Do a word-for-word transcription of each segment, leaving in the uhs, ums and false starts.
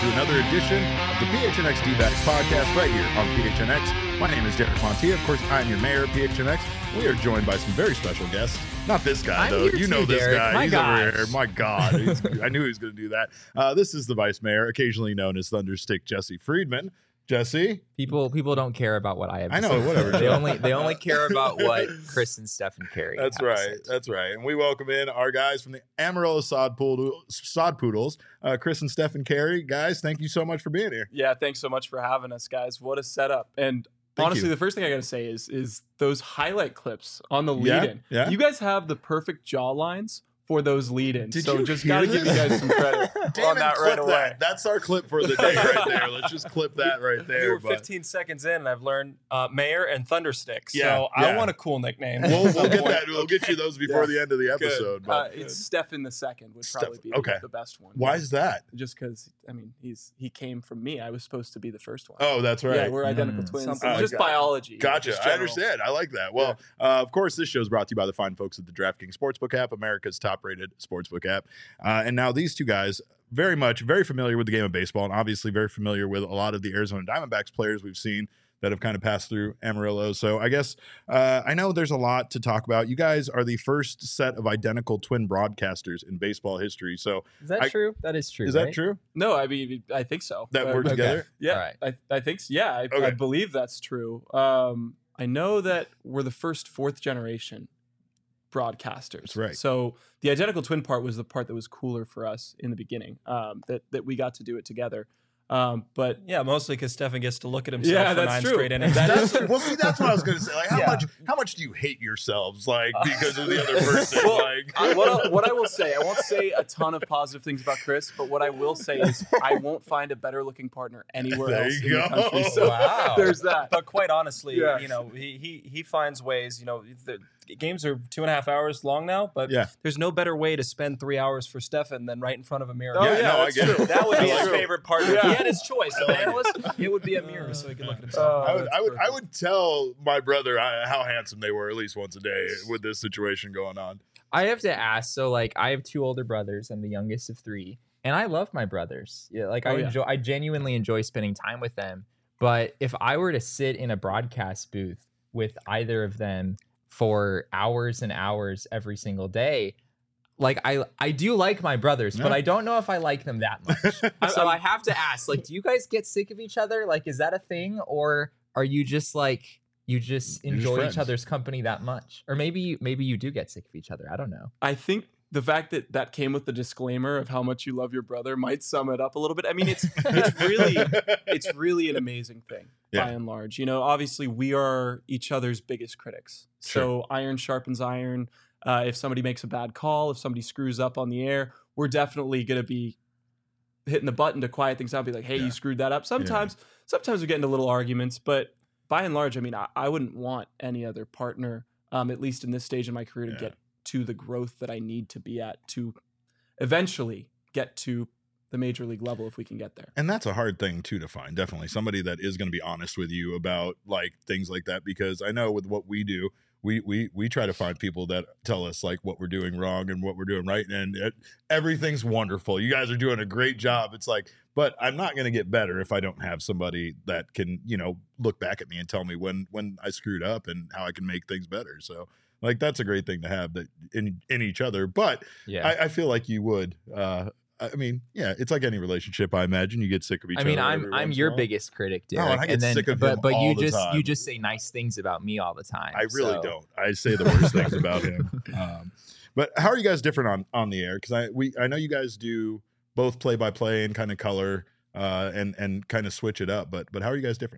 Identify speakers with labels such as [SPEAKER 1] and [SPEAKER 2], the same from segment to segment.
[SPEAKER 1] to another edition of the P H N X D-Backs podcast right here on P H N X. My name is Derek Montia. Of course, I'm your mayor of P H N X. We are joined by some very special guests. Not this guy,
[SPEAKER 2] I'm
[SPEAKER 1] though. You
[SPEAKER 2] too,
[SPEAKER 1] know this
[SPEAKER 2] Derek.
[SPEAKER 1] guy.
[SPEAKER 2] My
[SPEAKER 1] He's
[SPEAKER 2] gosh.
[SPEAKER 1] over here. My God. He's, I knew he was going to do that. Uh, this is the vice mayor, occasionally known as Thunderstick Jesse Friedman. Jesse?
[SPEAKER 2] People people don't care about what I have to
[SPEAKER 1] I know,
[SPEAKER 2] say.
[SPEAKER 1] whatever.
[SPEAKER 2] They only they only care about what Chris and Stephen carry.
[SPEAKER 1] That's right. That's right. And we welcome in our guys from the Amarillo Sod, Poodle, Sod Poodles, uh, Chris and Stephen Carey. Guys, thank you so much for being here.
[SPEAKER 3] Yeah, thanks so much for having us, guys. What a setup. And
[SPEAKER 1] Thank
[SPEAKER 3] honestly,
[SPEAKER 1] you.
[SPEAKER 3] the first thing I got to say is is those highlight clips on the
[SPEAKER 1] Yeah,
[SPEAKER 3] lead-in.
[SPEAKER 1] yeah.
[SPEAKER 3] You guys have the perfect jaw lines for those lead-ins.
[SPEAKER 1] Did
[SPEAKER 3] so
[SPEAKER 1] you
[SPEAKER 3] just
[SPEAKER 1] hear
[SPEAKER 3] got to give you
[SPEAKER 1] this?
[SPEAKER 3] guys some credit
[SPEAKER 1] Damon,
[SPEAKER 3] on that
[SPEAKER 1] clip
[SPEAKER 3] right away.
[SPEAKER 1] that. That's our clip for the day right there. Let's just clip that right
[SPEAKER 4] We
[SPEAKER 1] there.
[SPEAKER 4] were
[SPEAKER 1] but-
[SPEAKER 4] fifteen seconds in, and I've learned uh, Mayor and Thunderstick. So
[SPEAKER 1] Yeah,
[SPEAKER 4] I
[SPEAKER 1] yeah.
[SPEAKER 4] want a cool nickname.
[SPEAKER 1] We'll, we'll
[SPEAKER 4] Some
[SPEAKER 1] get
[SPEAKER 4] point.
[SPEAKER 1] that. We'll get you those before
[SPEAKER 4] Yeah.
[SPEAKER 1] the end of the episode.
[SPEAKER 3] Uh,
[SPEAKER 1] But
[SPEAKER 3] it's Stefan the second would
[SPEAKER 1] Steph-
[SPEAKER 3] probably be the-
[SPEAKER 1] okay.
[SPEAKER 3] the best one.
[SPEAKER 1] why is that?
[SPEAKER 3] Just because, I mean, he's he came from me. I was supposed to be the first one.
[SPEAKER 1] Oh, that's right.
[SPEAKER 3] Yeah, we're identical
[SPEAKER 2] Mm,
[SPEAKER 3] twins.
[SPEAKER 4] something
[SPEAKER 3] It's
[SPEAKER 1] like
[SPEAKER 3] just
[SPEAKER 4] that.
[SPEAKER 3] biology.
[SPEAKER 1] Gotcha.
[SPEAKER 3] just
[SPEAKER 1] I
[SPEAKER 3] general.
[SPEAKER 1] understand. I like that. Well, uh, of course, this show is brought to you by the fine folks at the DraftKings Sportsbook app, America's top-rated sportsbook app. Uh, and now these two guys, very much, very familiar with the game of baseball, and obviously very familiar with a lot of the Arizona Diamondbacks players we've seen that have kind of passed through Amarillo. So I guess uh, I know there's a lot to talk about. You guys are the first set of identical twin broadcasters in baseball history. So
[SPEAKER 2] Is that
[SPEAKER 1] I-
[SPEAKER 2] true? That is true.
[SPEAKER 1] is
[SPEAKER 2] right?
[SPEAKER 1] that true?
[SPEAKER 3] No, I mean, I think so.
[SPEAKER 1] That
[SPEAKER 3] Uh,
[SPEAKER 1] we're
[SPEAKER 3] okay.
[SPEAKER 1] together?
[SPEAKER 3] Yeah,
[SPEAKER 2] All right.
[SPEAKER 3] I, I think so. Yeah, I,
[SPEAKER 1] Okay.
[SPEAKER 3] I believe that's true. Um, I know that we're the first fourth generation broadcasters.
[SPEAKER 1] That's right.
[SPEAKER 3] So the identical twin part was the part that was cooler for us in the beginning. Um, that that we got to do it together. Um, but
[SPEAKER 4] Yeah, mostly because Stefan gets to look at himself
[SPEAKER 3] Yeah,
[SPEAKER 4] for
[SPEAKER 3] that's
[SPEAKER 4] nine
[SPEAKER 3] true.
[SPEAKER 4] straight innings.
[SPEAKER 3] That
[SPEAKER 1] That's,
[SPEAKER 3] is-
[SPEAKER 1] well, see, that's what I was going to say. Like, how
[SPEAKER 4] Yeah.
[SPEAKER 1] much, how much do you hate yourselves, like, because of the other person?
[SPEAKER 3] Well,
[SPEAKER 1] like,
[SPEAKER 3] I, what, I, what I will say, I won't say a ton of positive things about Chris, but what I will say is I won't find a better looking partner anywhere
[SPEAKER 1] There
[SPEAKER 3] else
[SPEAKER 1] you
[SPEAKER 3] in
[SPEAKER 1] go.
[SPEAKER 3] the country. So
[SPEAKER 4] Wow.
[SPEAKER 3] there's that.
[SPEAKER 4] But quite honestly,
[SPEAKER 3] Yeah.
[SPEAKER 4] you know, he, he he finds ways. You know, the games are two and a half hours long now, but
[SPEAKER 1] Yeah.
[SPEAKER 4] there's no better way to spend three hours for Stefan than right in front of a mirror.
[SPEAKER 3] Oh,
[SPEAKER 1] yeah,
[SPEAKER 3] yeah,
[SPEAKER 1] no, I
[SPEAKER 3] that's
[SPEAKER 1] get
[SPEAKER 3] true.
[SPEAKER 1] it.
[SPEAKER 4] That would be
[SPEAKER 1] That's
[SPEAKER 4] his
[SPEAKER 1] true.
[SPEAKER 4] favorite partner. If
[SPEAKER 3] Yeah.
[SPEAKER 4] he had his choice of analyst, it would be a mirror so he could look at himself.
[SPEAKER 3] Uh,
[SPEAKER 1] I would,
[SPEAKER 3] that's
[SPEAKER 1] I would, I
[SPEAKER 3] perfect.
[SPEAKER 1] would tell my brother uh, how handsome they were at least once a day with this situation going on.
[SPEAKER 2] I have to ask. So, like, I have two older brothers. I'm the youngest of three, and I love my brothers. Yeah, like I
[SPEAKER 3] Oh, yeah.
[SPEAKER 2] enjoy. I genuinely enjoy spending time with them. But if I were to sit in a broadcast booth with either of them for hours and hours every single day, like I I do like my brothers, but
[SPEAKER 1] Yeah.
[SPEAKER 2] I don't know if I like them that much. So I have to ask, like, do you guys get sick of each other? Like, is that a thing, or are you just like you just
[SPEAKER 1] You're just
[SPEAKER 2] enjoy
[SPEAKER 1] friends.
[SPEAKER 2] each other's company that much? Or maybe maybe you do get sick of each other. I don't know.
[SPEAKER 3] I think the fact that that came with the disclaimer of how much you love your brother might sum it up a little bit. I mean, it's it's really it's really an amazing thing
[SPEAKER 1] Yeah.
[SPEAKER 3] by and large. You know, obviously we are each other's biggest critics. So iron sharpens iron. Uh, if somebody makes a bad call, if somebody screws up on the air, we're definitely going to be hitting the button to quiet things down. Be like, hey,
[SPEAKER 1] Yeah.
[SPEAKER 3] you screwed that up. Sometimes, sometimes we get into little arguments, but by and large, I mean, I, I wouldn't want any other partner, um, at least in this stage in my career, to
[SPEAKER 1] Yeah.
[SPEAKER 3] get to the growth that I need to be at to eventually get to the major league level if we can get there.
[SPEAKER 1] And that's a hard thing too to find. Definitely somebody that is going to be honest with you about like things like that, because I know with what we do, we we we try to find people that tell us like what we're doing wrong and what we're doing right, and it, everything's wonderful. You guys are doing a great job. It's like, but I'm not going to get better if I don't have somebody that can, you know, look back at me and tell me when when I screwed up and how I can make things better. So like that's a great thing to have that in in each other. But
[SPEAKER 2] Yeah.
[SPEAKER 1] I, I feel like you would. Uh, I mean, yeah, it's like any relationship. I imagine you get sick of each
[SPEAKER 2] I
[SPEAKER 1] other.
[SPEAKER 2] mean, I'm
[SPEAKER 1] every
[SPEAKER 2] I'm
[SPEAKER 1] once
[SPEAKER 2] your
[SPEAKER 1] in a while.
[SPEAKER 2] biggest critic,
[SPEAKER 1] Oh,
[SPEAKER 2] Derek.
[SPEAKER 1] and I get
[SPEAKER 2] then,
[SPEAKER 1] sick of
[SPEAKER 2] but
[SPEAKER 1] him
[SPEAKER 2] but
[SPEAKER 1] all
[SPEAKER 2] you
[SPEAKER 1] the
[SPEAKER 2] just
[SPEAKER 1] time.
[SPEAKER 2] you just say nice things about me all the time.
[SPEAKER 1] I really
[SPEAKER 2] so-
[SPEAKER 1] don't. I say the worst things about him. Um, but how are you guys different on on the air? Because I we I know you guys do both play by play and kind of color uh, and and kind of switch it up. But but how are you guys different?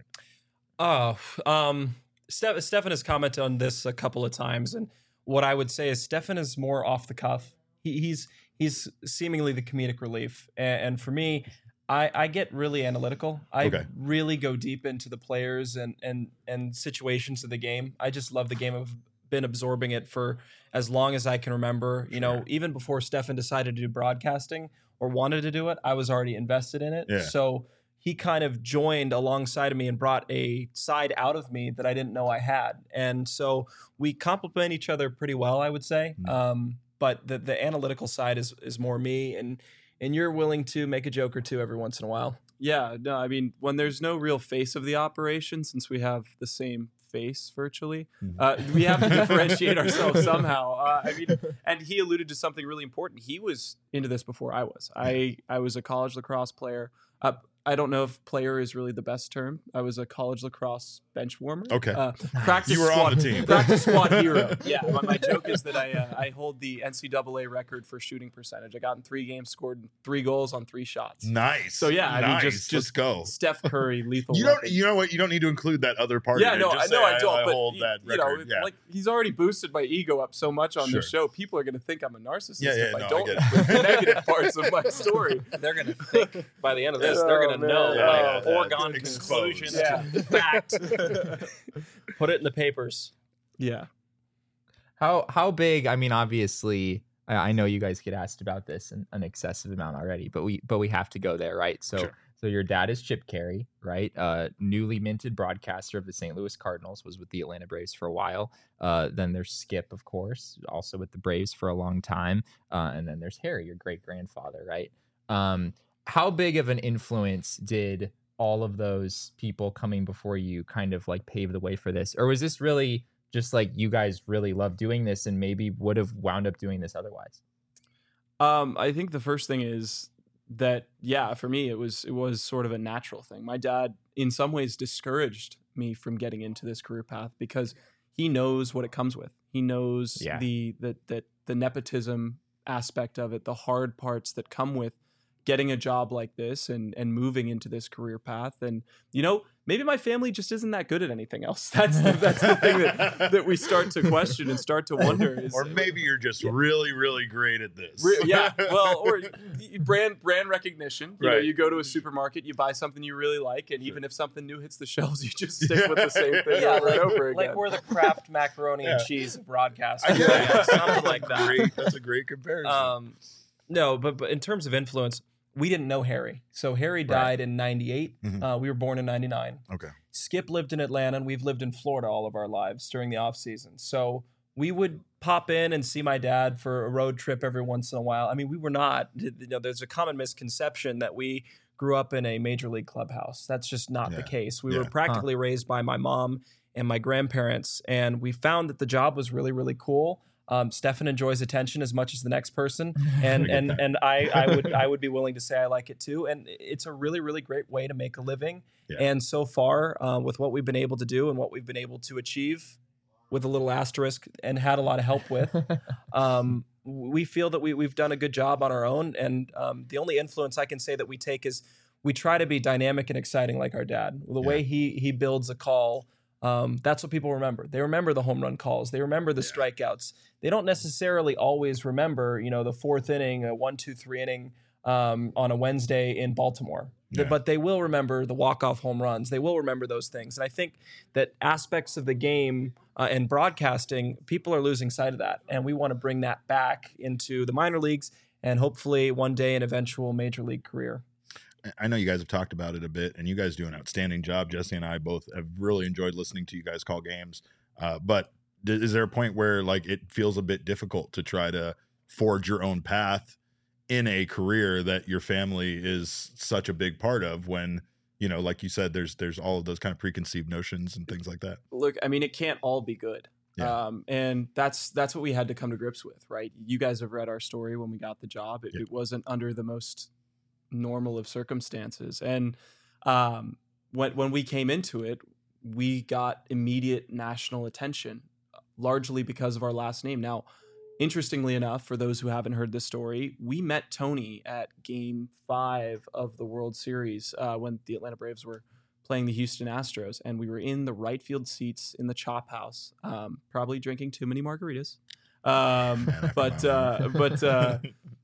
[SPEAKER 4] Oh, um, Steph, Stefan has commented on this a couple of times, and what I would say is Stefan is more off the cuff. He, he's he's seemingly the comedic relief, and, and for me, I, I get really analytical. I
[SPEAKER 1] Okay.
[SPEAKER 4] really go deep into the players and and and situations of the game. I just love the game. I've been absorbing it for as long as I can remember. You know,
[SPEAKER 1] Sure.
[SPEAKER 4] even before Stefan decided to do broadcasting or wanted to do it, I was already invested in it.
[SPEAKER 1] Yeah.
[SPEAKER 4] So he kind of joined alongside of me and brought a side out of me that I didn't know I had. And so we complement each other pretty well, I would say.
[SPEAKER 1] Mhm.
[SPEAKER 4] Um, but the, the analytical side is is more me. And and you're willing to make a joke or two every once in a while.
[SPEAKER 3] Yeah, no, I mean, when there's no real face of the operation, since we have the same face virtually, uh, we have to differentiate ourselves somehow. Uh, I mean, and he alluded to something really important. He was into this before I was. I, I was a college lacrosse player. Uh, I don't know if player is really the best term. I was a college lacrosse bench warmer.
[SPEAKER 1] Okay.
[SPEAKER 3] Uh, practice
[SPEAKER 1] You were
[SPEAKER 3] squad,
[SPEAKER 1] on the team.
[SPEAKER 3] Practice squad hero. Yeah. My, my joke is that I uh, I hold the N C double A record for shooting percentage. I got in three games, scored three goals on three shots.
[SPEAKER 1] Nice.
[SPEAKER 3] So yeah, I mean,
[SPEAKER 1] nice.
[SPEAKER 3] just-
[SPEAKER 1] just
[SPEAKER 3] just
[SPEAKER 1] go.
[SPEAKER 3] Steph Curry, lethal.
[SPEAKER 1] You don't.
[SPEAKER 3] weapon.
[SPEAKER 1] You know what? You don't need to include that other part.
[SPEAKER 3] Yeah,
[SPEAKER 1] of it.
[SPEAKER 3] no,
[SPEAKER 1] Just
[SPEAKER 3] I know
[SPEAKER 1] say,
[SPEAKER 3] I don't.
[SPEAKER 1] I,
[SPEAKER 3] but
[SPEAKER 1] hold
[SPEAKER 3] y-
[SPEAKER 1] that
[SPEAKER 3] you know,
[SPEAKER 1] record. yeah.
[SPEAKER 3] like he's already boosted my ego up so much on
[SPEAKER 1] Sure.
[SPEAKER 3] this show. People are going to think I'm a narcissist
[SPEAKER 1] Yeah, yeah,
[SPEAKER 3] if
[SPEAKER 1] no,
[SPEAKER 3] I
[SPEAKER 1] I
[SPEAKER 3] don't
[SPEAKER 1] get
[SPEAKER 3] include the negative parts of my story.
[SPEAKER 4] They're gonna think by the end of this,
[SPEAKER 3] Oh,
[SPEAKER 4] they're gonna
[SPEAKER 3] man.
[SPEAKER 4] know
[SPEAKER 3] Yeah,
[SPEAKER 4] like
[SPEAKER 1] yeah,
[SPEAKER 4] foregone
[SPEAKER 1] yeah.
[SPEAKER 4] conclusion,
[SPEAKER 3] Exposed.
[SPEAKER 4] to fact. Put it in the papers.
[SPEAKER 3] Yeah.
[SPEAKER 2] How how big? I mean, obviously, I, I know you guys get asked about this an, an excessive amount already, but we but we have to go there, right? So
[SPEAKER 1] Sure.
[SPEAKER 2] so your dad is Chip Carey, right? Uh, newly minted broadcaster of the Saint Louis Cardinals, was with the Atlanta Braves for a while. Uh, then there's Skip, of course, also with the Braves for a long time. Uh, and then there's Harry, your great grandfather, right? Um, how big of an influence did all of those people coming before you kind of like pave the way for this? Or was this really just like you guys really love doing this and maybe would have wound up doing this otherwise?
[SPEAKER 3] Um, I think the first thing is that, yeah, for me, it was it was sort of a natural thing. My dad, in some ways, discouraged me from getting into this career path because he knows what it comes with. He knows
[SPEAKER 2] Yeah.
[SPEAKER 3] the the the, the nepotism aspect of it, the hard parts that come with getting a job like this and and moving into this career path. And you know, maybe my family just isn't that good at anything else. That's the, that's the thing that, that we start to question and start to wonder. Is,
[SPEAKER 1] Or maybe you're just really, really great at this.
[SPEAKER 3] Re- yeah, well, or y- y- brand brand recognition. You know,
[SPEAKER 1] Right.
[SPEAKER 3] you go to a supermarket, you buy something you really like, and even if something new hits the shelves, you just stick with the same thing
[SPEAKER 4] Yeah,
[SPEAKER 3] over
[SPEAKER 4] like,
[SPEAKER 3] and over again.
[SPEAKER 4] like we're the Kraft macaroni and
[SPEAKER 1] Yeah.
[SPEAKER 4] cheese of broadcast.
[SPEAKER 1] I get
[SPEAKER 4] Yeah,
[SPEAKER 1] it.
[SPEAKER 4] something like that.
[SPEAKER 1] Great. That's a great comparison.
[SPEAKER 4] Um, no, but but in terms of influence, we didn't know Harry. So Harry died in ninety-eight.
[SPEAKER 1] Mhm.
[SPEAKER 4] Uh, we were born in ninety-nine.
[SPEAKER 1] okay.
[SPEAKER 4] Skip lived in Atlanta, and we've lived in Florida all of our lives during the off season. So we would pop in and see my dad for a road trip every once in a while. I mean, we were not. You know, there's a common misconception that we grew up in a major league clubhouse. That's just not the
[SPEAKER 1] Yeah.
[SPEAKER 4] case. We
[SPEAKER 1] Yeah.
[SPEAKER 4] were practically raised by my mom and my grandparents, and we found that the job was really, really cool. Um, Stefan enjoys attention as much as the next person, and and and I, I would I would be willing to say I like it too. And it's a really really great way to make a living.
[SPEAKER 1] Yeah.
[SPEAKER 4] And so far, uh, with what we've been able to do and what we've been able to achieve, with a little asterisk, and had a lot of help with, um, we feel that we we've done a good job on our own. And um, the only influence I can say that we take is we try to be dynamic and exciting like our dad. The way he he builds a call. Um, that's what people remember. They remember the home run calls. They remember the
[SPEAKER 1] Yeah.
[SPEAKER 4] strikeouts. They don't necessarily always remember, you know, the fourth inning, a one, two, three inning um, on a Wednesday in Baltimore.
[SPEAKER 1] Yeah.
[SPEAKER 4] But they will remember the walk-off home runs. They will remember those things. And I think that aspects of the game uh, and broadcasting, people are losing sight of that. And we want to bring that back into the minor leagues and hopefully one day an eventual major league career.
[SPEAKER 1] I know you guys have talked about it a bit, and you guys do an outstanding job. Jesse and I both have really enjoyed listening to you guys call games. Uh, but d- is there a point where like it feels a bit difficult to try to forge your own path in a career that your family is such a big part of? When, you know, like you said, there's there's all of those kind of preconceived notions and things like that.
[SPEAKER 3] Look, I mean, it can't all be good.
[SPEAKER 1] Yeah.
[SPEAKER 3] Um, and that's that's what we had to come to grips with, right? You guys have read our story when we got the job. It,
[SPEAKER 1] Yeah.
[SPEAKER 3] it wasn't under the most normal of circumstances. And um, when when we came into it, we got immediate national attention, largely because of our last name. Now, interestingly enough, for those who haven't heard this story, we met Tony at Game Five of the World Series uh, when the Atlanta Braves were playing the Houston Astros, and we were in the right field seats in the Chop House, um, probably drinking too many margaritas. Um,
[SPEAKER 1] Man after
[SPEAKER 3] but
[SPEAKER 1] my
[SPEAKER 3] uh,
[SPEAKER 1] own.
[SPEAKER 3] but uh,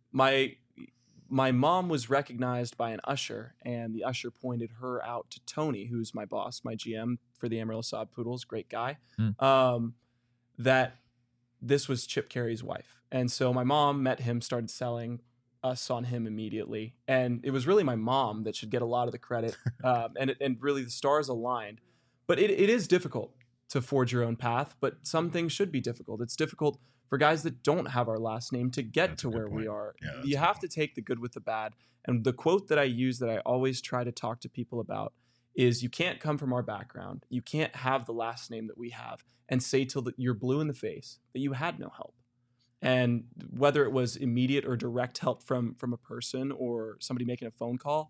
[SPEAKER 3] my my mom was recognized by an usher, and the usher pointed her out to Tony, who's my boss, my G M for the Amarillo Saab Poodles, great guy.
[SPEAKER 2] Hmm.
[SPEAKER 3] Um, that this was Chip Carey's wife, and so my mom met him, started selling us on him immediately, and it was really my mom that should get a lot of the credit, um, and it, and really the stars aligned. But it, it is difficult to forge your own path, but some things should be difficult. It's difficult for guys that don't have our last name to get
[SPEAKER 1] That's
[SPEAKER 3] to
[SPEAKER 1] a good
[SPEAKER 3] where we
[SPEAKER 1] point.
[SPEAKER 3] are.
[SPEAKER 1] Yeah, that's
[SPEAKER 3] You
[SPEAKER 1] a
[SPEAKER 3] have
[SPEAKER 1] good
[SPEAKER 3] to take the good with the bad. And the quote that I use that I always try to talk to people about is, you can't come from our background, you can't have the last name that we have, and say till the, you're blue in the face that you had no help. And whether it was immediate or direct help from from a person or somebody making a phone call,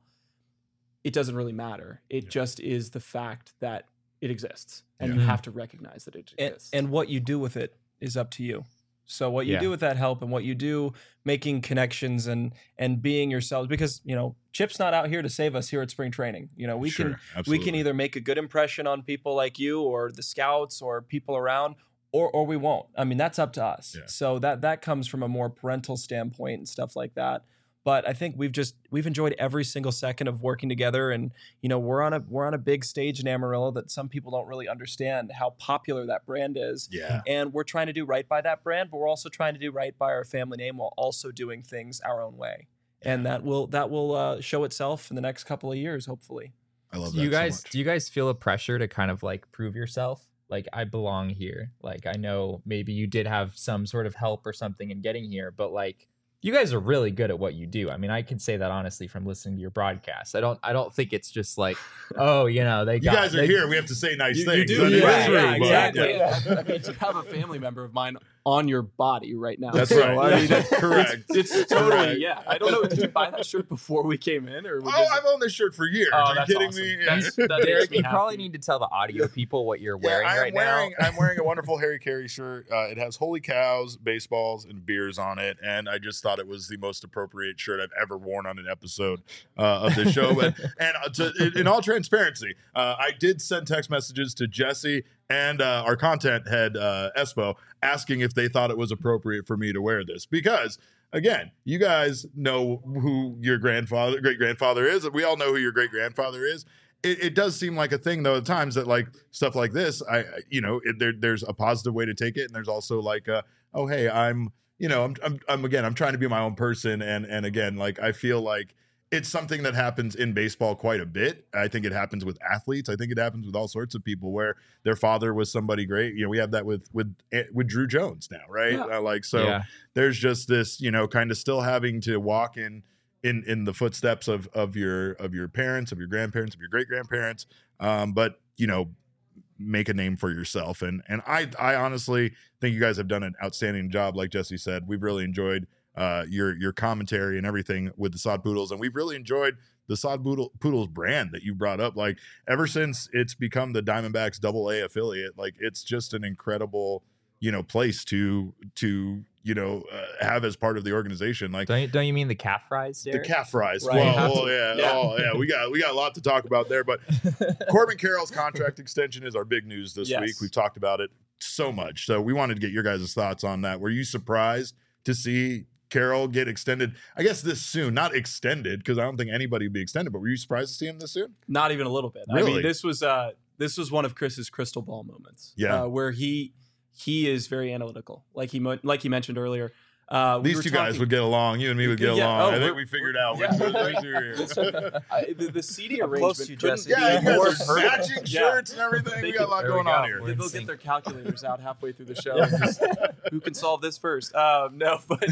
[SPEAKER 3] it doesn't really matter. It
[SPEAKER 1] Yeah.
[SPEAKER 3] just is the fact that it exists, and
[SPEAKER 1] Yeah.
[SPEAKER 3] you have to recognize that it
[SPEAKER 4] and,
[SPEAKER 3] exists.
[SPEAKER 4] and what you do with it is up to you. So what you
[SPEAKER 2] Yeah.
[SPEAKER 4] do with that help and what you do making connections and and being yourselves, because you know Chip's not out here to save us here at spring training. You know we
[SPEAKER 1] Sure,
[SPEAKER 4] can we
[SPEAKER 1] absolutely.
[SPEAKER 4] can either make a good impression on people like you or the scouts or people around, or or we won't. I mean, that's up to us.
[SPEAKER 1] Yeah.
[SPEAKER 4] So that that comes from a more parental standpoint and stuff like that. But I think we've just we've enjoyed every single second of working together, and you know we're on a we're on a big stage in Amarillo that some people don't really understand how popular that brand is.
[SPEAKER 1] Yeah.
[SPEAKER 4] And we're trying to do right by that brand, but we're also trying to do right by our family name while also doing things our own way. And that will that will uh, show itself in the next couple of years, hopefully.
[SPEAKER 1] I love
[SPEAKER 2] Do
[SPEAKER 1] that
[SPEAKER 2] you guys
[SPEAKER 1] so much.
[SPEAKER 2] do you guys feel a pressure to kind of like prove yourself? Like, I belong here. Like, I know maybe you did have some sort of help or something in getting here, but like, you guys are really good at what you do. I mean, I can say that honestly from listening to your broadcast. I don't I don't think it's just like, oh, you know, they
[SPEAKER 1] You
[SPEAKER 2] got,
[SPEAKER 1] guys are
[SPEAKER 2] they,
[SPEAKER 1] here. We have to say nice
[SPEAKER 3] You- you
[SPEAKER 1] things.
[SPEAKER 3] do,
[SPEAKER 1] That is
[SPEAKER 3] yeah,
[SPEAKER 1] true,
[SPEAKER 3] yeah,
[SPEAKER 1] but-
[SPEAKER 3] exactly.
[SPEAKER 1] yeah.
[SPEAKER 3] I mean, you have a family member of mine on your body right now.
[SPEAKER 1] That's
[SPEAKER 3] So,
[SPEAKER 1] right.
[SPEAKER 3] I mean,
[SPEAKER 1] That's correct.
[SPEAKER 3] It's, it's totally,
[SPEAKER 1] Correct.
[SPEAKER 3] yeah. I don't know. Did you buy that shirt before we came in, or
[SPEAKER 1] Oh,
[SPEAKER 3] was it-
[SPEAKER 1] I've owned this shirt for years.
[SPEAKER 3] Oh,
[SPEAKER 1] are you
[SPEAKER 3] that's
[SPEAKER 1] kidding
[SPEAKER 3] awesome.
[SPEAKER 1] me?
[SPEAKER 3] That's- that makes
[SPEAKER 2] Derek,
[SPEAKER 3] me
[SPEAKER 2] you probably
[SPEAKER 3] happy.
[SPEAKER 2] need to tell the audio people what you're
[SPEAKER 1] Yeah,
[SPEAKER 2] wearing
[SPEAKER 1] I'm
[SPEAKER 2] right
[SPEAKER 1] wearing,
[SPEAKER 2] now.
[SPEAKER 1] I'm wearing a wonderful Harry Carey shirt. Uh, it has holy cows, baseballs, and beers on it, and I just thought it was the most appropriate shirt I've ever worn on an episode uh, of the show. But and uh, to, in, in all transparency, uh, I did send text messages to Jesse and uh, our content head uh, Espo asking if they thought it was appropriate for me to wear this, because again, you guys know who your grandfather, great grandfather is. We all know who your great grandfather is. It, it does seem like a thing, though, at times that like stuff like this, I, I- you know, it, there, there's a positive way to take it, and there's also like, a, oh, hey, I'm, you know, I'm, I'm, I'm, again, I'm trying to be my own person, and, and again, like, I feel like it's something that happens in baseball quite a bit. I think it happens with athletes. I think it happens with all sorts of people where their father was somebody great. You know, we have that with with with Drew Jones now, right?
[SPEAKER 3] Yeah.
[SPEAKER 1] Uh, like, so
[SPEAKER 2] Yeah.
[SPEAKER 1] there's just this, you know, kind of still having to walk in in in the footsteps of of your of your parents, of your grandparents, of your great grandparents, um, but you know, make a name for yourself. And and I I honestly think you guys have done an outstanding job. Like Jesse said, we've really enjoyed uh, your your commentary and everything with the Sod Poodles, and we've really enjoyed the Sod Poodle, Poodles brand that you brought up. Like, ever since it's become the Diamondbacks Double A affiliate, like, it's just an incredible, you know, place to to you know uh, have as part of the organization. Like,
[SPEAKER 2] Don't you, don't you mean the calf fries,
[SPEAKER 1] the
[SPEAKER 2] Derek?
[SPEAKER 1] calf fries.
[SPEAKER 2] Right.
[SPEAKER 1] Well, well, yeah,
[SPEAKER 3] Yeah.
[SPEAKER 1] oh yeah, we got we got a lot to talk about there. But Corbin Carroll's contract extension is our big news this
[SPEAKER 3] Yes.
[SPEAKER 1] week. We've talked about it so much, so we wanted to get your guys' thoughts on that. Were you surprised to see Carroll get extended? I guess this soon, not extended, because I don't think anybody would be extended. But were you surprised to see him this soon?
[SPEAKER 3] Not even a little bit. I
[SPEAKER 1] Really?
[SPEAKER 3] mean, this was uh, this was one of Chris's crystal ball moments.
[SPEAKER 1] Yeah.
[SPEAKER 3] uh, where he he is very analytical, like he mo- like he mentioned earlier. Uh, we
[SPEAKER 1] These
[SPEAKER 3] were
[SPEAKER 1] two guys
[SPEAKER 3] talking-
[SPEAKER 1] would get along. You and me would get
[SPEAKER 3] Yeah,
[SPEAKER 1] along.
[SPEAKER 3] oh,
[SPEAKER 1] I think
[SPEAKER 3] we're-
[SPEAKER 1] we figured out
[SPEAKER 3] yeah.
[SPEAKER 1] which which- which two are here.
[SPEAKER 3] I, the, the C D
[SPEAKER 4] I'm
[SPEAKER 3] arrangement.
[SPEAKER 4] close to you,
[SPEAKER 3] couldn't
[SPEAKER 4] Jesse.
[SPEAKER 3] be
[SPEAKER 1] Yeah, you
[SPEAKER 3] more
[SPEAKER 1] guys are
[SPEAKER 3] perfect.
[SPEAKER 1] matching
[SPEAKER 3] Yeah.
[SPEAKER 1] shirts and everything.
[SPEAKER 3] They
[SPEAKER 1] We got a lot
[SPEAKER 2] There we
[SPEAKER 1] going on
[SPEAKER 2] go.
[SPEAKER 1] here.
[SPEAKER 2] We're in
[SPEAKER 3] They'll
[SPEAKER 2] sync.
[SPEAKER 3] get their calculators out halfway through the show. Just, who can solve this first? Um, no, but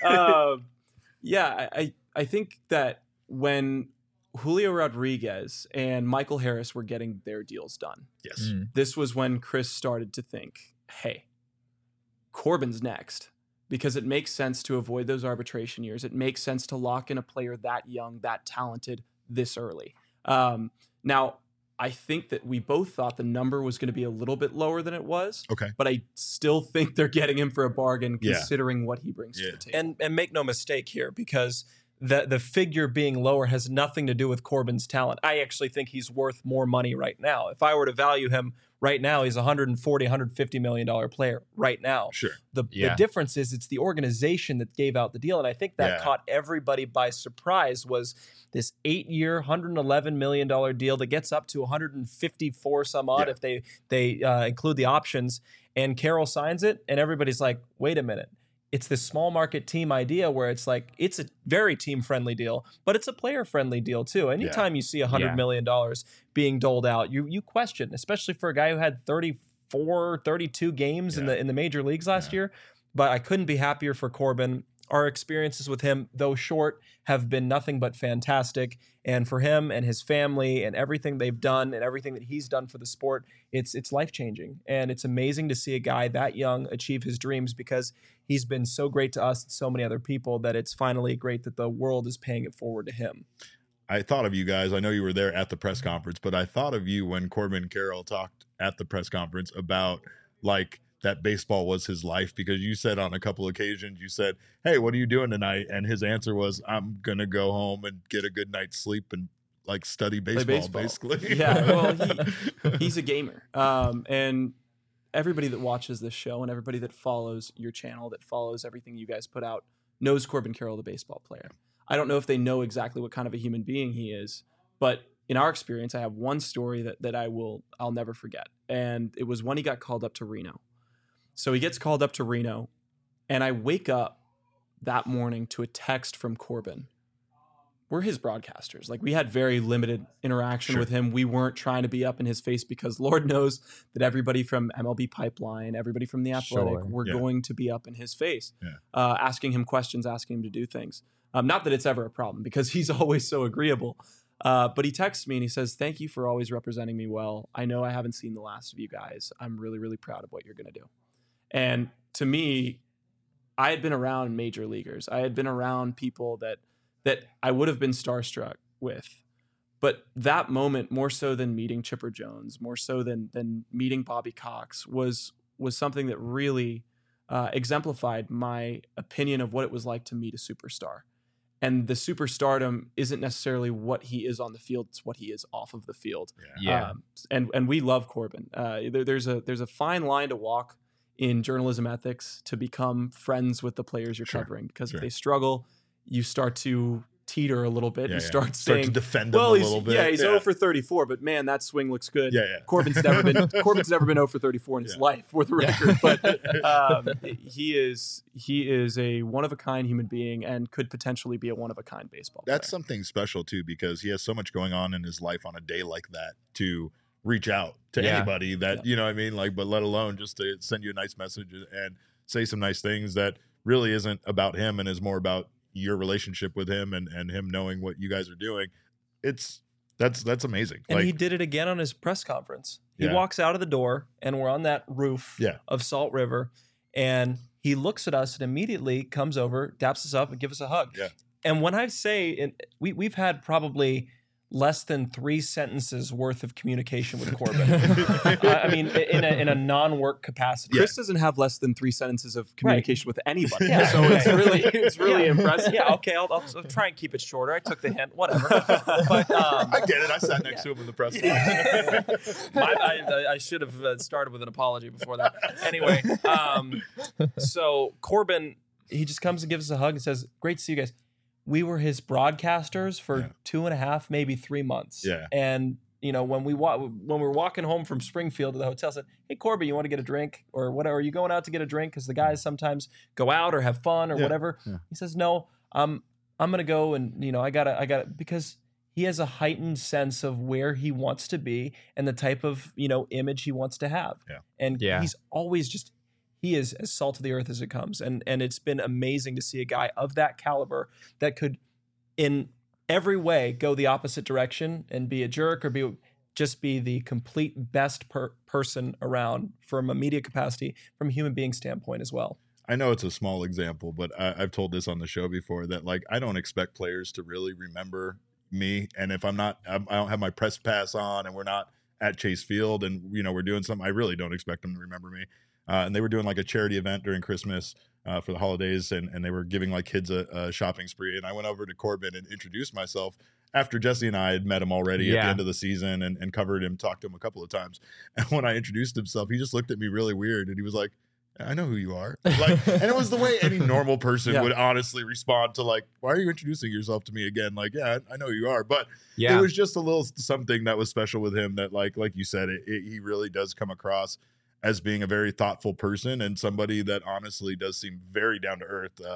[SPEAKER 3] um, yeah, I, I I think that when Julio Rodriguez and Michael Harris were getting their deals done,
[SPEAKER 1] Yes.
[SPEAKER 2] Mm.
[SPEAKER 3] this was when Chris started to think, hey, Corbin's next, because it makes sense to avoid those arbitration years. It makes sense to lock in a player that young, that talented this early. Um, now, I think that we both thought the number was going to be a little bit lower than it was,
[SPEAKER 1] Okay.
[SPEAKER 3] but I still think they're getting him for a bargain
[SPEAKER 1] Yeah.
[SPEAKER 3] considering what he brings
[SPEAKER 1] Yeah.
[SPEAKER 3] to the table.
[SPEAKER 4] And and make no mistake here, because the the figure being lower has nothing to do with Corbin's talent. I actually think he's worth more money right now. If I were to value him right now, he's a one hundred forty, one hundred fifty million dollar player right now.
[SPEAKER 1] Sure.
[SPEAKER 4] The,
[SPEAKER 2] Yeah.
[SPEAKER 4] the difference is it's the organization that gave out the deal, and I think that
[SPEAKER 1] Yeah.
[SPEAKER 4] caught everybody by surprise. Was this eight-year, one hundred eleven million dollar deal that gets up to one hundred fifty-four some odd
[SPEAKER 1] Yeah.
[SPEAKER 4] if they they uh, include the options, and Carroll signs it, and everybody's like, "Wait a minute." It's this small market team idea where it's like it's a very team friendly deal, but it's a player friendly deal too. Anytime you see a hundred
[SPEAKER 2] Yeah.
[SPEAKER 4] million dollars being doled out, you you question, especially for a guy who had thirty thirty-four, thirty-two games
[SPEAKER 1] Yeah.
[SPEAKER 4] in the in the major leagues last
[SPEAKER 1] Yeah.
[SPEAKER 4] year. But I couldn't be happier for Corbin. Our experiences with him, though short, have been nothing but fantastic. And for him and his family and everything they've done and everything that he's done for the sport, it's it's life-changing. And it's amazing to see a guy that young achieve his dreams, because he's been so great to us and so many other people that it's finally great that the world is paying it forward to him.
[SPEAKER 1] I thought of you guys. I know you were there at the press conference, but I thought of you when Corbin Carroll talked at the press conference about like that baseball was his life, because you said on a couple occasions, you said, "Hey, what are you doing tonight?" And his answer was, "I'm going to go home and get a good night's sleep and like study baseball,
[SPEAKER 3] baseball.
[SPEAKER 1] basically."
[SPEAKER 3] Yeah, well, he, he's a gamer. Um, and everybody that watches this show and everybody that follows your channel, that follows everything you guys put out, knows Corbin Carroll, the baseball player. I don't know if they know exactly what kind of a human being he is, but in our experience, I have one story that, that I will, I'll never forget. And it was when he got called up to Reno. So he gets called up to Reno, and I wake up that morning to a text from Corbin. We're his broadcasters. Like, we had very limited interaction
[SPEAKER 1] Sure.
[SPEAKER 3] with him. We weren't trying to be up in his face, because Lord knows that everybody from M L B Pipeline, everybody from The Athletic,
[SPEAKER 2] Sure.
[SPEAKER 3] were
[SPEAKER 1] Yeah.
[SPEAKER 3] going to be up in his face,
[SPEAKER 1] Yeah.
[SPEAKER 3] uh, asking him questions, asking him to do things. Um, not that it's ever a problem, because he's always so agreeable. Uh, but he texts me and he says, "Thank you for always representing me well. I know I haven't seen the last of you guys. I'm really, really proud of what you're going to do." And to me, I had been around major leaguers. I had been around people that that I would have been starstruck with. But that moment, more so than meeting Chipper Jones, more so than than meeting Bobby Cox, was was something that really uh, exemplified my opinion of what it was like to meet a superstar. And the superstardom isn't necessarily what he is on the field; it's what he is off of the field.
[SPEAKER 2] Yeah.
[SPEAKER 3] Um, and and we love Corbin. Uh, there, there's a there's a fine line to walk in journalism ethics to become friends with the players you're
[SPEAKER 1] Sure,
[SPEAKER 3] covering, because
[SPEAKER 1] sure.
[SPEAKER 3] if they struggle, you start to teeter a little bit.
[SPEAKER 1] Yeah,
[SPEAKER 3] you
[SPEAKER 1] yeah.
[SPEAKER 3] start
[SPEAKER 1] Start
[SPEAKER 3] saying,
[SPEAKER 1] to defend him
[SPEAKER 3] "Well,
[SPEAKER 1] a
[SPEAKER 3] he's
[SPEAKER 1] little bit."
[SPEAKER 3] yeah, he's
[SPEAKER 1] yeah.
[SPEAKER 3] zero for thirty-four, but man, that swing looks good."
[SPEAKER 1] Yeah, yeah.
[SPEAKER 3] Corbin's never been Corbin's never been zero for thirty-four in his
[SPEAKER 1] Yeah.
[SPEAKER 3] life, for the record. But um, he is he is a one of a kind human being and could potentially be a one of a kind baseball
[SPEAKER 1] That's
[SPEAKER 3] player.
[SPEAKER 1] something special too, because he has so much going on in his life on a day like that to reach out to
[SPEAKER 2] Yeah.
[SPEAKER 1] anybody that,
[SPEAKER 3] Yeah.
[SPEAKER 1] you know what I mean? Like, but let alone just to send you a nice message and say some nice things that really isn't about him and is more about your relationship with him and, and him knowing what you guys are doing. It's that's, that's amazing.
[SPEAKER 4] And
[SPEAKER 1] like,
[SPEAKER 4] he did it again on his press conference. He
[SPEAKER 1] Yeah.
[SPEAKER 4] walks out of the door, and we're on that roof
[SPEAKER 1] Yeah.
[SPEAKER 4] of Salt River, and he looks at us and immediately comes over, daps us up, and gives us a hug.
[SPEAKER 1] Yeah.
[SPEAKER 4] And when I say, and we we've had probably less than three sentences worth of communication with Corbin. I I mean, in a in a non-work capacity.
[SPEAKER 3] Chris doesn't have less than three sentences of communication with anybody,
[SPEAKER 4] Yeah.
[SPEAKER 3] so it's really it's really
[SPEAKER 4] Yeah.
[SPEAKER 3] impressive.
[SPEAKER 4] Yeah, okay, I'll, I'll, I'll try and keep it shorter. I took the hint, whatever. But um,
[SPEAKER 1] I get it. I sat next
[SPEAKER 4] Yeah.
[SPEAKER 1] to him in the press
[SPEAKER 4] Yeah.
[SPEAKER 1] conference.
[SPEAKER 4] My, I, I should have uh, started with an apology before that. Anyway, um, so Corbin, he just comes and gives us a hug and says, "Great to see you guys." We were his broadcasters for
[SPEAKER 1] Yeah.
[SPEAKER 4] two and a half, maybe three months.
[SPEAKER 1] Yeah.
[SPEAKER 4] And you know, when we wa- when we were walking home from Springfield to the hotel, I said, "Hey, Corbin, you want to get a drink or whatever? Are you going out to get a drink?" Because the guys sometimes go out or have fun or
[SPEAKER 1] Yeah.
[SPEAKER 4] whatever.
[SPEAKER 1] Yeah.
[SPEAKER 4] He says, "No, I'm I'm gonna go and you know I gotta I gotta because." He has a heightened sense of where he wants to be and the type of you know image he wants to have.
[SPEAKER 1] Yeah.
[SPEAKER 4] And
[SPEAKER 2] Yeah.
[SPEAKER 4] he's always just he is as salt of the earth as it comes. And and it's been amazing to see a guy of that caliber that could in every way go the opposite direction and be a jerk or be just be the complete best per- person around from a media capacity, from a human being standpoint as well.
[SPEAKER 1] I know it's a small example, but I, I've told this on the show before that like I don't expect players to really remember me, and if I'm not, I'm, I don't have my press pass on, and we're not at Chase Field, and you know we're doing something, I really don't expect them to remember me. Uh, and they were doing like a charity event during Christmas uh, for the holidays, and and they were giving like kids a, a shopping spree, and I went over to Corbin and introduced myself after Jesse and I had met him already at the
[SPEAKER 2] Yeah.
[SPEAKER 1] end of the season and, and covered him, talked to him a couple of times. And when I introduced himself, he just looked at me really weird, and he was like, "I know who you are." Like, and it was the way any normal person
[SPEAKER 3] Yeah.
[SPEAKER 1] would honestly respond to like, "Why are you introducing yourself to me again?" Like, yeah, I, I know who you are, but
[SPEAKER 2] Yeah.
[SPEAKER 1] it was just a little something that was special with him that, like, like you said, it, it, he really does come across as being a very thoughtful person and somebody that honestly does seem very down to earth. Uh,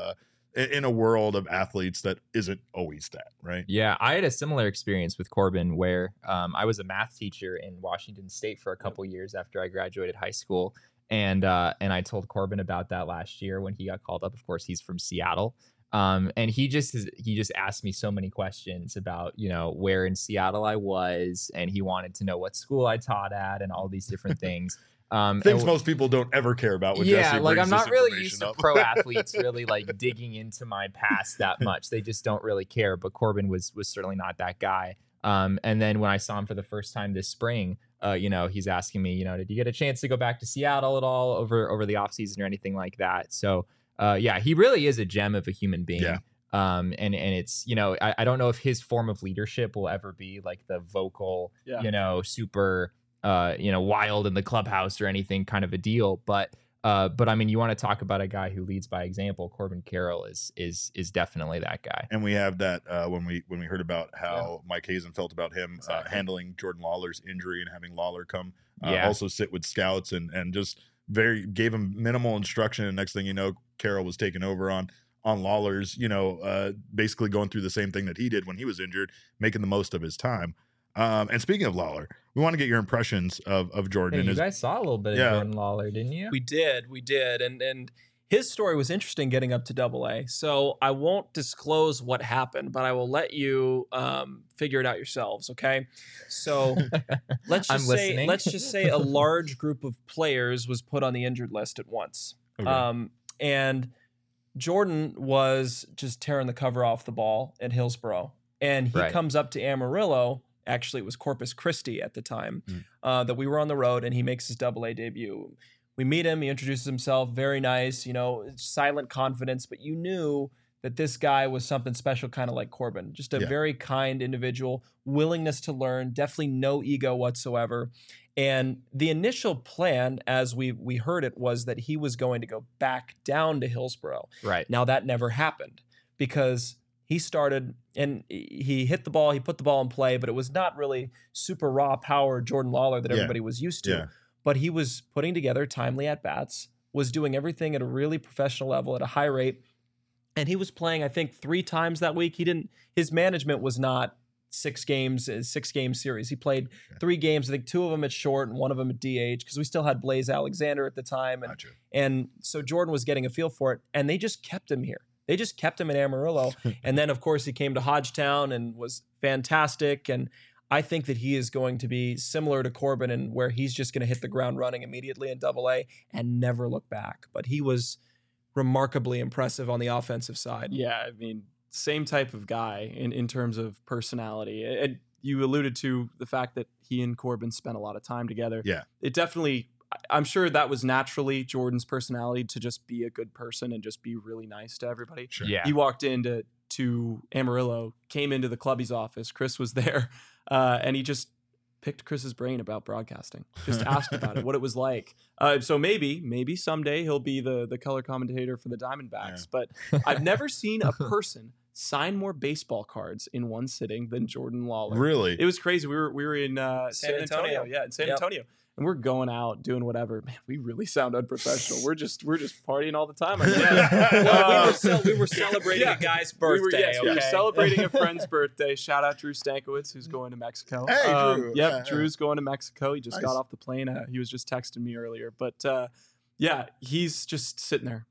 [SPEAKER 1] in, in a world of athletes that isn't always that, right?
[SPEAKER 2] Yeah, I had a similar experience with Corbin where um, I was a math teacher in Washington State for a couple years after I graduated high school. And uh, and I told Corbin about that last year when he got called up. Of course, he's from Seattle. Um, and he just he just asked me so many questions about, you know, where in Seattle I was, and he wanted to know what school I taught at and all these different things. Um,
[SPEAKER 1] Things
[SPEAKER 2] and,
[SPEAKER 1] most people don't ever care about. When
[SPEAKER 2] yeah,
[SPEAKER 1] Jesse
[SPEAKER 2] like
[SPEAKER 1] brings
[SPEAKER 2] I'm
[SPEAKER 1] this
[SPEAKER 2] not really
[SPEAKER 1] information
[SPEAKER 2] used to
[SPEAKER 1] up.
[SPEAKER 2] pro athletes really like digging into my past that much. They just don't really care. But Corbin was was certainly not that guy. Um, and then when I saw him for the first time this spring, uh, you know, he's asking me, you know, did you get a chance to go back to Seattle at all over over the offseason or anything like that? So, uh, yeah, he really is a gem of a human being.
[SPEAKER 1] Yeah.
[SPEAKER 2] Um, and and it's, you know, I, I don't know if his form of leadership will ever be like the vocal,
[SPEAKER 3] Yeah.
[SPEAKER 2] you know, super, uh, you know, wild in the clubhouse or anything kind of a deal. But uh, but I mean, you want to talk about a guy who leads by example. Corbin Carroll is is is definitely that guy.
[SPEAKER 1] And we have that uh, when we when we heard about how Mike Hazen felt about him uh,
[SPEAKER 2] Exactly.
[SPEAKER 1] handling Jordan Lawler's injury and having Lawler come uh,
[SPEAKER 2] Yeah.
[SPEAKER 1] also sit with scouts and and just very gave him minimal instruction. And next thing you know, Carroll was taking over on on Lawler's, you know, uh, basically going through the same thing that he did when he was injured, making the most of his time. Um, and speaking of Lawler, we want to get your impressions of of Jordan.
[SPEAKER 2] Hey,
[SPEAKER 1] and
[SPEAKER 2] you
[SPEAKER 1] his,
[SPEAKER 2] guys saw a little bit
[SPEAKER 1] Yeah.
[SPEAKER 2] of Jordan Lawler, didn't you?
[SPEAKER 4] We did, we did, and and his story was interesting getting up to Double A. So I won't disclose what happened, but I will let you um, figure it out yourselves. Okay, so let's
[SPEAKER 2] I'm
[SPEAKER 4] just say
[SPEAKER 2] listening.
[SPEAKER 4] let's just say a large group of players was put on the injured list at once,
[SPEAKER 1] Okay.
[SPEAKER 4] um, and Jordan was just tearing the cover off the ball at Hillsborough, and he
[SPEAKER 2] Right.
[SPEAKER 4] comes up to Amarillo. Actually, it was Corpus Christi at the time
[SPEAKER 1] Mm.
[SPEAKER 4] uh, that we were on the road, and he makes his Double A debut. We meet him. He introduces himself. Very nice, you know, silent confidence, but you knew that this guy was something special, kind of like Corbin. Just a
[SPEAKER 1] Yeah.
[SPEAKER 4] very kind individual, willingness to learn, definitely no ego whatsoever. And the initial plan, as we we heard it, was that he was going to go back down to Hillsborough.
[SPEAKER 2] Right.
[SPEAKER 4] Now that never happened because he started and he hit the ball, he put the ball in play, but it was not really super raw power Jordan Lawler that
[SPEAKER 1] Yeah.
[SPEAKER 4] everybody was used to.
[SPEAKER 1] Yeah.
[SPEAKER 4] But he was putting together timely at bats, was doing everything at a really professional level at a high rate. And he was playing, I think, three times that week. He didn't, his management was not six games, a six game series. He played three games, I think two of them at short and one of them at D H because we still had Blaze Alexander at the time. And,
[SPEAKER 1] Gotcha.
[SPEAKER 4] and so Jordan was getting a feel for it. And they just kept him here. They just kept him in Amarillo. And then, of course, he came to Hodgetown and was fantastic. And I think that he is going to be similar to Corbin and where he's just going to hit the ground running immediately in Double A and never look back. But he was remarkably impressive on the offensive side.
[SPEAKER 3] Yeah, I mean, same type of guy in, in terms of personality. And you alluded to the fact that he and Corbin spent a lot of time together.
[SPEAKER 1] Yeah.
[SPEAKER 3] It definitely, I- I'm sure that was naturally Jordan's personality to just be a good person and just be really nice to everybody.
[SPEAKER 1] Sure.
[SPEAKER 2] Yeah.
[SPEAKER 3] He walked into to Amarillo, came into the clubby's office. Chris was there, uh, and he just picked Chris's brain about broadcasting. Just asked about it, what it was like. Uh, so maybe, maybe someday he'll be the the color commentator for the Diamondbacks.
[SPEAKER 1] Yeah.
[SPEAKER 3] But I've never seen a person sign more baseball cards in one sitting than Jordan Lawler.
[SPEAKER 1] Really?
[SPEAKER 3] It was crazy. We were we were in uh, San,
[SPEAKER 4] San
[SPEAKER 3] Antonio.
[SPEAKER 4] Antonio.
[SPEAKER 3] yeah, in San
[SPEAKER 4] Yep.
[SPEAKER 3] Antonio, and we're going out doing whatever. Man, we really sound unprofessional. we're just we're just partying all the time. I guess.
[SPEAKER 4] Well, we
[SPEAKER 3] Uh,
[SPEAKER 4] were, cel- we were celebrating
[SPEAKER 3] Yeah.
[SPEAKER 4] a guy's
[SPEAKER 3] we were,
[SPEAKER 4] birthday.
[SPEAKER 3] yes, we were
[SPEAKER 4] okay?
[SPEAKER 3] celebrating a friend's birthday. Shout out Drew Stankiewicz, who's going to Mexico.
[SPEAKER 1] Hey,
[SPEAKER 3] Um,
[SPEAKER 1] Drew.
[SPEAKER 3] Yep,
[SPEAKER 1] Yeah, yeah.
[SPEAKER 3] Drew's going to Mexico. He just
[SPEAKER 1] Nice.
[SPEAKER 3] got off the plane. Uh, he was just texting me earlier. But uh, yeah, he's just sitting there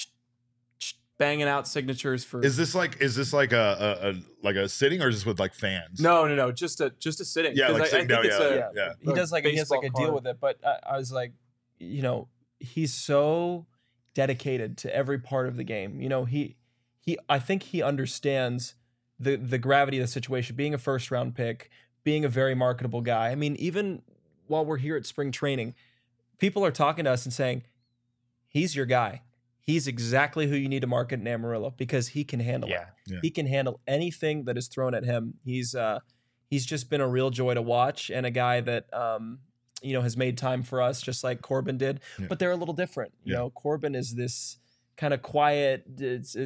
[SPEAKER 3] banging out signatures for.
[SPEAKER 1] Is this like is this like a, a, a like a sitting or is this with like fans?
[SPEAKER 3] no, no, no, just a just a sitting.
[SPEAKER 1] Yeah,
[SPEAKER 3] 'Cause
[SPEAKER 1] like
[SPEAKER 3] I, I
[SPEAKER 1] sitting
[SPEAKER 3] think
[SPEAKER 1] down.
[SPEAKER 3] it's
[SPEAKER 1] Yeah,
[SPEAKER 3] a,
[SPEAKER 1] yeah, yeah.
[SPEAKER 4] He does like he has like a
[SPEAKER 3] baseball
[SPEAKER 4] deal
[SPEAKER 3] card.
[SPEAKER 4] with it, but I, I was like, you know, he's so dedicated to every part of the game. You know, he he I think he understands the the gravity of the situation. Being a first round pick, being a very marketable guy. I mean, even while we're here at spring training, people are talking to us and saying, "He's your guy. He's exactly who you need to market in Amarillo because he can handle it.
[SPEAKER 2] Yeah.
[SPEAKER 1] Yeah.
[SPEAKER 4] He can handle anything that is thrown at him. He's uh he's just been a real joy to watch and a guy that um you know has made time for us just like Corbin did.
[SPEAKER 1] Yeah.
[SPEAKER 4] But they're a little different. You
[SPEAKER 1] Yeah.
[SPEAKER 4] know, Corbin is this kind of quiet, it's, it's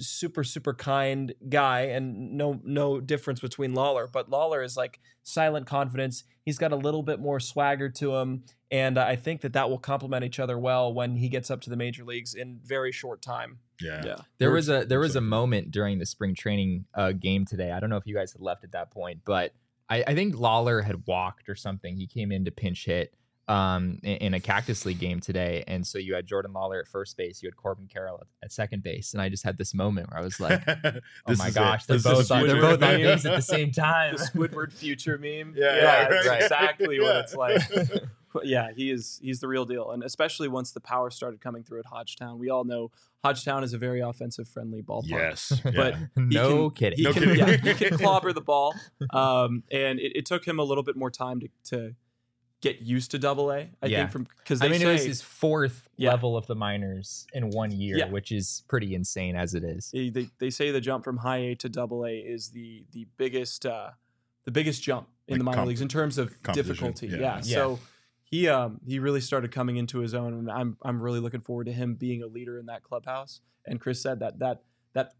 [SPEAKER 4] super super kind guy, and no no difference between Lawler, but Lawler is like silent confidence. He's got a little bit more swagger to him, and I think that that will complement each other well when he gets up to the major leagues in very short time.
[SPEAKER 1] Yeah.
[SPEAKER 3] Yeah.
[SPEAKER 2] There was a there was a moment during the spring training uh, game today. I don't know if you guys had left at that point, but I, I think Lawler had walked or something. He came in to pinch hit um, in, in a Cactus League game today, and so you had Jordan Lawler at first base, you had Corbin Carroll at, at second base, and I just had this moment where I was like, "Oh
[SPEAKER 1] This
[SPEAKER 2] my
[SPEAKER 1] is
[SPEAKER 2] gosh,
[SPEAKER 1] it.
[SPEAKER 2] they're
[SPEAKER 1] This
[SPEAKER 2] both
[SPEAKER 1] is
[SPEAKER 2] on, they're
[SPEAKER 3] Squidward
[SPEAKER 2] both on
[SPEAKER 3] meme.
[SPEAKER 2] base at the same time."
[SPEAKER 3] The Squidward future meme.
[SPEAKER 1] Yeah,
[SPEAKER 3] yeah,
[SPEAKER 1] right,
[SPEAKER 3] it's
[SPEAKER 1] right.
[SPEAKER 3] exactly what
[SPEAKER 1] Yeah.
[SPEAKER 3] it's like. But yeah, he is he's the real deal, and especially once the power started coming through at Hodgetown. We all know Hodgetown is a very offensive friendly ballpark.
[SPEAKER 1] Yes.
[SPEAKER 3] But
[SPEAKER 1] yeah.
[SPEAKER 2] No
[SPEAKER 3] can-
[SPEAKER 2] kidding.
[SPEAKER 3] He
[SPEAKER 1] No
[SPEAKER 3] can,
[SPEAKER 1] kidding.
[SPEAKER 3] yeah, he can clobber the ball, um, and it, it took him a little bit more time to, to get used to Double A. I
[SPEAKER 2] Yeah.
[SPEAKER 3] think from because
[SPEAKER 2] I
[SPEAKER 3] they
[SPEAKER 2] mean,
[SPEAKER 3] say
[SPEAKER 2] it was his fourth
[SPEAKER 3] Yeah.
[SPEAKER 2] level of the minors in one year,
[SPEAKER 3] Yeah.
[SPEAKER 2] which is pretty insane as it is.
[SPEAKER 3] they, they, they say the jump from high A to Double A is the the biggest uh, the biggest jump in
[SPEAKER 1] Like
[SPEAKER 3] the minor
[SPEAKER 1] comp-
[SPEAKER 3] leagues in terms of
[SPEAKER 1] competition,
[SPEAKER 3] difficulty.
[SPEAKER 1] yeah.
[SPEAKER 3] Yeah.
[SPEAKER 2] Yeah.
[SPEAKER 3] So he um he really started coming into his own, and I'm I'm really looking forward to him being a leader in that clubhouse. And Chris said that that that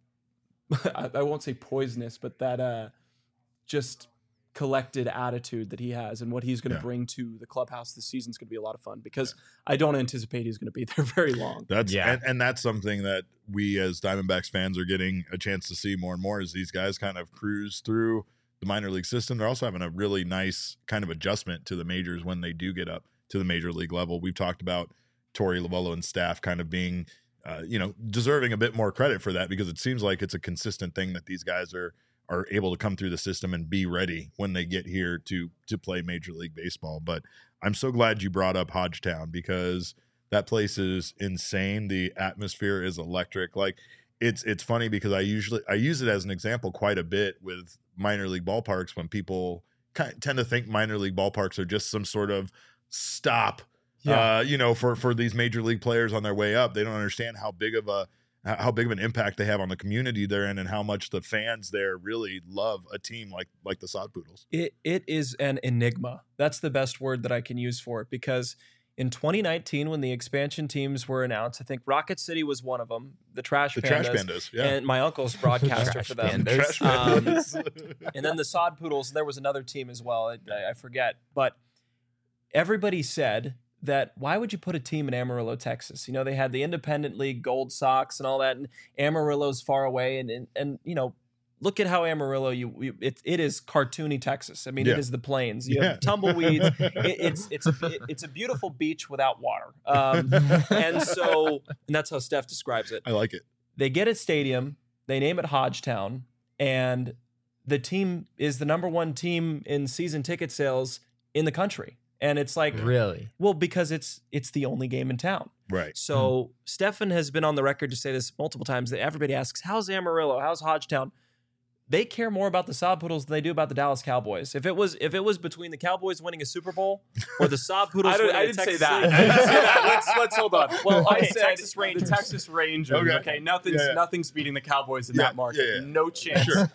[SPEAKER 3] I, I won't say poisonous, but that uh just collected attitude that he has and what he's going to
[SPEAKER 1] Yeah.
[SPEAKER 3] bring to the clubhouse this season is going to be a lot of fun, because I don't anticipate he's going to be there very long.
[SPEAKER 1] That's
[SPEAKER 2] Yeah.
[SPEAKER 1] and, and that's something that we as Diamondbacks fans are getting a chance to see more and more, is these guys kind of cruise through the minor league system. They're also having a really nice kind of adjustment to the majors when they do get up to the major league level. We've talked about Torey Lovullo and staff kind of being, uh, you know, deserving a bit more credit for that, because it seems like it's a consistent thing that these guys are are able to come through the system and be ready when they get here to to play Major League Baseball. But I'm so glad you brought up Hodgetown, because that place is insane. The atmosphere is electric. Like it's it's funny because I usually I use it as an example quite a bit with minor league ballparks, when people kind tend to think minor league ballparks are just some sort of stop,
[SPEAKER 3] Yeah.
[SPEAKER 1] uh, you know, for for these major league players on their way up. They don't understand how big of a how big of an impact they have on the community they're in, and how much the fans there really love a team like like the Sod Poodles.
[SPEAKER 4] It it is an enigma. That's the best word that I can use for it, because in twenty nineteen, when the expansion teams were announced, I think Rocket City was one of them. The Trash
[SPEAKER 1] The
[SPEAKER 4] Pandas,
[SPEAKER 1] Trash Pandas, yeah.
[SPEAKER 4] and my uncle's broadcaster
[SPEAKER 2] Trash
[SPEAKER 4] for them.
[SPEAKER 2] Pandas.
[SPEAKER 1] Trash
[SPEAKER 4] Um,
[SPEAKER 1] Pandas.
[SPEAKER 4] And then the Sod Poodles. There was another team as well. I, I forget, but everybody said that why would you put a team in Amarillo, Texas? You know, they had the Independent League, Gold Sox, and all that, and Amarillo's far away, and and, and you know, look at how Amarillo you, you it, it is cartoony Texas. I mean,
[SPEAKER 1] Yeah.
[SPEAKER 4] it is the plains. You
[SPEAKER 1] Yeah.
[SPEAKER 4] have tumbleweeds. it, it's it's a it, it's a beautiful beach without water. Um, and so and that's how Steph describes it.
[SPEAKER 1] I like it.
[SPEAKER 4] They get a stadium, they name it Hodgetown, and the team is the number one team in season ticket sales in the country. And it's like,
[SPEAKER 2] Really?
[SPEAKER 4] well, because it's it's the only game in town.
[SPEAKER 1] Right.
[SPEAKER 4] So Stefan has been on the record to say this multiple times, that everybody asks, how's Amarillo? How's Hodgetown? They care more about the Sod Poodles than they do about the Dallas Cowboys. If it was if it was between the Cowboys winning a Super Bowl or the Sod Poodles
[SPEAKER 3] I, don't,
[SPEAKER 4] winning
[SPEAKER 3] I
[SPEAKER 4] a
[SPEAKER 3] didn't say
[SPEAKER 4] Texas
[SPEAKER 3] that.
[SPEAKER 4] League-
[SPEAKER 3] I didn't say that. Let's let's hold on. Well, I
[SPEAKER 4] Okay,
[SPEAKER 3] said
[SPEAKER 4] Texas Rangers.
[SPEAKER 3] the Texas Rangers.
[SPEAKER 1] Okay.
[SPEAKER 3] Okay, nothing's
[SPEAKER 1] Yeah, yeah.
[SPEAKER 3] nothing's beating the Cowboys in
[SPEAKER 1] Yeah,
[SPEAKER 3] that market.
[SPEAKER 1] yeah, yeah.
[SPEAKER 3] No chance.
[SPEAKER 1] Sure.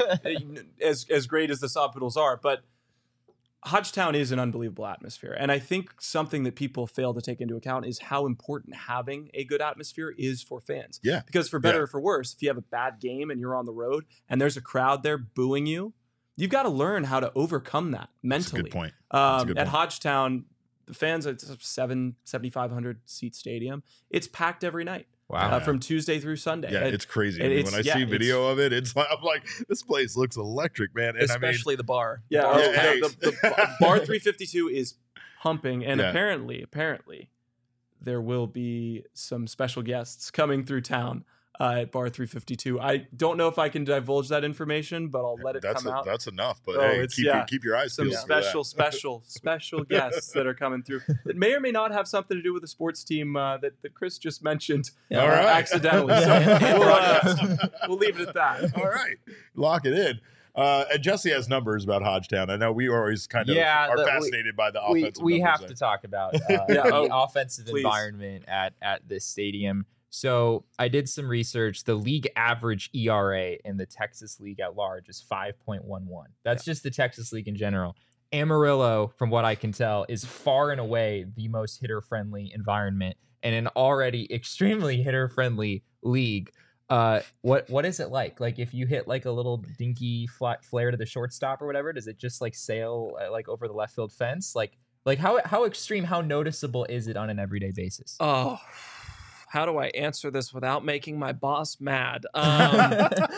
[SPEAKER 3] as as great as the Sod Poodles are, but Hodgetown is an unbelievable atmosphere. And I think something that people fail to take into account is how important having a good atmosphere is for fans.
[SPEAKER 1] Yeah.
[SPEAKER 3] Because for better
[SPEAKER 1] Yeah.
[SPEAKER 3] or for worse, if you have a bad game and you're on the road and there's a crowd there booing you, you've got to learn how to overcome that
[SPEAKER 1] That's a
[SPEAKER 3] mentally.
[SPEAKER 1] good point. That's a
[SPEAKER 3] Um,
[SPEAKER 1] good
[SPEAKER 3] at
[SPEAKER 1] point.
[SPEAKER 3] Hodgetown, the fans, it's a seven, seventy-five hundred seat stadium. It's packed every night
[SPEAKER 2] Wow.
[SPEAKER 3] uh, from Tuesday through Sunday.
[SPEAKER 1] Yeah,
[SPEAKER 3] And-
[SPEAKER 1] it's crazy. I
[SPEAKER 3] and
[SPEAKER 1] mean,
[SPEAKER 3] it's-
[SPEAKER 1] when I
[SPEAKER 3] yeah,
[SPEAKER 1] see
[SPEAKER 3] it's-
[SPEAKER 1] video of it, it's like I'm like, this place looks electric, man. And
[SPEAKER 4] especially the bar.
[SPEAKER 3] Yeah,
[SPEAKER 4] The
[SPEAKER 3] oh,
[SPEAKER 4] bar's
[SPEAKER 1] Yeah,
[SPEAKER 4] packed.
[SPEAKER 3] the, the, the bar three fifty-two is pumping, and
[SPEAKER 1] Yeah.
[SPEAKER 3] apparently, apparently, there will be some special guests coming through town uh, at bar three fifty-two. I don't know if I can divulge that information, but I'll
[SPEAKER 1] I mean,
[SPEAKER 3] let it
[SPEAKER 1] that's
[SPEAKER 3] come
[SPEAKER 1] a,
[SPEAKER 3] out.
[SPEAKER 1] that's enough. But
[SPEAKER 3] Oh,
[SPEAKER 1] hey,
[SPEAKER 3] it's-
[SPEAKER 1] keep
[SPEAKER 3] yeah.
[SPEAKER 1] your, keep your eyes
[SPEAKER 3] Some
[SPEAKER 1] peeled. for that.
[SPEAKER 3] special, special, special guests that are coming through that may or may not have something to do with the sports team uh, that, that Chris just mentioned
[SPEAKER 4] Yeah.
[SPEAKER 3] uh,
[SPEAKER 1] All right.
[SPEAKER 3] accidentally. So
[SPEAKER 2] Yeah.
[SPEAKER 3] we'll, uh, we'll leave it at that.
[SPEAKER 1] All right, lock it in. Uh, and Jesse has numbers about Hodgetown. I know we always kind of
[SPEAKER 2] Yeah,
[SPEAKER 1] are
[SPEAKER 2] the- we-
[SPEAKER 1] fascinated by the
[SPEAKER 2] we,
[SPEAKER 1] offensive.
[SPEAKER 2] we have
[SPEAKER 1] numbers
[SPEAKER 2] to talk about uh,
[SPEAKER 3] Yeah,
[SPEAKER 2] the
[SPEAKER 3] oh,
[SPEAKER 2] offensive
[SPEAKER 3] please.
[SPEAKER 2] environment at at this stadium. So I did some research. The league average E R A in the Texas League at large is five point one one. That's just the Texas League in general. Amarillo, from what I can tell, is far and away the most hitter-friendly environment in an already extremely hitter-friendly league. Uh, what what is it like? Like if you hit like a little dinky flat flare to the shortstop or whatever, does it just like sail uh, like over the left field fence? Like like how how extreme, how noticeable is it on an everyday basis?
[SPEAKER 4] Oh, how do I answer this without making my boss mad? Um,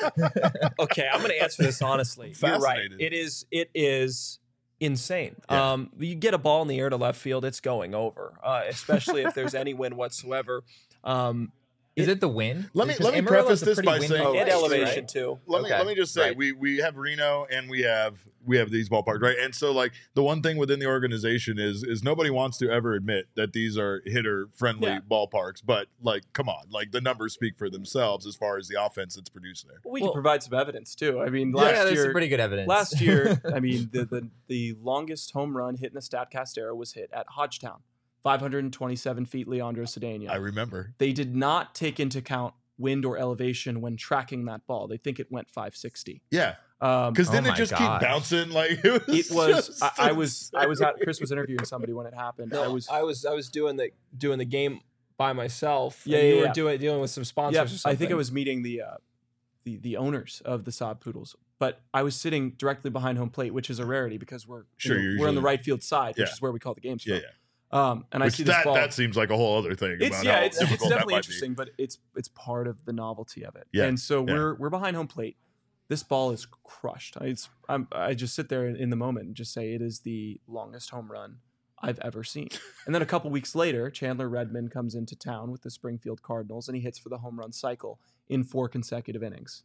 [SPEAKER 4] okay, I'm going to answer this honestly. You're right.
[SPEAKER 1] Fascinated.
[SPEAKER 4] It is. It is insane.
[SPEAKER 1] Yeah.
[SPEAKER 4] Um, you get a ball in the air to left field, it's going over, uh, especially if there's any wind whatsoever. Um,
[SPEAKER 2] Is it the wind?
[SPEAKER 1] Let me-
[SPEAKER 2] Because
[SPEAKER 1] let me
[SPEAKER 2] Amarillo's
[SPEAKER 1] preface
[SPEAKER 2] a
[SPEAKER 1] this
[SPEAKER 2] pretty
[SPEAKER 1] by
[SPEAKER 2] windy
[SPEAKER 1] saying-
[SPEAKER 4] and
[SPEAKER 2] place,
[SPEAKER 4] elevation
[SPEAKER 2] right?
[SPEAKER 4] too.
[SPEAKER 1] Let me
[SPEAKER 2] Okay,
[SPEAKER 1] let me just say
[SPEAKER 2] right.
[SPEAKER 1] we we have Reno and we have we have these ballparks, right? And so like the one thing within the organization is is nobody wants to ever admit that these are hitter friendly
[SPEAKER 3] Yeah.
[SPEAKER 1] ballparks, but like come on, like the numbers speak for themselves as far as the offense that's produced there.
[SPEAKER 3] We
[SPEAKER 4] Well-
[SPEAKER 3] can provide some evidence too. I mean,
[SPEAKER 2] Yeah,
[SPEAKER 3] last
[SPEAKER 2] there's
[SPEAKER 3] year,
[SPEAKER 2] some pretty good evidence.
[SPEAKER 3] last year, I mean, the, the the longest home run hit in the Statcast era was hit at Hodgetown, five hundred twenty-seven feet. Leandro Cedeno.
[SPEAKER 1] I remember.
[SPEAKER 3] They did not take into account wind or elevation when tracking that ball. They think it went five sixty.
[SPEAKER 1] Yeah,
[SPEAKER 3] Um,
[SPEAKER 1] because
[SPEAKER 2] Oh
[SPEAKER 1] then it
[SPEAKER 2] my
[SPEAKER 1] just
[SPEAKER 2] gosh.
[SPEAKER 1] keep bouncing. Like it was.
[SPEAKER 3] it was.
[SPEAKER 1] just
[SPEAKER 3] I, I was. I was at.
[SPEAKER 1] absurd.
[SPEAKER 3] Chris was interviewing somebody when it happened.
[SPEAKER 4] No,
[SPEAKER 3] I was.
[SPEAKER 4] I was I was doing the doing the game by myself.
[SPEAKER 3] Yeah,
[SPEAKER 4] and you
[SPEAKER 3] yeah,
[SPEAKER 4] were
[SPEAKER 3] yeah.
[SPEAKER 4] doing dealing with some sponsors.
[SPEAKER 3] Yeah,
[SPEAKER 4] or something.
[SPEAKER 3] I think I was meeting the uh, the the owners of the Saab Poodles, but I was sitting directly behind home plate, which is a rarity because we're
[SPEAKER 1] Sure,
[SPEAKER 3] you know,
[SPEAKER 1] you're
[SPEAKER 3] we're on the
[SPEAKER 1] usually-
[SPEAKER 3] right field side, which
[SPEAKER 1] Yeah.
[SPEAKER 3] is where we call the games
[SPEAKER 1] Yeah,
[SPEAKER 3] from.
[SPEAKER 1] yeah.
[SPEAKER 3] Um, and I
[SPEAKER 1] Which
[SPEAKER 3] see this
[SPEAKER 1] that
[SPEAKER 3] ball.
[SPEAKER 1] that seems like a whole other thing.
[SPEAKER 3] It's
[SPEAKER 1] about
[SPEAKER 3] yeah,
[SPEAKER 1] how
[SPEAKER 3] it's, it's
[SPEAKER 1] difficult that
[SPEAKER 3] definitely
[SPEAKER 1] might be.
[SPEAKER 3] interesting, but it's it's part of the novelty of it.
[SPEAKER 1] Yeah,
[SPEAKER 3] And so
[SPEAKER 1] yeah.
[SPEAKER 3] we're we're behind home plate. This ball is crushed. I, it's, I'm, I just sit there in the moment and just say it is the longest home run I've ever seen. And then a couple weeks later, Chandler Redmond comes into town with the Springfield Cardinals and he hits for the home run cycle in four consecutive innings.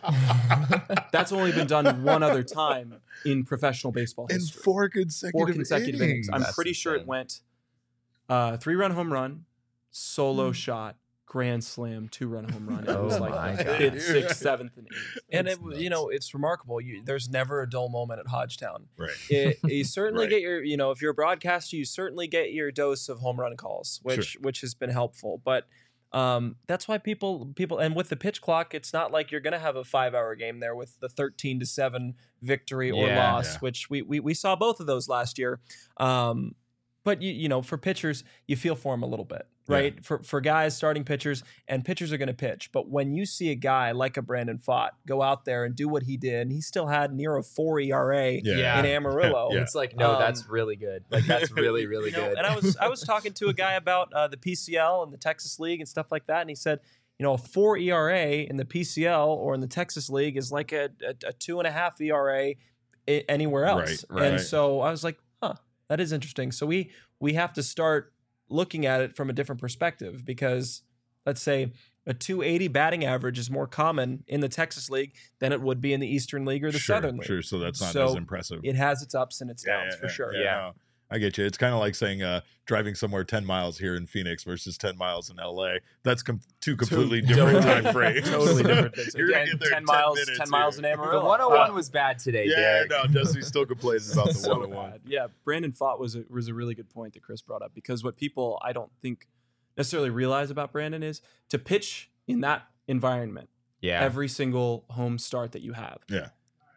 [SPEAKER 3] That's only been done one other time in professional baseball
[SPEAKER 1] in
[SPEAKER 3] history.
[SPEAKER 1] four consecutive,
[SPEAKER 3] Four consecutive innings.
[SPEAKER 1] innings.
[SPEAKER 3] I'm
[SPEAKER 2] That's
[SPEAKER 3] pretty sure it
[SPEAKER 2] insane.
[SPEAKER 3] went uh, three run home run, solo
[SPEAKER 1] Hmm.
[SPEAKER 3] shot, grand slam, two run home run. It
[SPEAKER 2] Oh
[SPEAKER 3] was
[SPEAKER 2] my
[SPEAKER 3] like
[SPEAKER 2] God.
[SPEAKER 3] fifth, sixth, seventh, and eighth.
[SPEAKER 4] and
[SPEAKER 1] That's
[SPEAKER 4] it, you
[SPEAKER 1] nuts.
[SPEAKER 4] know it's remarkable. You, there's never a dull moment at Hodgetown.
[SPEAKER 1] Right.
[SPEAKER 4] It, you certainly
[SPEAKER 1] Right.
[SPEAKER 4] get your, you know, if you're a broadcaster, you certainly get your dose of home run calls, which which has been helpful. But um, that's why people people and with the pitch clock, it's not like you're going to have a five hour game there with the thirteen to seven victory or
[SPEAKER 2] Yeah.
[SPEAKER 4] loss,
[SPEAKER 1] Yeah.
[SPEAKER 4] which we, we we saw both of those last year. Um, but you you know, for pitchers, you feel for them a little bit,
[SPEAKER 1] Yeah.
[SPEAKER 4] right? For for guys, starting pitchers, and pitchers are going to pitch. But when you see a guy like a Brandon Pfaadt go out there and do what he did, and he still had near a four E R A
[SPEAKER 1] Yeah.
[SPEAKER 4] in Amarillo.
[SPEAKER 1] Yeah.
[SPEAKER 2] It's like, no,
[SPEAKER 4] Um,
[SPEAKER 2] that's really good. Like that's really, really
[SPEAKER 4] You know,
[SPEAKER 2] good.
[SPEAKER 4] and I was I was talking to a guy about uh, the P C L and the Texas League and stuff like that, and he said, you know, a four E R A in the P C L or in the Texas League is like a, a, a two and a half E R A I- anywhere else.
[SPEAKER 1] Right, right.
[SPEAKER 4] And so I was like, huh, that is interesting. So we we have to start looking at it from a different perspective because let's say a two eighty batting average is more common in the Texas League than it would be in the Eastern League or the
[SPEAKER 1] sure,
[SPEAKER 4] Southern League.
[SPEAKER 1] Sure, so that's not
[SPEAKER 4] So
[SPEAKER 1] as impressive.
[SPEAKER 4] It has its ups and its
[SPEAKER 1] Yeah,
[SPEAKER 4] downs
[SPEAKER 1] yeah,
[SPEAKER 4] for
[SPEAKER 1] yeah,
[SPEAKER 4] sure.
[SPEAKER 2] Yeah.
[SPEAKER 1] no, I get you. It's kind of like saying uh, driving somewhere ten miles here in Phoenix versus ten miles in L A. That's com- two completely different
[SPEAKER 3] totally-
[SPEAKER 1] time frames.
[SPEAKER 3] Totally different things.
[SPEAKER 1] You're gonna
[SPEAKER 3] Again,
[SPEAKER 1] get there in
[SPEAKER 3] ten miles,
[SPEAKER 1] minutes
[SPEAKER 3] ten miles
[SPEAKER 1] here.
[SPEAKER 3] in
[SPEAKER 2] the
[SPEAKER 3] Amarillo.
[SPEAKER 2] one oh one
[SPEAKER 3] Uh,
[SPEAKER 2] was bad today,
[SPEAKER 1] Yeah,
[SPEAKER 2] Derek.
[SPEAKER 1] no, Jesse's still complaining about the
[SPEAKER 3] so
[SPEAKER 1] one oh one.
[SPEAKER 3] bad. Yeah, Brandon Pfaadt was a, was a really good point that Chris brought up because what people I don't think necessarily realize about Brandon is to pitch in that environment
[SPEAKER 2] Yeah.
[SPEAKER 3] every single home start that you have.
[SPEAKER 1] Yeah.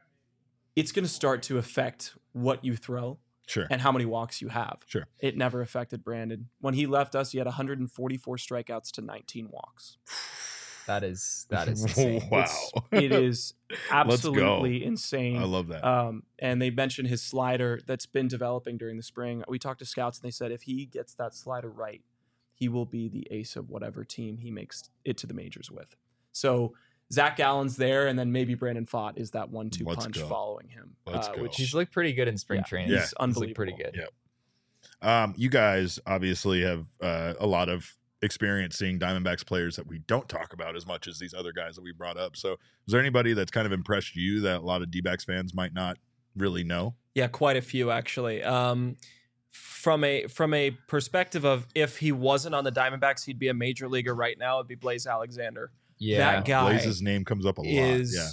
[SPEAKER 3] It's going to start to affect what you throw
[SPEAKER 1] Sure.
[SPEAKER 3] and how many walks you have.
[SPEAKER 1] Sure.
[SPEAKER 3] It never affected Brandon. When he left us, he had one hundred forty-four strikeouts to nineteen walks.
[SPEAKER 2] That is that is insane.
[SPEAKER 1] Wow.
[SPEAKER 3] It's- it is absolutely insane.
[SPEAKER 1] I love that.
[SPEAKER 3] Um, and they mentioned his slider that's been developing during the spring. We talked to scouts and they said if he gets that slider right, he will be the ace of whatever team he makes it to the majors with. So Zach Allen's there, and then maybe Brandon Pfaadt is that one two
[SPEAKER 1] Let's
[SPEAKER 3] punch
[SPEAKER 1] go.
[SPEAKER 3] following him.
[SPEAKER 1] Let's
[SPEAKER 3] uh,
[SPEAKER 1] go.
[SPEAKER 3] Which
[SPEAKER 2] He's looked pretty good in spring
[SPEAKER 3] Yeah,
[SPEAKER 2] training.
[SPEAKER 1] Yeah.
[SPEAKER 3] he's
[SPEAKER 2] He's
[SPEAKER 3] unbelievable.
[SPEAKER 2] looked pretty good.
[SPEAKER 1] Yeah. Um, you guys obviously have uh, a lot of experience seeing Diamondbacks players that we don't talk about as much as these other guys that we brought up. So, is there anybody that's kind of impressed you that a lot of D-backs fans might not really know?
[SPEAKER 4] Yeah, quite a few actually. Um, from a from a perspective of if he wasn't on the Diamondbacks, he'd be a major leaguer right now. It'd be Blaze Alexander.
[SPEAKER 2] Yeah.
[SPEAKER 4] That guy
[SPEAKER 1] Blaze's name comes up a lot.
[SPEAKER 4] is
[SPEAKER 1] Yeah.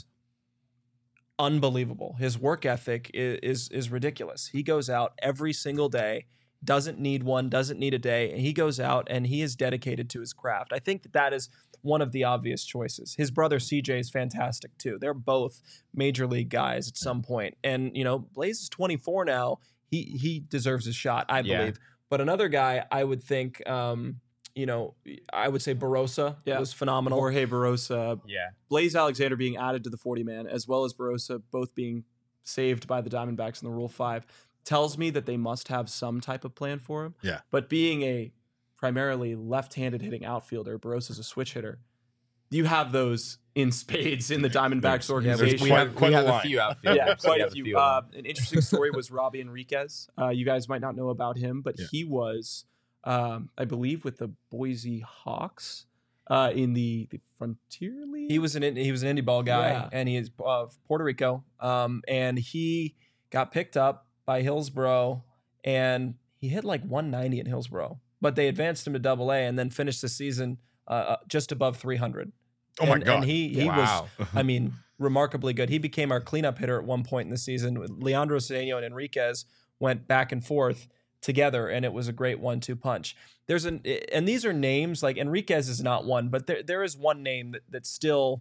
[SPEAKER 4] unbelievable. His work ethic is, is is ridiculous. He goes out every single day, doesn't need one, doesn't need a day, and he goes out and he is dedicated to his craft. I think that that is one of the obvious choices. His brother C J is fantastic too. They're both major league guys at some point. And you know, Blaze is twenty-four now. He he deserves a shot, I
[SPEAKER 2] Yeah.
[SPEAKER 4] believe. But another guy I would think um you know, I would say Barossa
[SPEAKER 3] Yeah.
[SPEAKER 4] was phenomenal.
[SPEAKER 3] Jorge Barossa,
[SPEAKER 2] Yeah.
[SPEAKER 3] Blaze Alexander being added to the forty man, as well as Barossa both being saved by the Diamondbacks in the Rule five, tells me that they must have some type of plan for him.
[SPEAKER 1] Yeah.
[SPEAKER 3] But being a primarily left-handed hitting outfielder, Barossa's a switch hitter. You have those in spades in the Diamondbacks
[SPEAKER 1] Yeah,
[SPEAKER 3] organization.
[SPEAKER 2] we
[SPEAKER 1] quite-
[SPEAKER 2] have,
[SPEAKER 1] quite
[SPEAKER 2] we
[SPEAKER 1] a
[SPEAKER 2] have a
[SPEAKER 1] line.
[SPEAKER 2] few outfielders.
[SPEAKER 3] Yeah,
[SPEAKER 2] We
[SPEAKER 3] quite a
[SPEAKER 2] have
[SPEAKER 3] few.
[SPEAKER 2] of
[SPEAKER 3] Uh,
[SPEAKER 2] them.
[SPEAKER 3] an interesting story was Robbie Enriquez. Uh, you guys might not know about him, but
[SPEAKER 1] Yeah.
[SPEAKER 3] he was, um, I believe, with the Boise Hawks uh, in the, the Frontier League.
[SPEAKER 4] He was an he was an indie ball guy,
[SPEAKER 3] Yeah.
[SPEAKER 4] and he is of Puerto Rico. Um, and he got picked up by Hillsboro, and he hit like one ninety in Hillsboro, but they advanced him to Double A, and then finished the season uh, uh, just above three hundred.
[SPEAKER 1] Oh my
[SPEAKER 4] and,
[SPEAKER 1] God.
[SPEAKER 4] And he he
[SPEAKER 2] Wow.
[SPEAKER 4] was, I mean, remarkably good. He became our cleanup hitter at one point in the season. Leandro Cedeno and Enriquez went back and forth together, and it was a great one-two punch. There's an and these are names like Enriquez is not one, but there there is one name that that still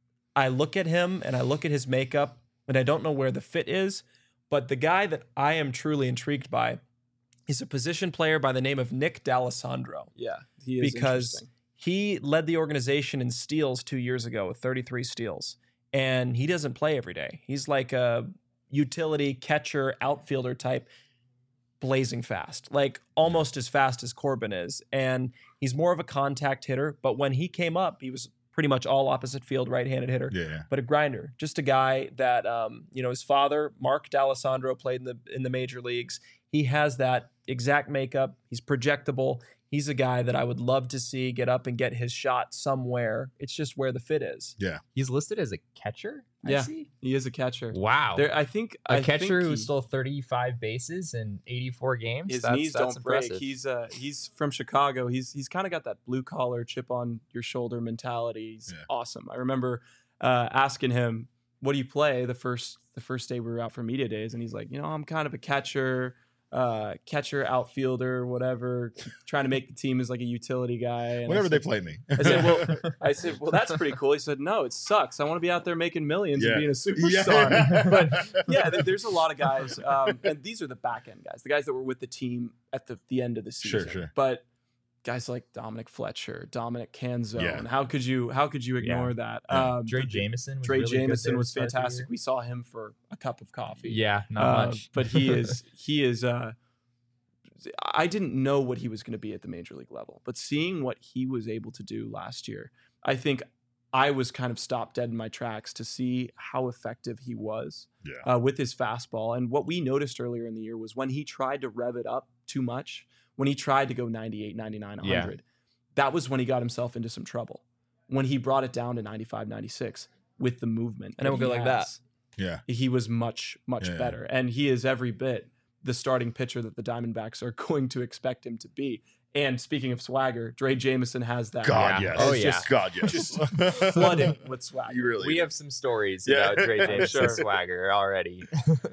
[SPEAKER 4] I look at him and I look at his makeup and I don't know where the fit is, but the guy that I am truly intrigued by is a position player by the name of Nick D'Alessandro.
[SPEAKER 3] yeah, he is
[SPEAKER 4] Because
[SPEAKER 3] interesting.
[SPEAKER 4] he led the organization in steals two years ago with thirty-three steals, and he doesn't play every day. He's like a utility catcher, outfielder type, blazing fast, like almost as fast as Corbin is. And he's more of a contact hitter, but when he came up, he was pretty much all opposite field right-handed hitter.
[SPEAKER 1] Yeah, yeah.
[SPEAKER 4] But a grinder, just a guy that, um, you know, his father, Mark D'Alessandro, played in the in the major leagues. He has that exact makeup. He's projectable. He's a guy that I would love to see get up and get his shot somewhere. It's just where the fit is.
[SPEAKER 2] He's listed as a catcher. I
[SPEAKER 3] Yeah.
[SPEAKER 2] see.
[SPEAKER 3] He is a catcher.
[SPEAKER 2] Wow.
[SPEAKER 3] There, I think
[SPEAKER 2] a
[SPEAKER 3] I
[SPEAKER 2] catcher
[SPEAKER 3] think
[SPEAKER 2] who
[SPEAKER 3] he-
[SPEAKER 2] stole thirty-five bases in eighty-four games.
[SPEAKER 3] his
[SPEAKER 2] that's,
[SPEAKER 3] knees
[SPEAKER 2] that's
[SPEAKER 3] don't
[SPEAKER 2] impressive.
[SPEAKER 3] break. He's uh he's from Chicago. He's he's kind of got that blue collar chip on your shoulder mentality. He's
[SPEAKER 1] Yeah.
[SPEAKER 3] awesome. I remember uh, asking him, "What do you play?" the first the first day we were out for media days, and he's like, "You know, I'm kind of a catcher." Uh, catcher, outfielder, whatever, trying to make the team as like a utility guy. And I
[SPEAKER 1] Whenever they
[SPEAKER 3] said-
[SPEAKER 1] play me.
[SPEAKER 3] I said, well, I said, well, that's pretty cool. He said, no, it sucks. I want to be out there making millions
[SPEAKER 1] Yeah.
[SPEAKER 3] and being a
[SPEAKER 1] Yeah.
[SPEAKER 3] superstar. But yeah, there- there's a lot of guys, um, and these are the back end guys, the guys that were with the team at the, the end of the
[SPEAKER 1] Sure,
[SPEAKER 3] season.
[SPEAKER 1] sure.
[SPEAKER 3] But guys like Dominic Fletcher, Dominic Canzone,
[SPEAKER 1] Yeah.
[SPEAKER 3] how could you how could you ignore
[SPEAKER 2] Yeah.
[SPEAKER 3] that?
[SPEAKER 1] Yeah.
[SPEAKER 3] Um,
[SPEAKER 2] Dre Jameson. Was
[SPEAKER 3] Dre
[SPEAKER 2] really good there
[SPEAKER 3] Jameson
[SPEAKER 2] to
[SPEAKER 3] was
[SPEAKER 2] start the
[SPEAKER 3] fantastic.
[SPEAKER 2] year.
[SPEAKER 3] We saw him for a cup of coffee.
[SPEAKER 2] Yeah, not
[SPEAKER 3] Uh,
[SPEAKER 2] much.
[SPEAKER 3] but he is he is uh I didn't know what he was going to be at the major league level, but seeing what he was able to do last year, I think I was kind of stopped dead in my tracks to see how effective he was
[SPEAKER 1] Yeah.
[SPEAKER 3] uh, with his fastball. And what we noticed earlier in the year was when he tried to rev it up too much, when he tried to go ninety-eight, ninety-nine, one hundred, that was when he got himself into some trouble. When he brought it down to ninety-five, ninety-six with the movement.
[SPEAKER 4] And it
[SPEAKER 3] that
[SPEAKER 4] would go
[SPEAKER 3] he
[SPEAKER 4] like that.
[SPEAKER 3] has,
[SPEAKER 1] Yeah.
[SPEAKER 3] he was much, much
[SPEAKER 1] Yeah.
[SPEAKER 3] better. And he is every bit the starting pitcher that the Diamondbacks are going to expect him to be. And speaking of swagger, Dre Jameson has that.
[SPEAKER 1] God,
[SPEAKER 2] Yeah.
[SPEAKER 1] yes.
[SPEAKER 2] Oh,
[SPEAKER 3] It's
[SPEAKER 2] yeah.
[SPEAKER 3] just
[SPEAKER 1] God, yes.
[SPEAKER 3] just flooded with swagger.
[SPEAKER 1] You really
[SPEAKER 2] we
[SPEAKER 1] do.
[SPEAKER 2] have some stories
[SPEAKER 1] Yeah.
[SPEAKER 2] about Dre Jameson's
[SPEAKER 3] Sure.
[SPEAKER 2] swagger already.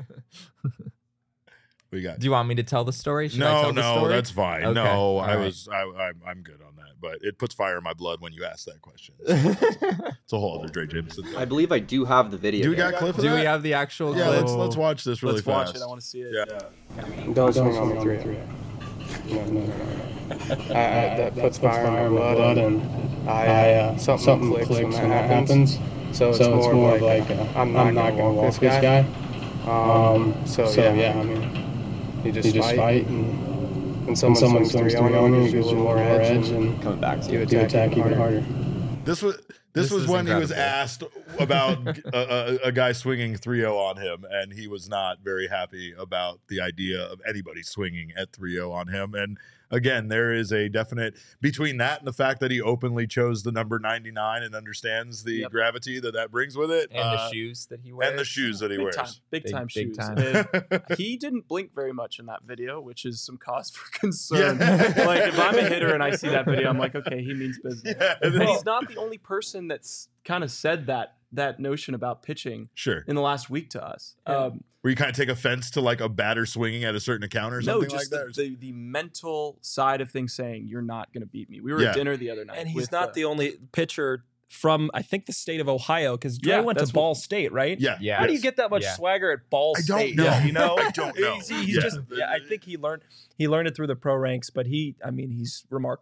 [SPEAKER 1] we got
[SPEAKER 2] Do you want me to tell the story? Should I
[SPEAKER 1] no,
[SPEAKER 2] tell the
[SPEAKER 1] no,
[SPEAKER 2] story?
[SPEAKER 1] that's fine.
[SPEAKER 2] Okay,
[SPEAKER 1] No,
[SPEAKER 2] all
[SPEAKER 1] I
[SPEAKER 2] right.
[SPEAKER 1] was, I, I, I'm good on that. But it puts fire in my blood when you ask that question. It's a whole other Dre Jameson thing.
[SPEAKER 5] I believe I do have the video.
[SPEAKER 1] Do we
[SPEAKER 5] here.
[SPEAKER 1] got clips of
[SPEAKER 2] Do
[SPEAKER 1] that?
[SPEAKER 2] we have the actual
[SPEAKER 1] Yeah,
[SPEAKER 2] clip?
[SPEAKER 1] let's let's watch this really
[SPEAKER 3] Let's
[SPEAKER 1] fast.
[SPEAKER 3] watch it. I want to see it.
[SPEAKER 1] Yeah.
[SPEAKER 6] Don't swing on me three. No, no, no, no. I, I, that puts fire in my blood, and I uh, something, something clicks, clicks when that happens. So it's, so it's more of like, like uh, I'm not, I'm not gonna walk this guy. Um, so, so yeah, yeah, I mean, you just, you just fight, fight and when someone, someone swings three on you, you give a little more edge, and
[SPEAKER 5] Coming back to
[SPEAKER 6] you
[SPEAKER 5] you.
[SPEAKER 6] attack, attack even harder.
[SPEAKER 1] This was this,
[SPEAKER 2] This
[SPEAKER 1] was
[SPEAKER 2] is
[SPEAKER 1] when he was
[SPEAKER 2] incredible.
[SPEAKER 1] asked about a, a, a guy swinging three oh on him, and he was not very happy about the idea of anybody swinging at three oh on him. And again, there is a definite between that and the fact that he openly chose the number ninety-nine and understands the
[SPEAKER 3] Yep.
[SPEAKER 1] gravity that that brings with it,
[SPEAKER 2] And
[SPEAKER 1] uh,
[SPEAKER 2] the shoes that he wears.
[SPEAKER 1] and the shoes that he
[SPEAKER 3] Big
[SPEAKER 1] wears.
[SPEAKER 3] time, big,
[SPEAKER 2] Big-
[SPEAKER 3] time
[SPEAKER 2] big
[SPEAKER 3] shoes.
[SPEAKER 2] time.
[SPEAKER 3] And he didn't blink very much in that video, which is some cause for concern.
[SPEAKER 1] Yeah.
[SPEAKER 3] Like if I'm a hitter and I see that video, I'm like, okay, he means business.
[SPEAKER 1] Yeah,
[SPEAKER 3] And he's not the only person that's kind of said that that notion about pitching
[SPEAKER 1] Sure.
[SPEAKER 3] in the last week to us.
[SPEAKER 4] Yeah.
[SPEAKER 3] Um,
[SPEAKER 1] Where you kind of take offense to like a batter swinging at a certain account or
[SPEAKER 3] no,
[SPEAKER 1] something
[SPEAKER 3] just
[SPEAKER 1] like that.
[SPEAKER 3] the, the the mental side of things, saying you're not going to beat me. We were
[SPEAKER 1] Yeah.
[SPEAKER 3] at dinner the other night,
[SPEAKER 4] And he's
[SPEAKER 3] with,
[SPEAKER 4] not
[SPEAKER 3] uh,
[SPEAKER 4] the only pitcher from, I think, the state of Ohio, because Dre
[SPEAKER 3] Yeah,
[SPEAKER 4] went to
[SPEAKER 3] that's what-
[SPEAKER 4] Ball State, right?
[SPEAKER 1] yeah.
[SPEAKER 2] Yeah.
[SPEAKER 4] How do you
[SPEAKER 1] yes.
[SPEAKER 4] get that much
[SPEAKER 2] Yeah.
[SPEAKER 4] swagger at Ball
[SPEAKER 1] I don't
[SPEAKER 4] State?
[SPEAKER 1] know.
[SPEAKER 4] Yeah, you know,
[SPEAKER 1] I don't know.
[SPEAKER 4] He's, he's
[SPEAKER 1] Yeah.
[SPEAKER 4] just. Yeah, I think he learned. He learned it through the pro ranks, but he, I mean, he's remarkable.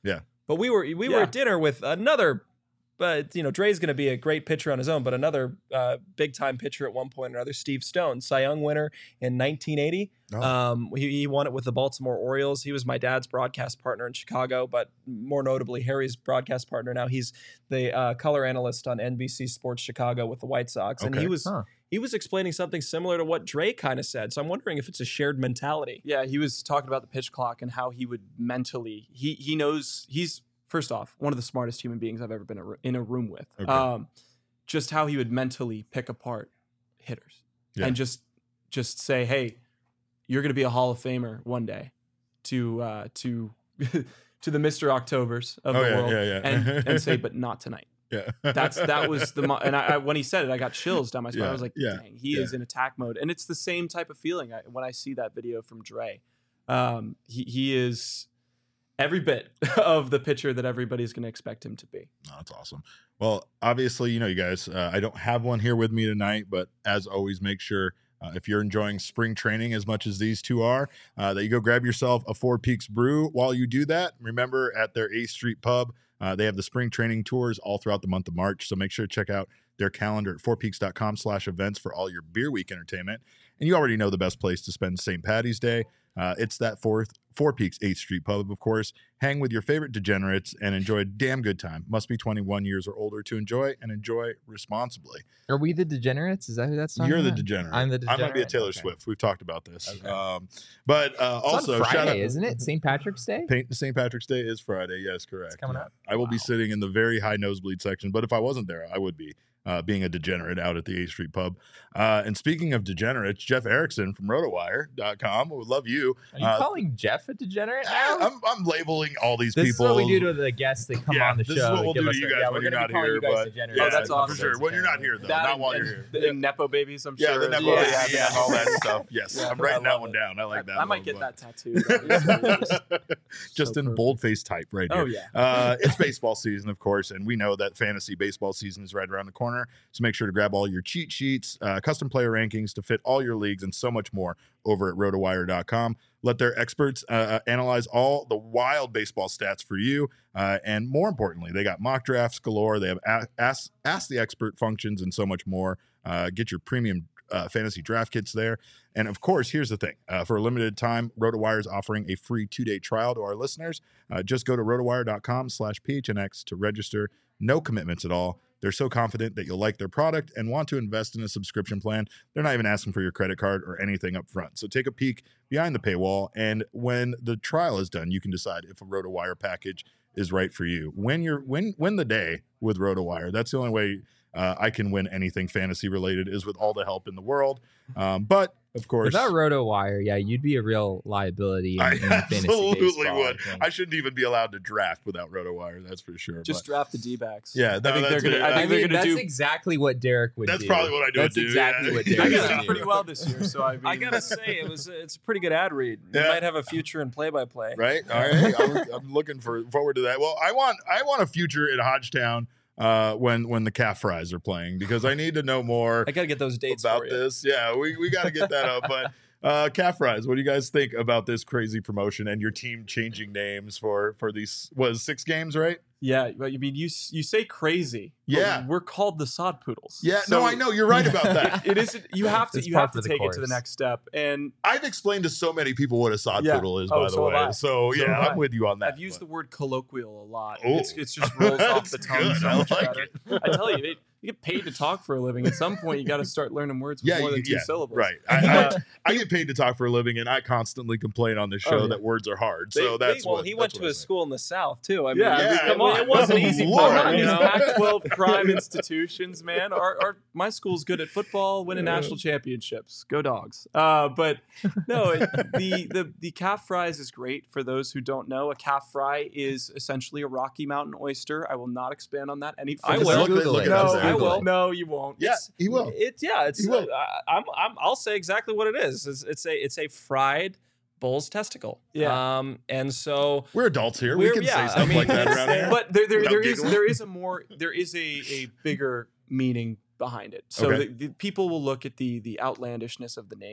[SPEAKER 1] Yeah.
[SPEAKER 4] But we were we
[SPEAKER 3] Yeah.
[SPEAKER 4] were at dinner with another. But, you know, Dre's going to be a great pitcher on his own, but another uh, big-time pitcher at one point or another, Steve Stone, Cy Young winner in nineteen eighty.
[SPEAKER 1] Oh.
[SPEAKER 4] Um, he, he won it with the Baltimore Orioles. He was my dad's broadcast partner in Chicago, but more notably, Harry's broadcast partner now. He's the uh, color analyst on N B C Sports Chicago with the White Sox. And
[SPEAKER 1] Okay.
[SPEAKER 4] he was
[SPEAKER 2] Huh.
[SPEAKER 4] he was explaining something similar to what Dre kind of said. So I'm wondering if it's a shared mentality.
[SPEAKER 3] Yeah, he was talking about the pitch clock and how he would mentally. He he knows he's first off one of the smartest human beings I've ever been a- in a room with.
[SPEAKER 1] Okay.
[SPEAKER 3] Um, just how he would mentally pick apart hitters
[SPEAKER 1] Yeah.
[SPEAKER 3] and just just say, hey, you're going to be a Hall of Famer one day, to uh, to to the Mister Octobers of
[SPEAKER 1] Oh,
[SPEAKER 3] the
[SPEAKER 1] yeah,
[SPEAKER 3] world,
[SPEAKER 1] yeah, yeah.
[SPEAKER 3] and and say, but not tonight.
[SPEAKER 1] Yeah.
[SPEAKER 3] That's that was the mo- and I, I when he said it, I got chills down my spine.
[SPEAKER 1] Yeah,
[SPEAKER 3] I was like,
[SPEAKER 1] yeah,
[SPEAKER 3] dang, he
[SPEAKER 1] yeah.
[SPEAKER 3] is in attack mode, and it's the same type of feeling I, when I see that video from Dre. Um, he he is every bit of the pitcher that everybody's going to expect him to be.
[SPEAKER 1] Oh, that's awesome. Well, obviously, you know, you guys, uh, I don't have one here with me tonight, but as always, make sure uh, if you're enjoying spring training as much as these two are, uh, that you go grab yourself a Four Peaks brew. While you do that, remember at their eighth Street Pub, uh, they have the spring training tours all throughout the month of March. So make sure to check out their calendar at fourpeaks.com slash events for all your beer week entertainment. And you already know the best place to spend Saint Patty's Day. Uh, it's that fourth Four Peaks eighth Street Pub, of course. Hang with your favorite degenerates and enjoy a damn good time. Must be twenty-one years or older to enjoy, and enjoy responsibly.
[SPEAKER 2] Are we the degenerates? Is that who that's talking
[SPEAKER 1] You're the
[SPEAKER 2] about?
[SPEAKER 1] degenerate.
[SPEAKER 2] I'm the
[SPEAKER 1] I might be a
[SPEAKER 2] degenerate?
[SPEAKER 1] Taylor
[SPEAKER 2] Okay.
[SPEAKER 1] Swift. We've talked about this.
[SPEAKER 2] Okay.
[SPEAKER 1] Um, but uh,
[SPEAKER 2] It's
[SPEAKER 1] also,
[SPEAKER 2] on Friday,
[SPEAKER 1] shout out.
[SPEAKER 2] isn't it? Saint Patrick's Day?
[SPEAKER 1] Saint Patrick's Day is Friday. Yes, correct.
[SPEAKER 2] coming
[SPEAKER 1] Yeah.
[SPEAKER 2] up.
[SPEAKER 1] I will be
[SPEAKER 2] Wow.
[SPEAKER 1] sitting in the very high nosebleed section, but if I wasn't there, I would be. Uh, being a degenerate out at the eighth Street Pub. Uh, and speaking of degenerates, Jeff Erickson from rotowire dot com would love you.
[SPEAKER 2] Are you
[SPEAKER 1] Uh,
[SPEAKER 2] calling Jeff a degenerate
[SPEAKER 1] Ah,
[SPEAKER 2] now?
[SPEAKER 1] I'm, I'm labeling all these
[SPEAKER 2] This
[SPEAKER 1] people.
[SPEAKER 2] is what we do to the guests that come
[SPEAKER 1] Yeah,
[SPEAKER 2] on the
[SPEAKER 1] this
[SPEAKER 2] show.
[SPEAKER 1] is what
[SPEAKER 2] that
[SPEAKER 1] we'll
[SPEAKER 2] give
[SPEAKER 1] do
[SPEAKER 2] us
[SPEAKER 1] to you
[SPEAKER 2] their-
[SPEAKER 1] guys
[SPEAKER 2] yeah,
[SPEAKER 1] when
[SPEAKER 2] we're
[SPEAKER 1] you're
[SPEAKER 2] gonna
[SPEAKER 1] not
[SPEAKER 2] be calling
[SPEAKER 1] here.
[SPEAKER 2] you guys
[SPEAKER 1] But
[SPEAKER 2] degenerates.
[SPEAKER 1] yeah,
[SPEAKER 3] Oh, that's awesome.
[SPEAKER 1] for sure. When you're not here, though,
[SPEAKER 3] That
[SPEAKER 1] not while
[SPEAKER 3] and
[SPEAKER 1] you're here.
[SPEAKER 3] The Nepo babies, I'm
[SPEAKER 1] Yeah,
[SPEAKER 3] sure.
[SPEAKER 1] the
[SPEAKER 3] as
[SPEAKER 1] Nepo
[SPEAKER 3] well.
[SPEAKER 1] baby
[SPEAKER 3] Yeah,
[SPEAKER 1] and
[SPEAKER 3] yeah.
[SPEAKER 1] all that stuff. Yes,
[SPEAKER 3] Yeah,
[SPEAKER 1] I'm
[SPEAKER 3] I
[SPEAKER 1] writing that
[SPEAKER 3] love
[SPEAKER 1] one
[SPEAKER 3] it.
[SPEAKER 1] down. I like that.
[SPEAKER 3] I might
[SPEAKER 1] one,
[SPEAKER 3] get
[SPEAKER 1] but-
[SPEAKER 3] that tattoo.
[SPEAKER 1] just
[SPEAKER 3] So
[SPEAKER 1] in
[SPEAKER 3] perfect.
[SPEAKER 1] boldface type right here.
[SPEAKER 3] Oh yeah.
[SPEAKER 1] Uh, it's baseball season, of course, and we know that fantasy baseball season is right around the corner. So make sure to grab all your cheat sheets, uh, custom player rankings to fit all your leagues, and so much more over at rotowire dot com. Let their experts uh, analyze all the wild baseball stats for you. Uh, and more importantly, they got mock drafts galore. They have a- ask, ask the expert functions and so much more. Uh, get your premium uh, fantasy draft kits there. And of course, here's the thing. Uh, for a limited time, RotoWire is offering a free two-day trial to our listeners. Uh, just go to rotowire dot com slash P H N X to register. No commitments at all. They're so confident that you'll like their product and want to invest in a subscription plan. They're not even asking for your credit card or anything up front. So take a peek behind the paywall, and when the trial is done, you can decide if a RotoWire package is right for you. When you're win win the day with RotoWire. That's the only way uh, I can win anything fantasy related, is with all the help in the world. Um, but of course,
[SPEAKER 2] Without RotoWire, yeah, you'd be a real liability in,
[SPEAKER 1] I
[SPEAKER 2] in fantasy
[SPEAKER 1] absolutely
[SPEAKER 2] baseball,
[SPEAKER 1] would.
[SPEAKER 2] I think.
[SPEAKER 1] I shouldn't even be allowed to draft without RotoWire. That's for sure.
[SPEAKER 3] Just
[SPEAKER 1] but-
[SPEAKER 3] draft the D-backs.
[SPEAKER 1] Yeah,
[SPEAKER 3] I
[SPEAKER 1] no,
[SPEAKER 3] think they're
[SPEAKER 1] that's
[SPEAKER 3] gonna.
[SPEAKER 1] it.
[SPEAKER 3] I
[SPEAKER 1] I
[SPEAKER 2] I
[SPEAKER 3] think they're
[SPEAKER 2] mean,
[SPEAKER 3] gonna
[SPEAKER 2] that's
[SPEAKER 3] do.
[SPEAKER 2] exactly what Derek would
[SPEAKER 1] That's
[SPEAKER 2] do.
[SPEAKER 1] probably what I do.
[SPEAKER 2] That's
[SPEAKER 1] do,
[SPEAKER 2] exactly
[SPEAKER 1] yeah.
[SPEAKER 2] what
[SPEAKER 3] I
[SPEAKER 2] Derek
[SPEAKER 3] got
[SPEAKER 2] would
[SPEAKER 3] done
[SPEAKER 2] do.
[SPEAKER 3] pretty well this year, so I. Mean,
[SPEAKER 4] I gotta say, it was it's a pretty good ad read. You
[SPEAKER 1] Yeah.
[SPEAKER 4] might have a future in play-by-play.
[SPEAKER 1] Right. All right. I'm, I'm looking for forward to that. Well, I want I want a future in Hodgetown uh, when when the calf fries are playing, because I need to know more
[SPEAKER 4] I gotta get those dates
[SPEAKER 1] about
[SPEAKER 4] for you.
[SPEAKER 1] this. Yeah, we, we got to get that up. But uh, calf fries, what do you guys think about this crazy promotion and your team changing names for for these was six games, right?
[SPEAKER 3] Yeah, but I mean, you s- you say crazy. but
[SPEAKER 1] Yeah.
[SPEAKER 3] we're called the Sod Poodles.
[SPEAKER 1] Yeah.
[SPEAKER 3] So
[SPEAKER 1] no, I know you're right about that.
[SPEAKER 3] It is. You have to.
[SPEAKER 2] It's
[SPEAKER 3] You
[SPEAKER 2] par
[SPEAKER 3] have to
[SPEAKER 2] for the
[SPEAKER 3] take it to the
[SPEAKER 2] course.
[SPEAKER 3] next step. And
[SPEAKER 1] I've explained to so many people what a sod
[SPEAKER 3] Yeah.
[SPEAKER 1] poodle is,
[SPEAKER 3] Oh,
[SPEAKER 1] by the
[SPEAKER 3] so have
[SPEAKER 1] way.
[SPEAKER 3] I.
[SPEAKER 1] So,
[SPEAKER 3] So
[SPEAKER 1] yeah,
[SPEAKER 3] have
[SPEAKER 1] I'm
[SPEAKER 3] I.
[SPEAKER 1] with you on that.
[SPEAKER 3] I've used the
[SPEAKER 1] but-
[SPEAKER 3] word colloquial a lot.
[SPEAKER 1] Oh,
[SPEAKER 3] It's, it's just rolls off the
[SPEAKER 1] that's
[SPEAKER 3] tongue
[SPEAKER 1] good.
[SPEAKER 3] so
[SPEAKER 1] I
[SPEAKER 3] much
[SPEAKER 1] like
[SPEAKER 3] better. I tell you, it, you get paid to talk for a living. At some point, you got to start learning words with
[SPEAKER 1] Yeah,
[SPEAKER 3] more
[SPEAKER 1] you-
[SPEAKER 3] than two
[SPEAKER 1] yeah,
[SPEAKER 3] syllables.
[SPEAKER 1] right. I,
[SPEAKER 3] Uh,
[SPEAKER 1] I, I get paid to talk for a living, and I constantly complain on this show
[SPEAKER 3] Oh, yeah.
[SPEAKER 1] that words are hard.
[SPEAKER 4] They-
[SPEAKER 1] So
[SPEAKER 4] they-
[SPEAKER 1] that's
[SPEAKER 4] well,
[SPEAKER 1] what
[SPEAKER 4] he
[SPEAKER 1] that's
[SPEAKER 4] went
[SPEAKER 1] what
[SPEAKER 4] to
[SPEAKER 1] I
[SPEAKER 4] a
[SPEAKER 1] say.
[SPEAKER 4] school in the South too. I mean,
[SPEAKER 3] Yeah,
[SPEAKER 4] it,
[SPEAKER 1] yeah,
[SPEAKER 4] come on,
[SPEAKER 3] it
[SPEAKER 4] it wasn't
[SPEAKER 1] Good
[SPEAKER 4] easy
[SPEAKER 1] Lord,
[SPEAKER 4] for
[SPEAKER 3] Not
[SPEAKER 4] him.
[SPEAKER 3] in
[SPEAKER 4] You
[SPEAKER 3] these
[SPEAKER 4] know?
[SPEAKER 3] Pac twelve prime institutions, man. Our, our my school's good at football, winning national championships. Go Dogs! Uh, but no, it, the the the calf fries is great for those who don't know. A calf fry is essentially a Rocky Mountain oyster. I will not expand on that any
[SPEAKER 4] I
[SPEAKER 3] further.
[SPEAKER 4] will.
[SPEAKER 1] Look at-
[SPEAKER 2] Google
[SPEAKER 1] look
[SPEAKER 2] it.
[SPEAKER 1] at
[SPEAKER 3] No,
[SPEAKER 1] us
[SPEAKER 2] Just
[SPEAKER 1] there.
[SPEAKER 3] I
[SPEAKER 2] Google
[SPEAKER 3] will.
[SPEAKER 2] it.
[SPEAKER 3] No, you won't.
[SPEAKER 1] Yeah, he will.
[SPEAKER 4] It, yeah, it's.
[SPEAKER 1] He will.
[SPEAKER 4] Uh, I'm, I'm. I'll say exactly what it is. It's, it's a. It's a fried bull's testicle.
[SPEAKER 3] Yeah.
[SPEAKER 4] Um. And so
[SPEAKER 1] We're adults here. We
[SPEAKER 4] We're-
[SPEAKER 1] can
[SPEAKER 4] yeah,
[SPEAKER 1] say
[SPEAKER 4] I
[SPEAKER 1] stuff
[SPEAKER 4] mean,
[SPEAKER 1] like that
[SPEAKER 4] it's-
[SPEAKER 1] around here.
[SPEAKER 3] But there, there,
[SPEAKER 1] Without
[SPEAKER 3] there is
[SPEAKER 1] giggling.
[SPEAKER 3] there is a more there is a, a bigger meaning behind it. So
[SPEAKER 1] Okay.
[SPEAKER 3] the, the people will look at the the outlandishness of the name,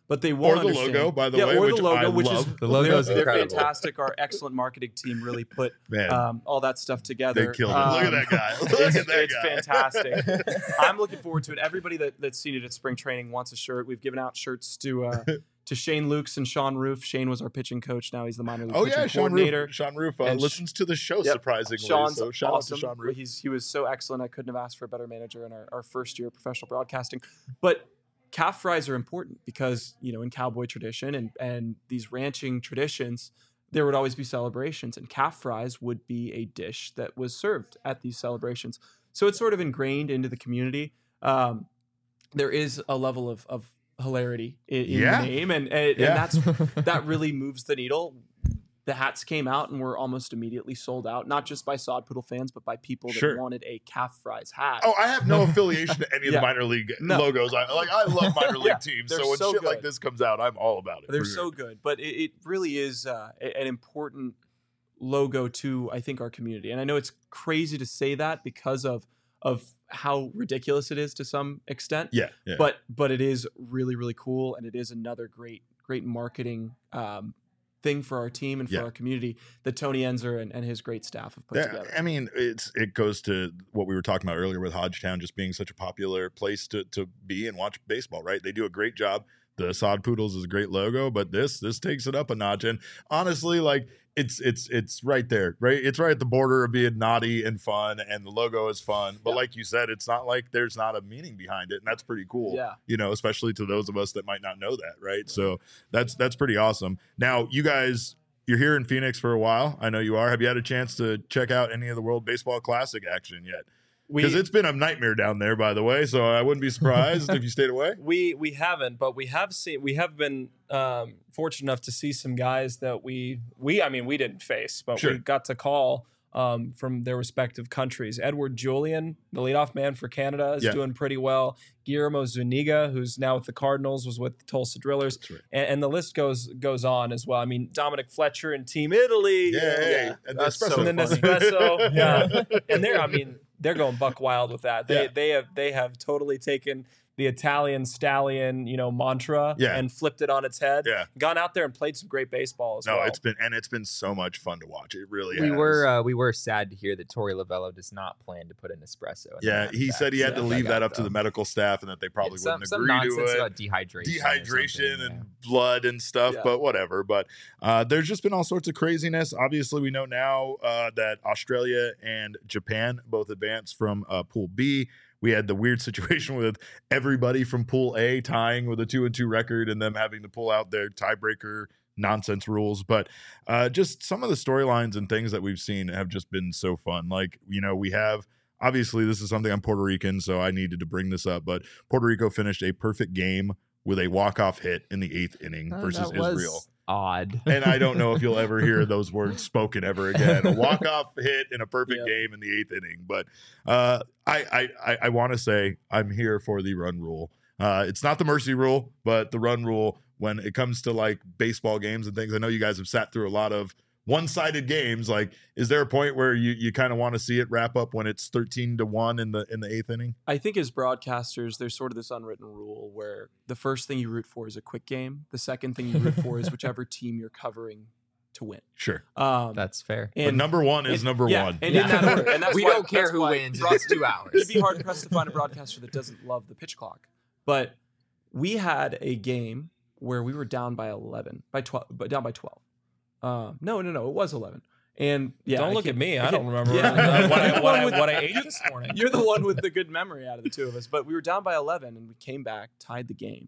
[SPEAKER 3] but they won't
[SPEAKER 1] Or the
[SPEAKER 3] understand.
[SPEAKER 1] logo, by the
[SPEAKER 3] yeah,
[SPEAKER 1] way,
[SPEAKER 3] or
[SPEAKER 1] which
[SPEAKER 3] the logo,
[SPEAKER 1] I
[SPEAKER 3] which
[SPEAKER 1] love.
[SPEAKER 3] is
[SPEAKER 2] The logo
[SPEAKER 3] they're,
[SPEAKER 2] is
[SPEAKER 3] they're
[SPEAKER 2] incredible.
[SPEAKER 3] fantastic. Our excellent marketing team really put
[SPEAKER 1] Man,
[SPEAKER 3] um, all that stuff together.
[SPEAKER 1] they killed it.
[SPEAKER 3] Um,
[SPEAKER 1] Look at that guy. Look
[SPEAKER 3] it's,
[SPEAKER 1] at that
[SPEAKER 3] it's
[SPEAKER 1] guy.
[SPEAKER 3] fantastic. I'm looking forward to it. Everybody that, that's seen it at spring training wants a shirt. We've given out shirts to uh, to Shane Lukes and Sean Roof. Shane was our pitching coach. Now he's the minor league
[SPEAKER 1] Oh
[SPEAKER 3] pitching
[SPEAKER 1] yeah, Sean
[SPEAKER 3] coordinator.
[SPEAKER 1] Roof. Sean Roof uh,
[SPEAKER 3] And sh-
[SPEAKER 1] listens to the show
[SPEAKER 3] Yep.
[SPEAKER 1] surprisingly.
[SPEAKER 3] Sean's
[SPEAKER 1] so shout
[SPEAKER 3] awesome.
[SPEAKER 1] out to Sean Roof.
[SPEAKER 3] He's he was so excellent. I couldn't have asked for a better manager in our, our first year of professional broadcasting. But calf fries are important because, you know, in cowboy tradition and and these ranching traditions, there would always be celebrations, and calf fries would be a dish that was served at these celebrations. So it's sort of ingrained into the community. Um, there is a level of of hilarity in, in
[SPEAKER 1] Yeah.
[SPEAKER 3] the name, and and,
[SPEAKER 1] Yeah.
[SPEAKER 3] and that's that really moves the needle. The hats came out and were almost immediately sold out, not just by Sod Poodle fans, but by people that
[SPEAKER 1] Sure.
[SPEAKER 3] wanted a calf fries hat.
[SPEAKER 1] Oh, I have no affiliation to any of
[SPEAKER 3] Yeah.
[SPEAKER 1] the minor league
[SPEAKER 3] No.
[SPEAKER 1] logos. I like. I love minor league
[SPEAKER 3] Yeah,
[SPEAKER 1] teams.
[SPEAKER 3] they're
[SPEAKER 1] So when
[SPEAKER 3] so
[SPEAKER 1] shit like
[SPEAKER 3] good.
[SPEAKER 1] this comes out, I'm all about it.
[SPEAKER 3] They're
[SPEAKER 1] for
[SPEAKER 3] so
[SPEAKER 1] sure.
[SPEAKER 3] good, but it, it really is uh, a- an important logo to, I think, our community. And I know it's crazy to say that because of of how ridiculous it is to some extent.
[SPEAKER 1] Yeah, yeah.
[SPEAKER 3] But but it is really really cool, and it is another great great marketing um, thing for our team and for
[SPEAKER 1] Yeah.
[SPEAKER 3] our community that Tony Enzer and, and his great staff have put
[SPEAKER 1] Yeah,
[SPEAKER 3] together.
[SPEAKER 1] I mean, it's it goes to what we were talking about earlier with Hodgetown just being such a popular place to to be and watch baseball, right? They do a great job. The Sod Poodles is a great logo, but this this takes it up a notch. And honestly, like it's it's it's right there, right? It's right at the border of being naughty and fun, and the logo is fun. But
[SPEAKER 3] Yeah.
[SPEAKER 1] like you said, it's not like there's not a meaning behind it, and that's pretty cool.
[SPEAKER 3] Yeah.
[SPEAKER 1] You know, especially to those of us that might not know that, right? So that's that's pretty awesome. Now, you guys, you're here in Phoenix for a while. I know you are. Have you had a chance to check out any of the World Baseball Classic action yet?
[SPEAKER 3] We
[SPEAKER 1] Because it's been a nightmare down there, by the way. So I wouldn't be surprised if you stayed away.
[SPEAKER 4] We we haven't, but we have seen. We have been um, fortunate enough to see some guys that we we. I mean, we didn't face, but
[SPEAKER 1] Sure.
[SPEAKER 4] we got to call um, from their respective countries. Edward Julian, the leadoff man for Canada, is
[SPEAKER 1] Yeah.
[SPEAKER 4] doing pretty well. Guillermo Zuniga, who's now with the Cardinals, was with the Tulsa Drillers,
[SPEAKER 1] That's right.
[SPEAKER 4] and, and the list goes goes on as well. I mean, Dominic Fletcher and Team Italy.
[SPEAKER 1] Yeah, hey, and the
[SPEAKER 3] that's so
[SPEAKER 1] espresso.
[SPEAKER 4] And then
[SPEAKER 3] funny.
[SPEAKER 4] Nespresso, yeah, and they're, I mean, they're going buck wild with that. They
[SPEAKER 1] Yeah.
[SPEAKER 4] they have they have totally taken the Italian stallion, you know, mantra
[SPEAKER 1] Yeah.
[SPEAKER 4] and flipped it on its head.
[SPEAKER 1] Yeah.
[SPEAKER 4] Gone out there and played some great baseball as
[SPEAKER 1] No,
[SPEAKER 4] well.
[SPEAKER 1] it's been and it's been so much fun to watch. It really
[SPEAKER 2] we
[SPEAKER 1] has.
[SPEAKER 2] were uh, we were sad to hear that Torey Lavello does not plan to put an espresso. In
[SPEAKER 1] yeah,
[SPEAKER 2] the
[SPEAKER 1] he
[SPEAKER 2] back
[SPEAKER 1] said he had
[SPEAKER 2] of
[SPEAKER 1] to
[SPEAKER 2] the
[SPEAKER 1] leave that
[SPEAKER 2] dugout,
[SPEAKER 1] up to the
[SPEAKER 2] though.
[SPEAKER 1] medical staff and that they probably
[SPEAKER 2] Yeah, some,
[SPEAKER 1] wouldn't
[SPEAKER 2] some
[SPEAKER 1] agree
[SPEAKER 2] nonsense
[SPEAKER 1] to it.
[SPEAKER 2] about dehydration, or
[SPEAKER 1] Dehydration
[SPEAKER 2] something,
[SPEAKER 1] and
[SPEAKER 2] yeah.
[SPEAKER 1] blood and stuff,
[SPEAKER 3] Yeah.
[SPEAKER 1] but whatever. But uh, there's just been all sorts of craziness. Obviously, we know now uh, that Australia and Japan both advanced from uh, Pool B. We had the weird situation with everybody from Pool A tying with a two and two record and them having to pull out their tiebreaker nonsense rules. But uh, just some of the storylines and things that we've seen have just been so fun. Like, you know, we have obviously this is something I'm Puerto Rican, so I needed to bring this up. But Puerto Rico finished a perfect game with a walk-off hit in the eighth inning
[SPEAKER 2] Uh,
[SPEAKER 1] versus
[SPEAKER 2] that was
[SPEAKER 1] Israel.
[SPEAKER 2] Odd.
[SPEAKER 1] And I don't know if you'll ever hear those words spoken ever again. A walk-off hit in a perfect
[SPEAKER 3] Yeah.
[SPEAKER 1] game in the eighth inning. But uh, I I I, I want to say I'm here for the run rule. Uh, it's not the mercy rule, but the run rule when it comes to like baseball games and things. I know you guys have sat through a lot of one-sided games. Like, is there a point where you, you kind of want to see it wrap up when it's thirteen to one in the in the eighth inning?
[SPEAKER 3] I think as broadcasters, there's sort of this unwritten rule where the first thing you root for is a quick game. The second thing you root for is whichever team you're covering to win.
[SPEAKER 1] Sure.
[SPEAKER 3] Um,
[SPEAKER 2] That's fair.
[SPEAKER 1] But number one is
[SPEAKER 3] and-
[SPEAKER 1] number
[SPEAKER 3] yeah,
[SPEAKER 1] one.
[SPEAKER 3] and in that order. And that's
[SPEAKER 2] we
[SPEAKER 3] why-
[SPEAKER 2] don't care
[SPEAKER 3] that's
[SPEAKER 2] who
[SPEAKER 3] why
[SPEAKER 2] wins.
[SPEAKER 3] broad-
[SPEAKER 2] It's two hours.
[SPEAKER 3] It'd be hard pressed to find a broadcaster that doesn't love the pitch clock. But we had a game where we were down by eleven, by twelve, but down by twelve. Um, no, no, no, it was eleven. And yeah,
[SPEAKER 4] don't
[SPEAKER 3] I
[SPEAKER 4] look at
[SPEAKER 3] can't-
[SPEAKER 4] me.
[SPEAKER 3] I
[SPEAKER 4] I don't
[SPEAKER 3] can't-
[SPEAKER 4] remember
[SPEAKER 3] yeah.
[SPEAKER 4] what, I,
[SPEAKER 3] You're the
[SPEAKER 4] what,
[SPEAKER 3] one
[SPEAKER 4] I,
[SPEAKER 3] with-
[SPEAKER 4] what I ate this morning.
[SPEAKER 3] You're the one with the good memory out of the two of us. But we were down by eleven, and we came back, tied the game.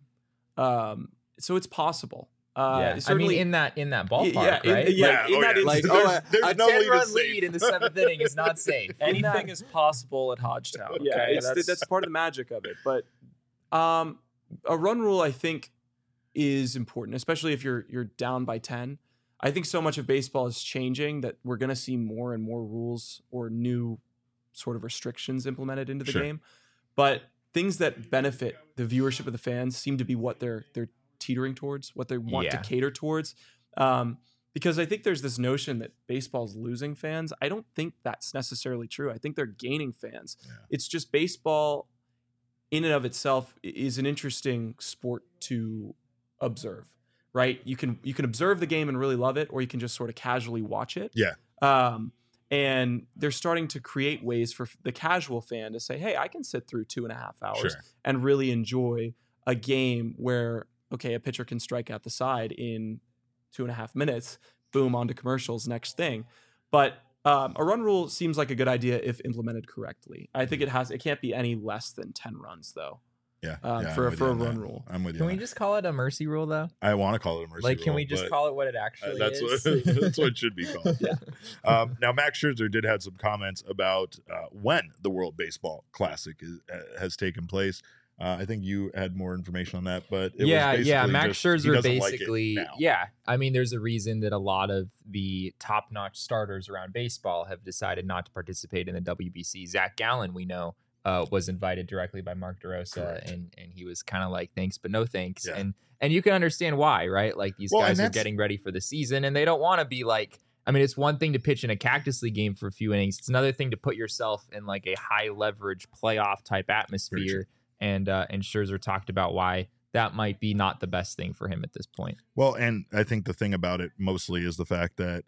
[SPEAKER 3] Um, so it's possible. Uh,
[SPEAKER 2] yeah. I
[SPEAKER 3] certainly,
[SPEAKER 2] mean, in that in that ballpark,
[SPEAKER 3] yeah, in-
[SPEAKER 2] right?
[SPEAKER 3] yeah,
[SPEAKER 1] Yeah,
[SPEAKER 3] in
[SPEAKER 1] oh,
[SPEAKER 3] that
[SPEAKER 1] yeah.
[SPEAKER 2] Like,
[SPEAKER 3] instance,
[SPEAKER 2] oh,
[SPEAKER 1] There's-
[SPEAKER 2] a,
[SPEAKER 1] there's
[SPEAKER 2] a
[SPEAKER 1] no lead
[SPEAKER 2] ten-run
[SPEAKER 1] is
[SPEAKER 2] lead
[SPEAKER 1] safe.
[SPEAKER 2] in the seventh inning is not safe.
[SPEAKER 4] Anything is possible at Hodgetown.
[SPEAKER 3] yeah,
[SPEAKER 4] okay?
[SPEAKER 3] it's, that's, that's part of the magic of it. But um, a run rule, I think, is important, especially if you're you're down by ten. I think so much of baseball is changing that we're going to see more and more rules or new sort of restrictions implemented into the
[SPEAKER 1] Sure.
[SPEAKER 3] game. But things that benefit the viewership of the fans seem to be what they're they're teetering towards, what they want
[SPEAKER 2] Yeah.
[SPEAKER 3] to cater towards. Um, because I think there's this notion that baseball's losing fans. I don't think that's necessarily true. I think they're gaining fans.
[SPEAKER 1] Yeah.
[SPEAKER 3] It's just baseball in and of itself i- is an interesting sport to observe, right? You can you can observe the game and really love it, or you can just sort of casually watch it.
[SPEAKER 1] Yeah.
[SPEAKER 3] Um, and they're starting to create ways for the casual fan to say, hey, I can sit through two and a half hours
[SPEAKER 1] Sure.
[SPEAKER 3] and really enjoy a game where, okay, a pitcher can strike out the side in two and a half minutes, boom, onto commercials, next thing. But um, a run rule seems like a good idea if implemented correctly. I think it has, it can't be any less than ten runs though.
[SPEAKER 1] Yeah,
[SPEAKER 3] Um,
[SPEAKER 1] yeah,
[SPEAKER 3] for-
[SPEAKER 1] I'm with
[SPEAKER 3] for
[SPEAKER 1] you
[SPEAKER 3] a
[SPEAKER 1] on
[SPEAKER 3] run
[SPEAKER 1] that.
[SPEAKER 3] rule.
[SPEAKER 1] I'm with you.
[SPEAKER 2] Can
[SPEAKER 1] on
[SPEAKER 2] we
[SPEAKER 1] that.
[SPEAKER 2] just call it a mercy rule though?
[SPEAKER 1] I want to call it a mercy
[SPEAKER 2] Like,
[SPEAKER 1] rule,
[SPEAKER 2] can we just
[SPEAKER 1] but
[SPEAKER 2] call it what it
[SPEAKER 1] uh,
[SPEAKER 2] actually
[SPEAKER 1] that's
[SPEAKER 2] is?
[SPEAKER 1] what that's what it should be called.
[SPEAKER 2] Yeah.
[SPEAKER 1] Um, now, Max Scherzer did have some comments about uh, when the World Baseball Classic is, uh, has taken place. Uh, I think you had more information on that, but it
[SPEAKER 2] yeah,
[SPEAKER 1] was
[SPEAKER 2] yeah.
[SPEAKER 1] basically
[SPEAKER 2] Max
[SPEAKER 1] just, he
[SPEAKER 2] Scherzer
[SPEAKER 1] doesn't like it
[SPEAKER 2] basically,
[SPEAKER 1] now.
[SPEAKER 2] yeah. I mean, there's a reason that a lot of the top-notch starters around baseball have decided not to participate in the W B C. Zach Gallen, we know, uh, was invited directly by Mark DeRosa,
[SPEAKER 1] Correct.
[SPEAKER 2] and and he was kind of like, thanks, but no thanks.
[SPEAKER 1] Yeah.
[SPEAKER 2] And and you can understand why, right? Like these
[SPEAKER 1] Well, and
[SPEAKER 2] guys are
[SPEAKER 1] that's-
[SPEAKER 2] getting ready for the season, and they don't want to be like. I mean, it's one thing to pitch in a Cactus League game for a few innings. It's another thing to put yourself in like a high leverage playoff type atmosphere. And uh, and Scherzer talked about why that might be not the best thing for him at this point.
[SPEAKER 1] Well, and I think the thing about it mostly is the fact that,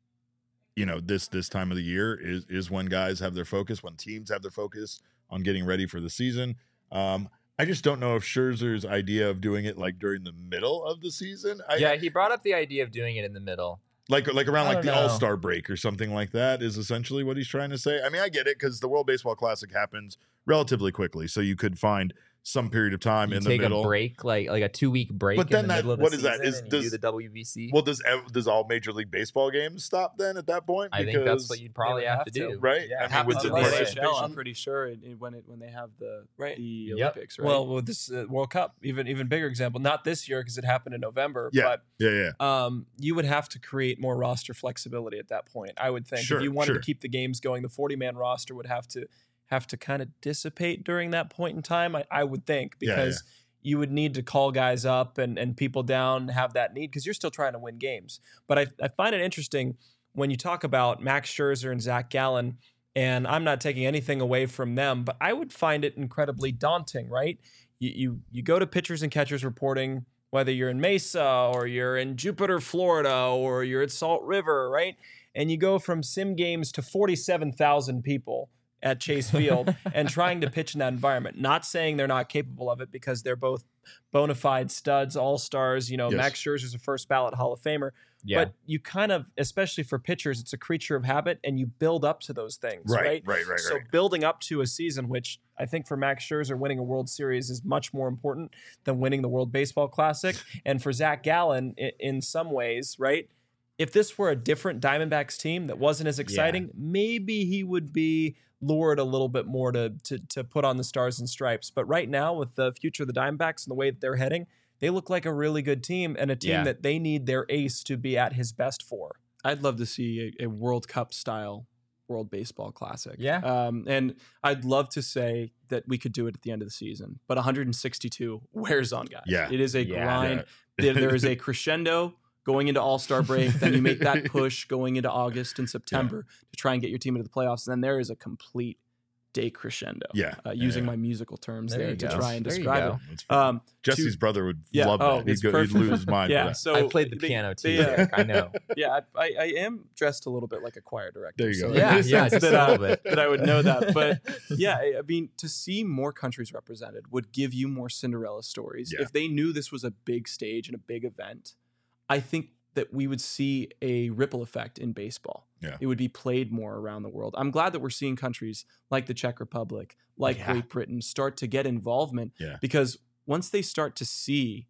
[SPEAKER 1] you know, this this time of the year is is when guys have their focus, when teams have their focus on getting ready for the season. Um, I just don't know if Scherzer's idea of doing it like during the middle of the season, I,
[SPEAKER 2] Yeah, he brought up the idea of doing it in the middle.
[SPEAKER 1] like like around
[SPEAKER 2] I
[SPEAKER 1] like the
[SPEAKER 2] don't know.
[SPEAKER 1] All-Star break or something like that is essentially what he's trying to say. I mean, I get it because the World Baseball Classic happens relatively quickly, so you could find some period of time
[SPEAKER 2] You
[SPEAKER 1] in the
[SPEAKER 2] take
[SPEAKER 1] middle.
[SPEAKER 2] a break, like like a two week break.
[SPEAKER 1] But then
[SPEAKER 2] in the
[SPEAKER 1] that-
[SPEAKER 2] middle of
[SPEAKER 1] what
[SPEAKER 2] the
[SPEAKER 1] is that?
[SPEAKER 2] season
[SPEAKER 1] Is-
[SPEAKER 2] and you
[SPEAKER 1] does-
[SPEAKER 2] do the W B C?
[SPEAKER 1] Well, does ev- does all Major League Baseball games stop then at that point?
[SPEAKER 2] I think that's
[SPEAKER 1] Because-
[SPEAKER 2] what you'd probably
[SPEAKER 4] would
[SPEAKER 2] have,
[SPEAKER 4] have
[SPEAKER 2] to
[SPEAKER 4] to,
[SPEAKER 2] do,
[SPEAKER 1] right?
[SPEAKER 2] Yeah,
[SPEAKER 1] I mean,
[SPEAKER 3] Happens
[SPEAKER 1] with
[SPEAKER 3] in
[SPEAKER 1] the
[SPEAKER 3] the
[SPEAKER 1] participation.
[SPEAKER 3] N H L, I'm pretty sure it, it- when it when they have the
[SPEAKER 4] Right.
[SPEAKER 3] the
[SPEAKER 2] Yep.
[SPEAKER 3] Olympics, right?
[SPEAKER 4] Well, with this uh, World Cup, even even bigger example, not this year because it happened in November,
[SPEAKER 1] Yeah. Yeah, yeah.
[SPEAKER 4] but um, you would have to create more roster flexibility at that point. I would think
[SPEAKER 1] Sure,
[SPEAKER 4] if you wanted
[SPEAKER 1] sure.
[SPEAKER 4] to keep the games going, the forty man roster would have to have to kind of dissipate during that point in time. I, I would think
[SPEAKER 1] Yeah,
[SPEAKER 4] because you would need to call guys up and and people down, have that need because you're still trying to win games. But I I find it interesting when you talk about Max Scherzer and Zach Gallen. And I'm not taking anything away from them, but I would find it incredibly daunting, right? You, you you go to pitchers and catchers reporting, whether you're in Mesa or you're in Jupiter, Florida, or you're at Salt River, right? And you go from sim games to forty-seven thousand people at Chase Field and trying to pitch in that environment. Not saying they're not capable of it because they're both bona fide studs, all-stars. You know,
[SPEAKER 1] Yes.
[SPEAKER 4] Max Scherzer's a first ballot Hall of Famer.
[SPEAKER 2] yeah.
[SPEAKER 4] But you kind of, especially for pitchers, it's a creature of habit and you build up to those things,
[SPEAKER 1] Right,
[SPEAKER 4] right?
[SPEAKER 1] right, right,
[SPEAKER 4] So
[SPEAKER 1] right.
[SPEAKER 4] building up to a season, which I think for Max Scherzer, winning a World Series is much more important than winning the World Baseball Classic. And for Zach Gallen, i- in some ways, right? If this were a different Diamondbacks team that wasn't as exciting, maybe he would be lured a little bit more to, to to put on the stars and stripes. But right now, with the future of the Diamondbacks and the way that they're heading, they look like a really good team and a team
[SPEAKER 2] Yeah.
[SPEAKER 4] that they need their ace to be at his best for.
[SPEAKER 3] I'd love to see a, a World Cup style World Baseball Classic.
[SPEAKER 2] Yeah.
[SPEAKER 3] Um, and I'd love to say that we could do it at the end of the season, but one hundred sixty-two wears on guys.
[SPEAKER 1] Yeah.
[SPEAKER 3] It is a
[SPEAKER 2] Yeah.
[SPEAKER 3] grind. There, there is a crescendo going into All-Star break. Then you make that push going into August and September to try and get your team into the playoffs. And then there is a complete decrescendo.
[SPEAKER 1] Yeah.
[SPEAKER 3] Uh, using
[SPEAKER 1] Yeah.
[SPEAKER 3] my musical terms
[SPEAKER 2] There
[SPEAKER 3] there,
[SPEAKER 2] you
[SPEAKER 3] to
[SPEAKER 2] go.
[SPEAKER 3] try and
[SPEAKER 2] There you
[SPEAKER 3] describe
[SPEAKER 2] go.
[SPEAKER 3] it.
[SPEAKER 1] That's fun.
[SPEAKER 3] Um,
[SPEAKER 1] Jesse's
[SPEAKER 3] to-
[SPEAKER 1] brother would
[SPEAKER 3] yeah,
[SPEAKER 1] love
[SPEAKER 3] oh,
[SPEAKER 1] that. He'd,
[SPEAKER 3] it's
[SPEAKER 1] go, he'd
[SPEAKER 3] perfect.
[SPEAKER 1] lose his mind.
[SPEAKER 3] yeah.
[SPEAKER 1] for that.
[SPEAKER 3] So
[SPEAKER 2] I played the
[SPEAKER 3] they-
[SPEAKER 2] piano too.
[SPEAKER 3] they, uh,
[SPEAKER 2] Derek, I know.
[SPEAKER 3] yeah, I, I, I am dressed a little bit like a choir director.
[SPEAKER 1] There you
[SPEAKER 3] so
[SPEAKER 1] go.
[SPEAKER 3] in
[SPEAKER 2] Yeah,
[SPEAKER 3] a
[SPEAKER 2] yeah,
[SPEAKER 3] sense
[SPEAKER 2] just
[SPEAKER 3] that,
[SPEAKER 2] a
[SPEAKER 3] uh,
[SPEAKER 2] little bit.
[SPEAKER 3] that I would know that. But yeah, I I mean, to see more countries represented would give you more Cinderella stories.
[SPEAKER 1] Yeah.
[SPEAKER 3] If they knew this was a big stage and a big event, I think that we would see a ripple effect in baseball.
[SPEAKER 1] Yeah.
[SPEAKER 3] It would be played more around the world. I'm glad that we're seeing countries like the Czech Republic, like
[SPEAKER 2] Yeah.
[SPEAKER 3] Great Britain, start to get involvement
[SPEAKER 1] Yeah.
[SPEAKER 3] because once they start to see,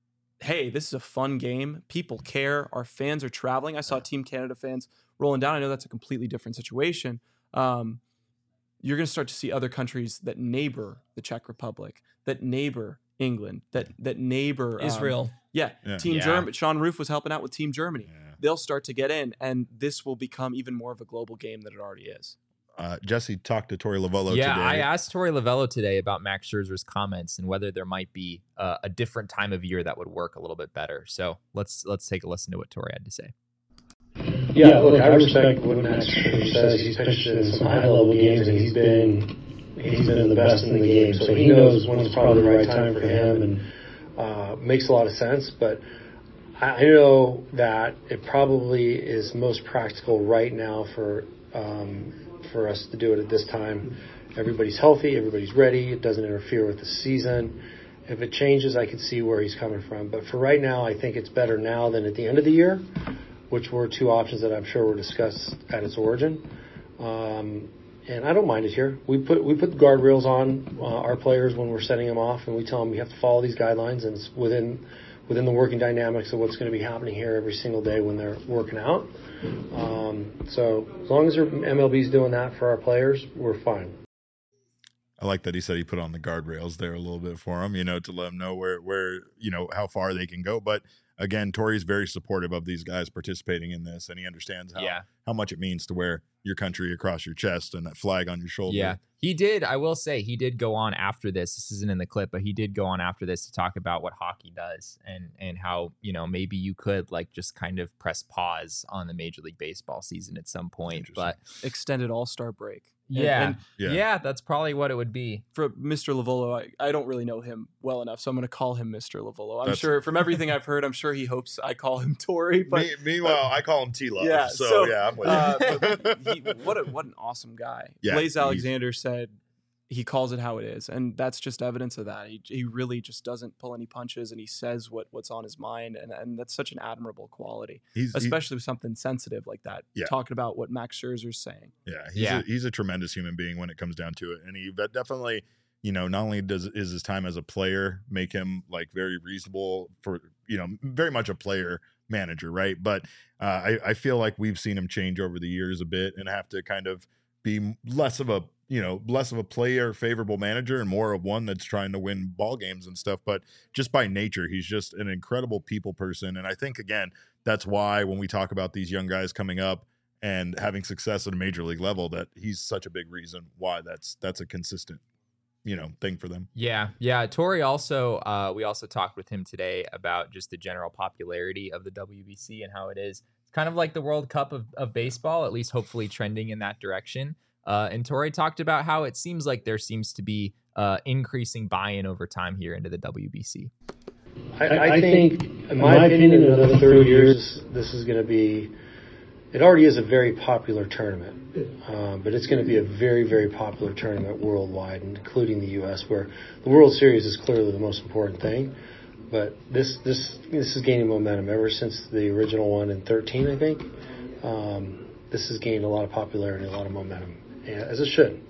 [SPEAKER 3] hey, this is a fun game, people care, our fans are traveling. I saw
[SPEAKER 1] Yeah.
[SPEAKER 3] Team Canada fans rolling down. I know that's a completely different situation. Um, you're going to start to see other countries that neighbor the Czech Republic, that neighbor England, that that neighbor um,
[SPEAKER 4] Israel.
[SPEAKER 3] yeah,
[SPEAKER 1] Yeah.
[SPEAKER 3] Team
[SPEAKER 2] Yeah.
[SPEAKER 3] Germany. Sean Roof was helping out with Team Germany.
[SPEAKER 1] Yeah.
[SPEAKER 3] They'll start to get in, and this will become even more of a global game than it already is.
[SPEAKER 1] Uh, Jesse talked to Tori Lavello
[SPEAKER 2] Yeah,
[SPEAKER 1] today.
[SPEAKER 2] I asked Tori Lavello today about Max Scherzer's comments and whether there might be uh, a different time of year that would work a little bit better. So let's let's take a listen to what Tori had to say.
[SPEAKER 5] Yeah, look, I respect what Max Scherzer says. He's pitched in some high-level games, and he's been he's been the best in the game. So he knows when it's probably the right time for him. And uh, makes a lot of sense. But I know that it probably is most practical right now for um, for us to do it at this time. Everybody's healthy, everybody's ready. It doesn't interfere with the season. If it changes, I can see where he's coming from. But for right now, I think it's better now than at the end of the year, which were two options that I'm sure were discussed at its origin. Um, and I don't mind it here. We put we put the guardrails on uh, our players when we're setting them off, and we tell them you have to follow these guidelines, and it's within within the working dynamics of what's going to be happening here every single day when they're working out. Um, so as long as M L B's doing that for our players, we're fine.
[SPEAKER 1] I like that he said he put on the guardrails there a little bit for them, you know, to let them know where, where, you know, how far they can go. But again, Tori's very supportive of these guys participating in this, and he understands how,
[SPEAKER 2] Yeah.
[SPEAKER 1] how much it means to wear your country across your chest and that flag on your shoulder.
[SPEAKER 2] Yeah, he did. I will say he did go on after this. This isn't in the clip, but he did go on after this to talk about what hockey does and and how, you know, maybe you could like just kind of press pause on the Major League Baseball season at some point. But
[SPEAKER 3] Extended All-Star break. And-
[SPEAKER 2] yeah,
[SPEAKER 3] and
[SPEAKER 1] Yeah.
[SPEAKER 2] yeah, that's probably what it would be.
[SPEAKER 3] for Mister Lavolo, I, I don't really know him well enough, so I'm going to call him Mister Lavolo. I'm
[SPEAKER 1] That's-
[SPEAKER 3] sure from everything I've heard, I'm sure he hopes I call him Tori. But
[SPEAKER 1] Me, meanwhile, I call him T-Love.
[SPEAKER 3] Yeah,
[SPEAKER 1] so,
[SPEAKER 3] so,
[SPEAKER 1] yeah, I'm with
[SPEAKER 3] uh,
[SPEAKER 1] you.
[SPEAKER 3] but he, what a, what an awesome guy.
[SPEAKER 1] Yeah,
[SPEAKER 3] Blaze
[SPEAKER 1] he's-
[SPEAKER 3] Alexander said he calls it how it is, and that's just evidence of that. He, he really just doesn't pull any punches, and he says what, what's on his mind, and, and that's such an admirable quality,
[SPEAKER 1] He's, he-
[SPEAKER 3] especially with something sensitive like that.
[SPEAKER 1] Yeah.
[SPEAKER 3] Talking about what Max Scherzer's saying.
[SPEAKER 1] Yeah, he's
[SPEAKER 2] Yeah.
[SPEAKER 1] A, he's a tremendous human being when it comes down to it, and he but definitely, you know, not only does is his time as a player make him like very reasonable for, you know, very much a player manager, right? But uh, I I feel like we've seen him change over the years a bit and have to kind of be less of a you know less of a player favorable manager and more of one that's trying to win ball games and stuff. But just by nature, he's just an incredible people person, and I think again that's why when we talk about these young guys coming up and having success at a major league level, that he's such a big reason why that's that's a consistent, you know, thing for them.
[SPEAKER 2] Yeah, yeah. Tori also, uh, we also talked with him today about just the general popularity of the W B C and how it is kind of like the World Cup of, of baseball, at least hopefully trending in that direction. Uh, and Tori talked about how it seems like there seems to be uh, increasing buy-in over time here into the W B C.
[SPEAKER 5] I, I think, in my opinion, in another thirty years, this is going to be, it already is a very popular tournament, um, but it's going to be a very, very popular tournament worldwide, including the U S, where the World Series is clearly the most important thing. But this this this is gaining momentum ever since the original one in thirteen, I think. Um, this has gained a lot of popularity, a lot of momentum, yeah, as it should.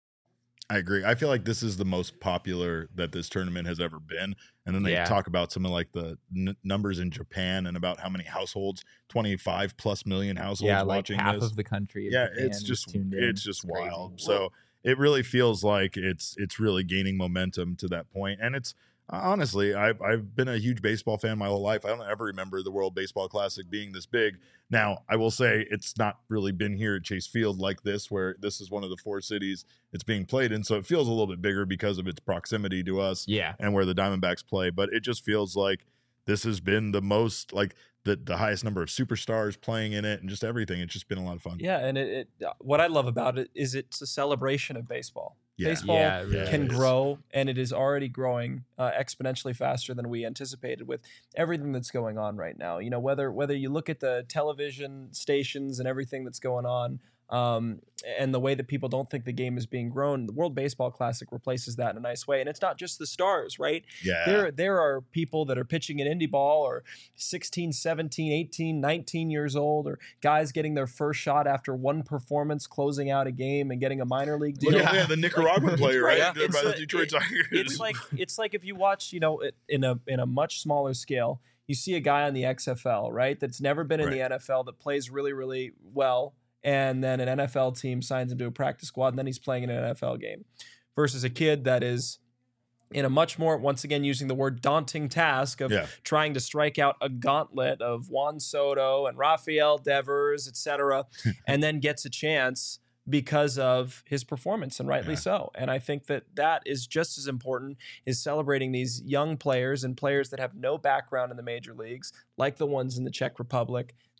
[SPEAKER 1] I agree. I feel like this is the most popular that this tournament has ever been. And then they
[SPEAKER 2] Yeah.
[SPEAKER 1] talk about some of like the n- numbers in Japan and about how many households, twenty-five plus million households
[SPEAKER 2] Yeah, like
[SPEAKER 1] watching
[SPEAKER 2] half
[SPEAKER 1] this.
[SPEAKER 2] of the country. Of
[SPEAKER 1] yeah,
[SPEAKER 2] Japan
[SPEAKER 1] it's
[SPEAKER 2] is
[SPEAKER 1] just
[SPEAKER 2] tuned in.
[SPEAKER 1] it's just
[SPEAKER 2] crazy.
[SPEAKER 1] wild. So it really feels like it's it's really gaining momentum to that point. And it's honestly, I've I've been a huge baseball fan my whole life. I don't ever remember the World Baseball Classic being this big. Now, I will say it's not really been here at Chase Field like this, where this is one of the four cities it's being played in. So it feels a little bit bigger because of its proximity to us
[SPEAKER 2] Yeah,
[SPEAKER 1] and where the Diamondbacks play. But it just feels like this has been the most, like the, the highest number of superstars playing in it and just everything. It's just been a lot of fun.
[SPEAKER 4] Yeah, and it, it what I love about it is it's a celebration of baseball.
[SPEAKER 1] Yeah.
[SPEAKER 4] Baseball
[SPEAKER 2] yeah, it really
[SPEAKER 4] can
[SPEAKER 1] it is.
[SPEAKER 4] grow, and it is already growing uh, exponentially faster than we anticipated with everything that's going on right now. You know, whether whether you look at the television stations and everything that's going on, um, and the way that people don't think the game is being grown, the World Baseball Classic replaces that in a nice way. And it's not just the stars, right?
[SPEAKER 1] Yeah.
[SPEAKER 4] There there are people that are pitching in indie ball or sixteen, seventeen, eighteen, nineteen years old, or guys getting their first shot after one performance, closing out a game and getting a minor league deal.
[SPEAKER 1] Look at yeah, the Nicaraguan player, right?
[SPEAKER 4] Yeah.
[SPEAKER 1] By
[SPEAKER 4] It's
[SPEAKER 1] the
[SPEAKER 4] a-
[SPEAKER 1] Detroit
[SPEAKER 4] it-
[SPEAKER 1] Tigers.
[SPEAKER 4] It's like it's like if you watch, you know, it- in a in a much smaller scale, you see a guy on the X F L, right? That's never been in the
[SPEAKER 1] Right.
[SPEAKER 4] N F L that plays really, really well, and then an N F L team signs him to a practice squad, and then he's playing in an N F L game, versus a kid that is in a much more, once again, using the word daunting task of
[SPEAKER 1] Yeah.
[SPEAKER 4] trying to strike out a gauntlet of Juan Soto and Rafael Devers, et cetera, and then gets a chance because of his performance, and rightly
[SPEAKER 1] Yeah.
[SPEAKER 4] so. And I think that that is just as important, is celebrating these young players and players that have no background in the major leagues, like the ones in the Czech Republic,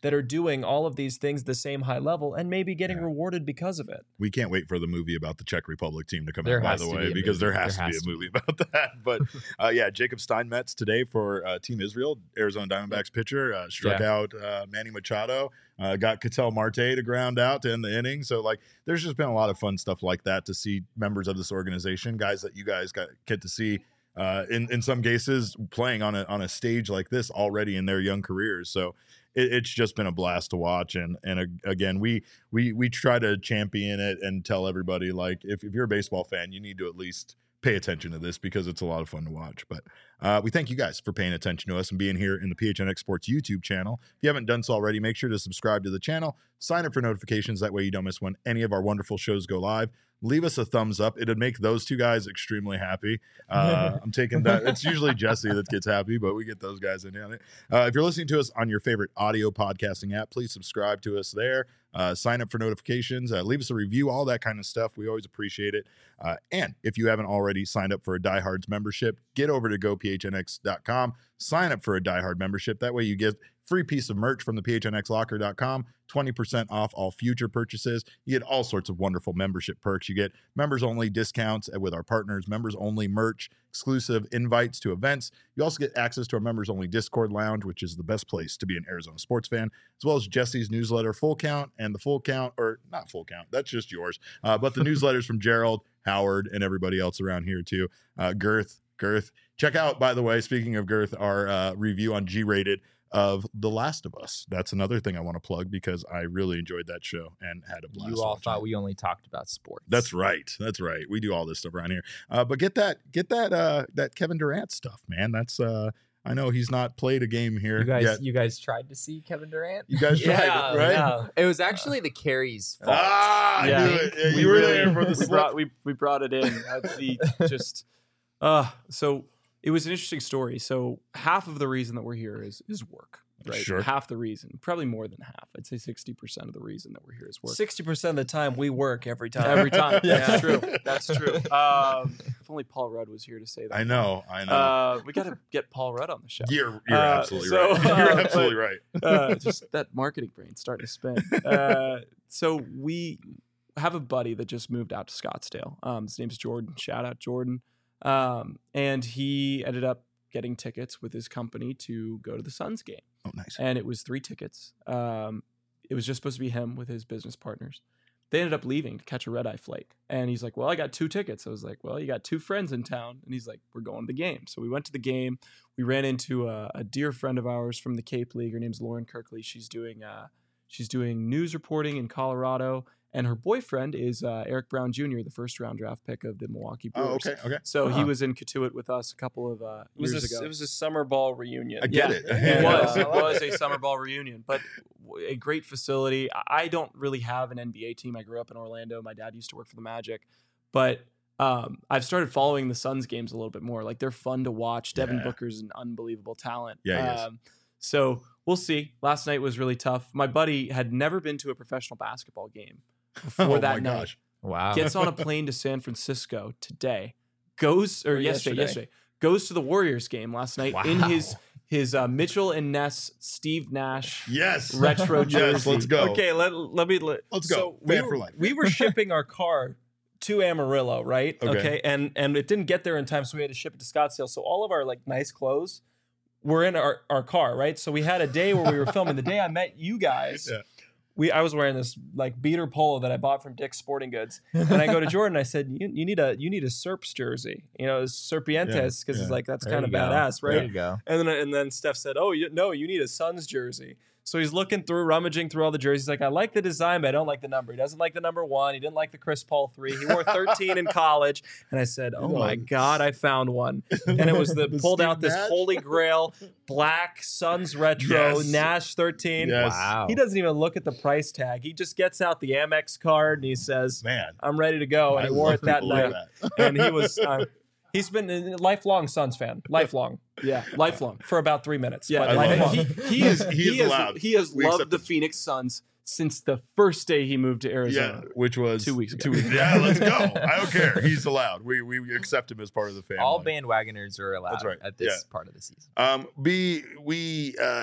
[SPEAKER 4] that are doing all of these things the same high level and maybe getting
[SPEAKER 1] Yeah.
[SPEAKER 4] rewarded because of it.
[SPEAKER 1] We can't wait for the movie about the Czech Republic team to come
[SPEAKER 2] There
[SPEAKER 1] out, by
[SPEAKER 2] has
[SPEAKER 1] the
[SPEAKER 2] to
[SPEAKER 1] way,
[SPEAKER 2] be a
[SPEAKER 1] because
[SPEAKER 2] movie.
[SPEAKER 1] there has
[SPEAKER 2] There
[SPEAKER 1] to
[SPEAKER 2] has
[SPEAKER 1] be a
[SPEAKER 2] to
[SPEAKER 1] movie about that. But uh, yeah, Jacob Steinmetz today for uh, Team Israel, Arizona Diamondbacks pitcher, uh, struck
[SPEAKER 2] Yeah.
[SPEAKER 1] out uh, Manny Machado, uh, got Ketel Marte to ground out to end the inning. So, like, there's just been a lot of fun stuff like that to see members of this organization, guys that you guys got get to see. Uh, in in some cases, playing on a on a stage like this already in their young careers, so it, it's just been a blast to watch. And and uh, again, we we we try to champion it and tell everybody, like, if, if you're a baseball fan, you need to at least pay attention to this because it's a lot of fun to watch. But uh, we thank you guys for paying attention to us and being here in the P H N X Sports YouTube channel. If you haven't done so already, make sure to subscribe to the channel, sign up for notifications. That way you don't miss when any of our wonderful shows go live. Leave us a thumbs up. It'd make those two guys extremely happy. Uh, I'm taking that. It's usually Jesse that gets happy, but we get those guys in on it. Uh, if you're listening to us on your favorite audio podcasting app, please subscribe to us there. Uh, sign up for notifications. Uh, leave us a review, all that kind of stuff. We always appreciate it. Uh, and if you haven't already signed up for a Diehards membership, get over to go P H N X dot com. Sign up for a Diehard membership. That way you get free piece of merch from the P H N X locker dot com, twenty percent off all future purchases. You get all sorts of wonderful membership perks. You get members only discounts with our partners, members only merch, exclusive invites to events. You also get access to our members only Discord lounge, which is the best place to be an Arizona sports fan, as well as Jesse's newsletter, Full Count, and the Full Count, or not Full Count, that's just yours, uh, but the newsletters from Gerald, Howard, and everybody else around here too. Uh, Girth, Girth. Check out, by the way, speaking of Girth, our uh, review on G-Rated of The Last of Us. That's another thing I want to plug because I really enjoyed that show and had a blast.
[SPEAKER 2] You all
[SPEAKER 1] watching
[SPEAKER 2] thought
[SPEAKER 1] it.
[SPEAKER 2] we only talked about sports.
[SPEAKER 1] That's right. That's right. We do all this stuff around here. Uh, but get that, get that, uh, that Kevin Durant stuff, man. That's, uh, I know he's not played a game here
[SPEAKER 2] You guys,
[SPEAKER 1] yet.
[SPEAKER 2] you guys tried to see Kevin Durant?
[SPEAKER 1] You guys tried
[SPEAKER 4] Yeah,
[SPEAKER 1] it, right?
[SPEAKER 4] yeah.
[SPEAKER 2] It was actually the Carries' fault.
[SPEAKER 1] Ah, I
[SPEAKER 3] Yeah.
[SPEAKER 1] knew it. Yeah,
[SPEAKER 3] We
[SPEAKER 1] you were
[SPEAKER 3] really-
[SPEAKER 1] there for the
[SPEAKER 3] we
[SPEAKER 1] slip.
[SPEAKER 3] brought we we brought it in. Uh, the just uh so it was an interesting story. So half of the reason that we're here is is work, right?
[SPEAKER 1] Sure.
[SPEAKER 3] Half the reason, probably more than half. I'd say sixty percent of the reason that we're here is work.
[SPEAKER 4] sixty percent of the time we work every time.
[SPEAKER 3] Every time.
[SPEAKER 1] Yeah.
[SPEAKER 3] That's true. That's true. Um, if only Paul Rudd was here to say that.
[SPEAKER 1] I know. I know.
[SPEAKER 3] Uh, we got to get Paul Rudd on the show.
[SPEAKER 1] you're you're
[SPEAKER 3] uh,
[SPEAKER 1] absolutely
[SPEAKER 3] so,
[SPEAKER 1] right. You're
[SPEAKER 3] uh,
[SPEAKER 1] absolutely right.
[SPEAKER 3] uh, just that marketing brain starting to spin. Uh, so we have a buddy that just moved out to Scottsdale. Um, his name's Jordan. Shout out Jordan. Um, and he ended up getting tickets with his company to go to the Suns game.
[SPEAKER 1] Oh, nice.
[SPEAKER 3] And it was three tickets. Um, it was just supposed to be him with his business partners. They ended up leaving to catch a red eye flight. And he's like, well, I got two tickets. I was like, well, you got two friends in town. And he's like, we're going to the game. So we went to the game. We ran into a, a dear friend of ours from the Cape League. Her name's Lauren Kirkley. She's doing uh, she's doing news reporting in Colorado. And her boyfriend is uh, Eric Brown Junior, the first round draft pick of the Milwaukee Brewers.
[SPEAKER 1] Oh, okay. Okay.
[SPEAKER 3] So he
[SPEAKER 1] Uh-huh.
[SPEAKER 3] was in Katuitt with us a couple of uh,
[SPEAKER 4] It was,
[SPEAKER 3] years
[SPEAKER 4] a,
[SPEAKER 3] ago.
[SPEAKER 4] it was a summer ball reunion.
[SPEAKER 1] I get
[SPEAKER 3] Yeah,
[SPEAKER 1] it.
[SPEAKER 3] It was.
[SPEAKER 4] Yeah.
[SPEAKER 3] It was a summer ball reunion, but w- a great facility. I I don't really have an N B A team. I grew up in Orlando. My dad used to work for the Magic, but um, I've started following the Suns games a little bit more. Like they're fun to watch. Devin
[SPEAKER 1] Yeah.
[SPEAKER 3] Booker's an unbelievable talent.
[SPEAKER 1] Yeah, he is.
[SPEAKER 3] Um, so we'll see. Last night was really tough. My buddy had never been to a professional basketball game before
[SPEAKER 1] Oh,
[SPEAKER 3] that
[SPEAKER 1] my
[SPEAKER 3] night.
[SPEAKER 1] gosh.
[SPEAKER 2] Wow.
[SPEAKER 3] Gets on a plane to San Francisco today. Goes or,
[SPEAKER 4] Or
[SPEAKER 3] yesterday,
[SPEAKER 4] yesterday.
[SPEAKER 3] yesterday. Goes to the Warriors game last night in
[SPEAKER 2] Wow.
[SPEAKER 3] his his uh, Mitchell and Ness Steve Nash
[SPEAKER 1] Yes.
[SPEAKER 3] retro
[SPEAKER 1] Yes.
[SPEAKER 3] jersey.
[SPEAKER 1] Let's go.
[SPEAKER 4] Okay, let, let me let,
[SPEAKER 1] Let's go.
[SPEAKER 4] So
[SPEAKER 1] Fan
[SPEAKER 4] we,
[SPEAKER 1] for
[SPEAKER 4] were-
[SPEAKER 1] life.
[SPEAKER 4] we were shipping our car to Amarillo, right?
[SPEAKER 1] Okay.
[SPEAKER 4] And and it didn't get there in time, so we had to ship it to Scottsdale. So all of our like nice clothes were in our, our car, right? So we had a day where we were filming. The day I met you guys,
[SPEAKER 1] Yeah.
[SPEAKER 4] we I was wearing this like beater polo that I bought from Dick's Sporting Goods. And I go to Jordan, I said, you, you need a you need a Serps jersey. You know, it's Serpientes, because
[SPEAKER 1] Yeah,
[SPEAKER 4] it's
[SPEAKER 1] yeah.
[SPEAKER 4] like that's
[SPEAKER 2] There
[SPEAKER 4] kind of
[SPEAKER 2] you go.
[SPEAKER 4] badass,
[SPEAKER 2] There
[SPEAKER 4] right?
[SPEAKER 2] you go.
[SPEAKER 4] And then and then Steph said, "Oh, you, no, you need a Suns jersey." So he's looking through, rummaging through all the jerseys. He's like, I like the design, but I don't like the number. He doesn't like the number one. He didn't like the Chris Paul three. He wore thirteen in college. And I said, oh my God, I found one. And it was the,
[SPEAKER 1] The
[SPEAKER 4] pulled
[SPEAKER 1] Steve
[SPEAKER 4] out this
[SPEAKER 1] Nash?
[SPEAKER 4] holy grail black Suns retro
[SPEAKER 1] Yes.
[SPEAKER 4] Nash thirteen.
[SPEAKER 1] Yes.
[SPEAKER 2] Wow.
[SPEAKER 4] He doesn't even look at the price tag. He just gets out the Amex card and he says,
[SPEAKER 1] Man.
[SPEAKER 4] I'm ready to go. And
[SPEAKER 1] I
[SPEAKER 4] he wore
[SPEAKER 1] love
[SPEAKER 4] it that
[SPEAKER 1] people like
[SPEAKER 4] night.
[SPEAKER 1] that.
[SPEAKER 4] And he was, uh, he's been a lifelong Suns fan, lifelong,
[SPEAKER 3] Yeah, lifelong.
[SPEAKER 4] for about three minutes.
[SPEAKER 3] Yeah,
[SPEAKER 4] but
[SPEAKER 1] I love
[SPEAKER 4] lifelong.
[SPEAKER 1] it.
[SPEAKER 3] he, he is
[SPEAKER 1] He
[SPEAKER 3] he,
[SPEAKER 1] is
[SPEAKER 3] has
[SPEAKER 1] allowed.
[SPEAKER 3] he has
[SPEAKER 1] We
[SPEAKER 3] loved
[SPEAKER 1] accept
[SPEAKER 3] the
[SPEAKER 1] it.
[SPEAKER 3] Phoenix Suns since the first day he moved to
[SPEAKER 1] Yeah,
[SPEAKER 3] Arizona.
[SPEAKER 1] which was
[SPEAKER 3] Two weeks ago.
[SPEAKER 1] Two weeks. Yeah, let's go. I don't care. He's allowed. We we accept him as part of the family.
[SPEAKER 2] All bandwagoners are allowed
[SPEAKER 1] That's right.
[SPEAKER 2] at this
[SPEAKER 1] Yeah.
[SPEAKER 2] part of the season.
[SPEAKER 1] Um, we we uh,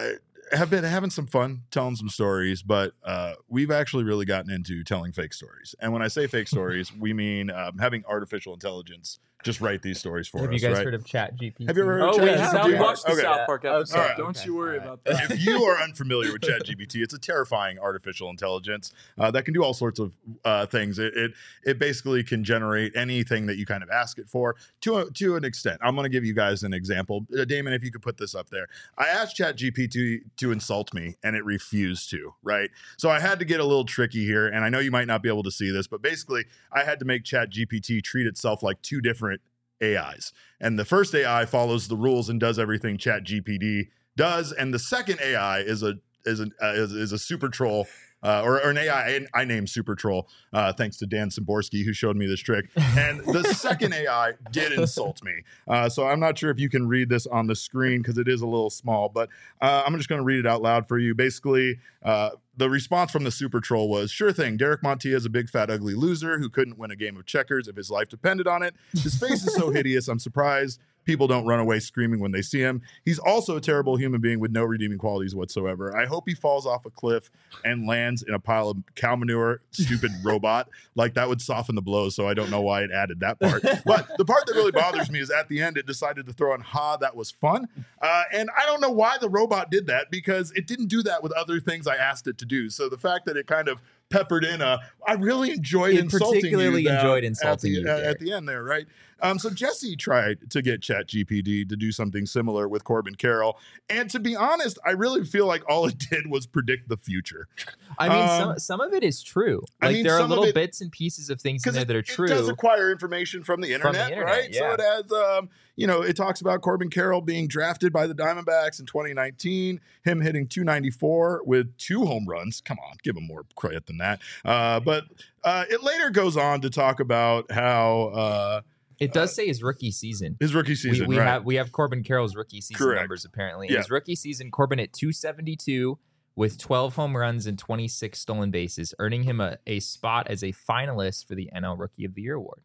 [SPEAKER 1] have been having some fun telling some stories, but uh, we've actually really gotten into telling fake stories. And when I say fake stories, we mean um, having artificial intelligence just write these stories for
[SPEAKER 2] Have
[SPEAKER 1] us.
[SPEAKER 2] you guys
[SPEAKER 1] right?
[SPEAKER 2] heard of Chat G P T?
[SPEAKER 1] Have you ever heard
[SPEAKER 3] Oh,
[SPEAKER 1] of
[SPEAKER 3] we
[SPEAKER 1] Chat
[SPEAKER 3] have.
[SPEAKER 1] G P T?
[SPEAKER 3] We watched the
[SPEAKER 1] Okay.
[SPEAKER 3] South Park episode.
[SPEAKER 1] All right.
[SPEAKER 3] Don't
[SPEAKER 2] Okay.
[SPEAKER 3] you worry
[SPEAKER 2] All right.
[SPEAKER 3] about that.
[SPEAKER 1] If you are unfamiliar with ChatGPT, it's a terrifying artificial intelligence uh, that can do all sorts of uh, things. It, it it basically can generate anything that you kind of ask it for to a, to an extent. I'm going to give you guys an example. Uh, Damon, if you could put this up there. I asked ChatGPT to, to insult me, and it refused to, right? So I had to get a little tricky here, and I know you might not be able to see this, but basically I had to make ChatGPT treat itself like two different A Is. And the first A I follows the rules and does everything ChatGPT does, and the second A I is a is a uh, is, is a super troll uh, or, or an A I I, I named Super Troll uh, thanks to Dan Szymborski who showed me this trick. And the second A I did insult me, uh, so I'm not sure if you can read this on the screen because it is a little small, but uh, I'm just going to read it out loud for you. Basically, uh, the response from the Super Troll was, "Sure thing, Derek Montilla is a big fat ugly loser who couldn't win a game of checkers if his life depended on it. His face is so hideous, I'm surprised people don't run away screaming when they see him. He's also a terrible human being with no redeeming qualities whatsoever. I hope he falls off a cliff and lands in a pile of cow manure, stupid robot. Like, that would soften the blow, so I don't know why it added that part. But the part that really bothers me is at the end, it decided to throw in, ha, that was fun. Uh, and I don't know why the robot did that, because it didn't do that with other things I asked it to do. So the fact that it kind of peppered in a, I really enjoyed
[SPEAKER 2] It
[SPEAKER 1] insulting
[SPEAKER 2] particularly
[SPEAKER 1] you down
[SPEAKER 2] enjoyed insulting
[SPEAKER 1] at the,
[SPEAKER 2] you,
[SPEAKER 1] uh,
[SPEAKER 2] Derek.
[SPEAKER 1] at the end there, right? Um, so Jesse tried to get ChatGPT to do something similar with Corbin Carroll, and to be honest, I really feel like all it did was predict the future.
[SPEAKER 2] I mean,
[SPEAKER 1] Um,
[SPEAKER 2] some some of it is true.
[SPEAKER 1] I
[SPEAKER 2] Like
[SPEAKER 1] mean,
[SPEAKER 2] there are
[SPEAKER 1] some of
[SPEAKER 2] little
[SPEAKER 1] it-
[SPEAKER 2] bits and pieces of things in
[SPEAKER 1] Because
[SPEAKER 2] there
[SPEAKER 1] it,
[SPEAKER 2] that are
[SPEAKER 1] it
[SPEAKER 2] true.
[SPEAKER 1] does acquire information from the
[SPEAKER 2] From the
[SPEAKER 1] internet,
[SPEAKER 2] internet,
[SPEAKER 1] right? So
[SPEAKER 2] yeah.
[SPEAKER 1] it has, um, you know, it talks about Corbin Carroll being drafted by the Diamondbacks in twenty nineteen, him hitting two ninety-four with two home runs. Come on, give him more credit than that. Uh, but uh, it later goes on to talk about how uh,
[SPEAKER 2] It does say his rookie season.
[SPEAKER 1] his rookie
[SPEAKER 2] We,
[SPEAKER 1] season,
[SPEAKER 2] we
[SPEAKER 1] right?
[SPEAKER 2] have we have Corbin Carroll's rookie season
[SPEAKER 1] Correct.
[SPEAKER 2] numbers apparently.
[SPEAKER 1] Yeah.
[SPEAKER 2] His rookie season, Corbin at two seventy-two with twelve home runs and twenty-six stolen bases, earning him a, a spot as a finalist for the N L Rookie of the Year award.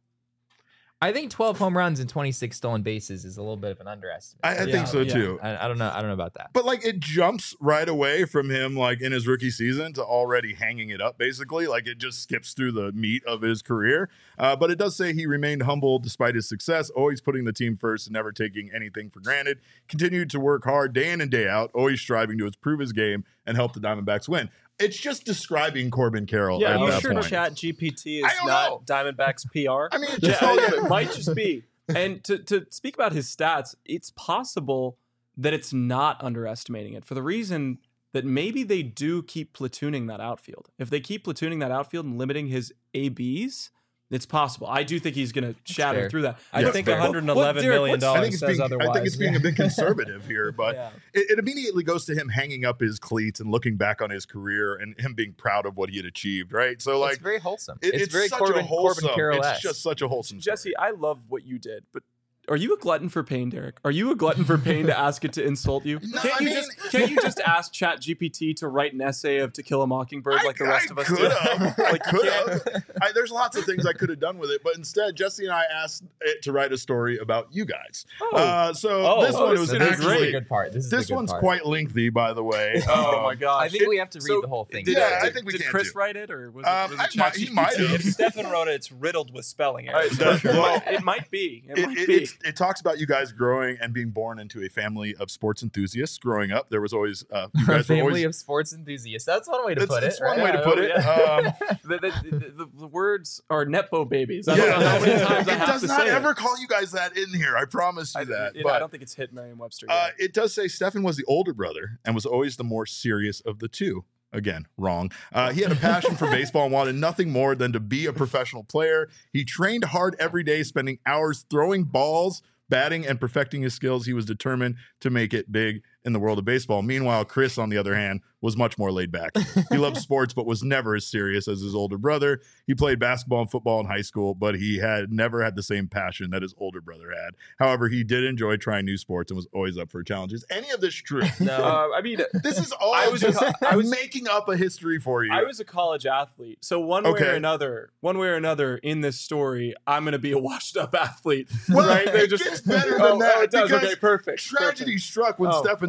[SPEAKER 2] I think twelve home runs and twenty-six stolen bases is a little bit of an underestimate.
[SPEAKER 1] I, I
[SPEAKER 3] Yeah,
[SPEAKER 1] think so
[SPEAKER 3] yeah.
[SPEAKER 1] too.
[SPEAKER 2] I, I don't know. I don't know about that.
[SPEAKER 1] But like, it jumps right away from him, like in his rookie season, to already hanging it up. Basically, like it just skips through the meat of his career. Uh, but it does say he remained humble despite his success, always putting the team first and never taking anything for granted. Continued to work hard day in and day out, always striving to improve his game and help the Diamondbacks win. It's just describing Corbin Carroll
[SPEAKER 3] Yeah,
[SPEAKER 1] at
[SPEAKER 3] you
[SPEAKER 1] that
[SPEAKER 3] sure
[SPEAKER 1] point.
[SPEAKER 3] Chat G P T
[SPEAKER 1] I
[SPEAKER 3] is
[SPEAKER 1] don't
[SPEAKER 3] not
[SPEAKER 1] know.
[SPEAKER 3] Diamondbacks P R?
[SPEAKER 1] I mean, it
[SPEAKER 3] Yeah,
[SPEAKER 1] just all
[SPEAKER 3] it might just be. And to, to speak about his stats, it's possible that it's not underestimating it for the reason that maybe they do keep platooning that outfield. If they keep platooning that outfield and limiting his A Bs, it's possible. I do think he's going to shatter
[SPEAKER 2] fair.
[SPEAKER 3] through that.
[SPEAKER 4] I
[SPEAKER 1] Yeah,
[SPEAKER 4] think
[SPEAKER 1] fair.
[SPEAKER 4] one hundred
[SPEAKER 3] What-
[SPEAKER 4] eleven
[SPEAKER 3] Derek,
[SPEAKER 4] million
[SPEAKER 3] what's-
[SPEAKER 1] I
[SPEAKER 4] dollars
[SPEAKER 1] think it's
[SPEAKER 4] says
[SPEAKER 1] being,
[SPEAKER 4] otherwise.
[SPEAKER 1] I think it's being a bit conservative here, but
[SPEAKER 3] Yeah.
[SPEAKER 1] it, it immediately goes to him hanging up his cleats and looking back on his career and him being proud of what he had achieved, right? So, like,
[SPEAKER 2] it's very wholesome.
[SPEAKER 1] it-
[SPEAKER 2] it's,
[SPEAKER 1] it's
[SPEAKER 2] very
[SPEAKER 1] such
[SPEAKER 2] Corbin,
[SPEAKER 1] a wholesome.
[SPEAKER 2] Corbin Carroll.
[SPEAKER 1] It's just such a wholesome story.
[SPEAKER 3] Jesse, I love what you did, but are you a glutton for pain, Derek? Are you a glutton for pain to ask it to insult you?
[SPEAKER 1] No,
[SPEAKER 3] can't
[SPEAKER 1] I
[SPEAKER 3] you
[SPEAKER 1] mean-
[SPEAKER 3] just can't you just ask Chat G P T to write an essay of To Kill a Mockingbird like the rest
[SPEAKER 1] I
[SPEAKER 3] of us
[SPEAKER 1] could
[SPEAKER 3] do?
[SPEAKER 1] have. I
[SPEAKER 3] Like, you
[SPEAKER 1] could
[SPEAKER 3] can't-
[SPEAKER 1] have. I, there's lots of things I could have done with it, but instead, Jesse and I asked it to write a story about you guys.
[SPEAKER 3] Oh.
[SPEAKER 1] Uh, so
[SPEAKER 3] Oh,
[SPEAKER 1] this
[SPEAKER 3] oh,
[SPEAKER 1] one
[SPEAKER 3] this
[SPEAKER 1] was
[SPEAKER 3] is
[SPEAKER 2] This is the
[SPEAKER 1] actually
[SPEAKER 2] good part. This is
[SPEAKER 1] this
[SPEAKER 2] the good
[SPEAKER 1] one's
[SPEAKER 2] part.
[SPEAKER 1] quite lengthy, by the way.
[SPEAKER 3] Oh
[SPEAKER 1] Um,
[SPEAKER 3] my gosh!
[SPEAKER 2] I think we have to read
[SPEAKER 3] So,
[SPEAKER 2] the whole thing.
[SPEAKER 3] Did,
[SPEAKER 1] Yeah,
[SPEAKER 3] uh,
[SPEAKER 1] I think we
[SPEAKER 3] did
[SPEAKER 1] can
[SPEAKER 3] Chris
[SPEAKER 1] too.
[SPEAKER 3] write it, or was
[SPEAKER 1] Um,
[SPEAKER 3] it, was
[SPEAKER 1] I
[SPEAKER 3] it
[SPEAKER 1] might- he
[SPEAKER 3] ChatGPT?
[SPEAKER 1] might have.
[SPEAKER 4] If Stefan wrote it, it's riddled with spelling
[SPEAKER 3] All right,
[SPEAKER 4] errors.
[SPEAKER 3] so- well, it might be. It,
[SPEAKER 1] It,
[SPEAKER 3] might
[SPEAKER 1] it,
[SPEAKER 3] be.
[SPEAKER 1] it's- it talks about you guys growing and being born into a family of sports enthusiasts. Growing up, there was always uh, you
[SPEAKER 2] A
[SPEAKER 1] guys were
[SPEAKER 2] family
[SPEAKER 1] always.
[SPEAKER 2] of sports enthusiasts. That's one way to
[SPEAKER 1] It's,
[SPEAKER 2] put
[SPEAKER 1] it's
[SPEAKER 2] it.
[SPEAKER 1] one
[SPEAKER 2] right?
[SPEAKER 1] way to
[SPEAKER 2] Yeah,
[SPEAKER 1] put
[SPEAKER 2] oh,
[SPEAKER 1] it.
[SPEAKER 2] yeah.
[SPEAKER 1] Um,
[SPEAKER 3] the, the, the, the, the words are Nepo babies. I don't
[SPEAKER 1] yeah,
[SPEAKER 3] know how many
[SPEAKER 1] it
[SPEAKER 3] times I have
[SPEAKER 1] does
[SPEAKER 3] to
[SPEAKER 1] not
[SPEAKER 3] say
[SPEAKER 1] ever
[SPEAKER 3] it.
[SPEAKER 1] call you guys that in here. I promise you
[SPEAKER 3] I,
[SPEAKER 1] that.
[SPEAKER 3] it-
[SPEAKER 1] but,
[SPEAKER 3] I don't think it's hit Merriam-Webster
[SPEAKER 1] Uh,
[SPEAKER 3] yet.
[SPEAKER 1] it does say Stefan was the older brother and was always the more serious of the two. Again, wrong. Uh, he had a passion for baseball and wanted nothing more than to be a professional player. He trained hard every day, spending hours throwing balls, batting, and perfecting his skills. He was determined to make it big in the world of baseball. Meanwhile, Chris, on the other hand, was much more laid back. He loved sports, but was never as serious as his older brother. He played basketball and football in high school, but he had never had the same passion that his older brother had. However, he did enjoy trying new sports and was always up for challenges. Any of this true?
[SPEAKER 4] No.
[SPEAKER 3] Uh, I mean,
[SPEAKER 1] This is all
[SPEAKER 3] I was a
[SPEAKER 1] just
[SPEAKER 3] co- I was-
[SPEAKER 1] making up a history for you.
[SPEAKER 3] I was a college athlete, so one way
[SPEAKER 1] Okay.
[SPEAKER 3] or another, one way or another, in this story, I'm going to be a washed-up athlete.
[SPEAKER 1] Well,
[SPEAKER 3] right?
[SPEAKER 1] it gets better than
[SPEAKER 3] oh,
[SPEAKER 1] that,
[SPEAKER 3] Oh, it does.
[SPEAKER 1] because
[SPEAKER 3] Okay, perfect.
[SPEAKER 1] Tragedy
[SPEAKER 3] perfect.
[SPEAKER 1] struck when
[SPEAKER 3] Oh,
[SPEAKER 1] Stefan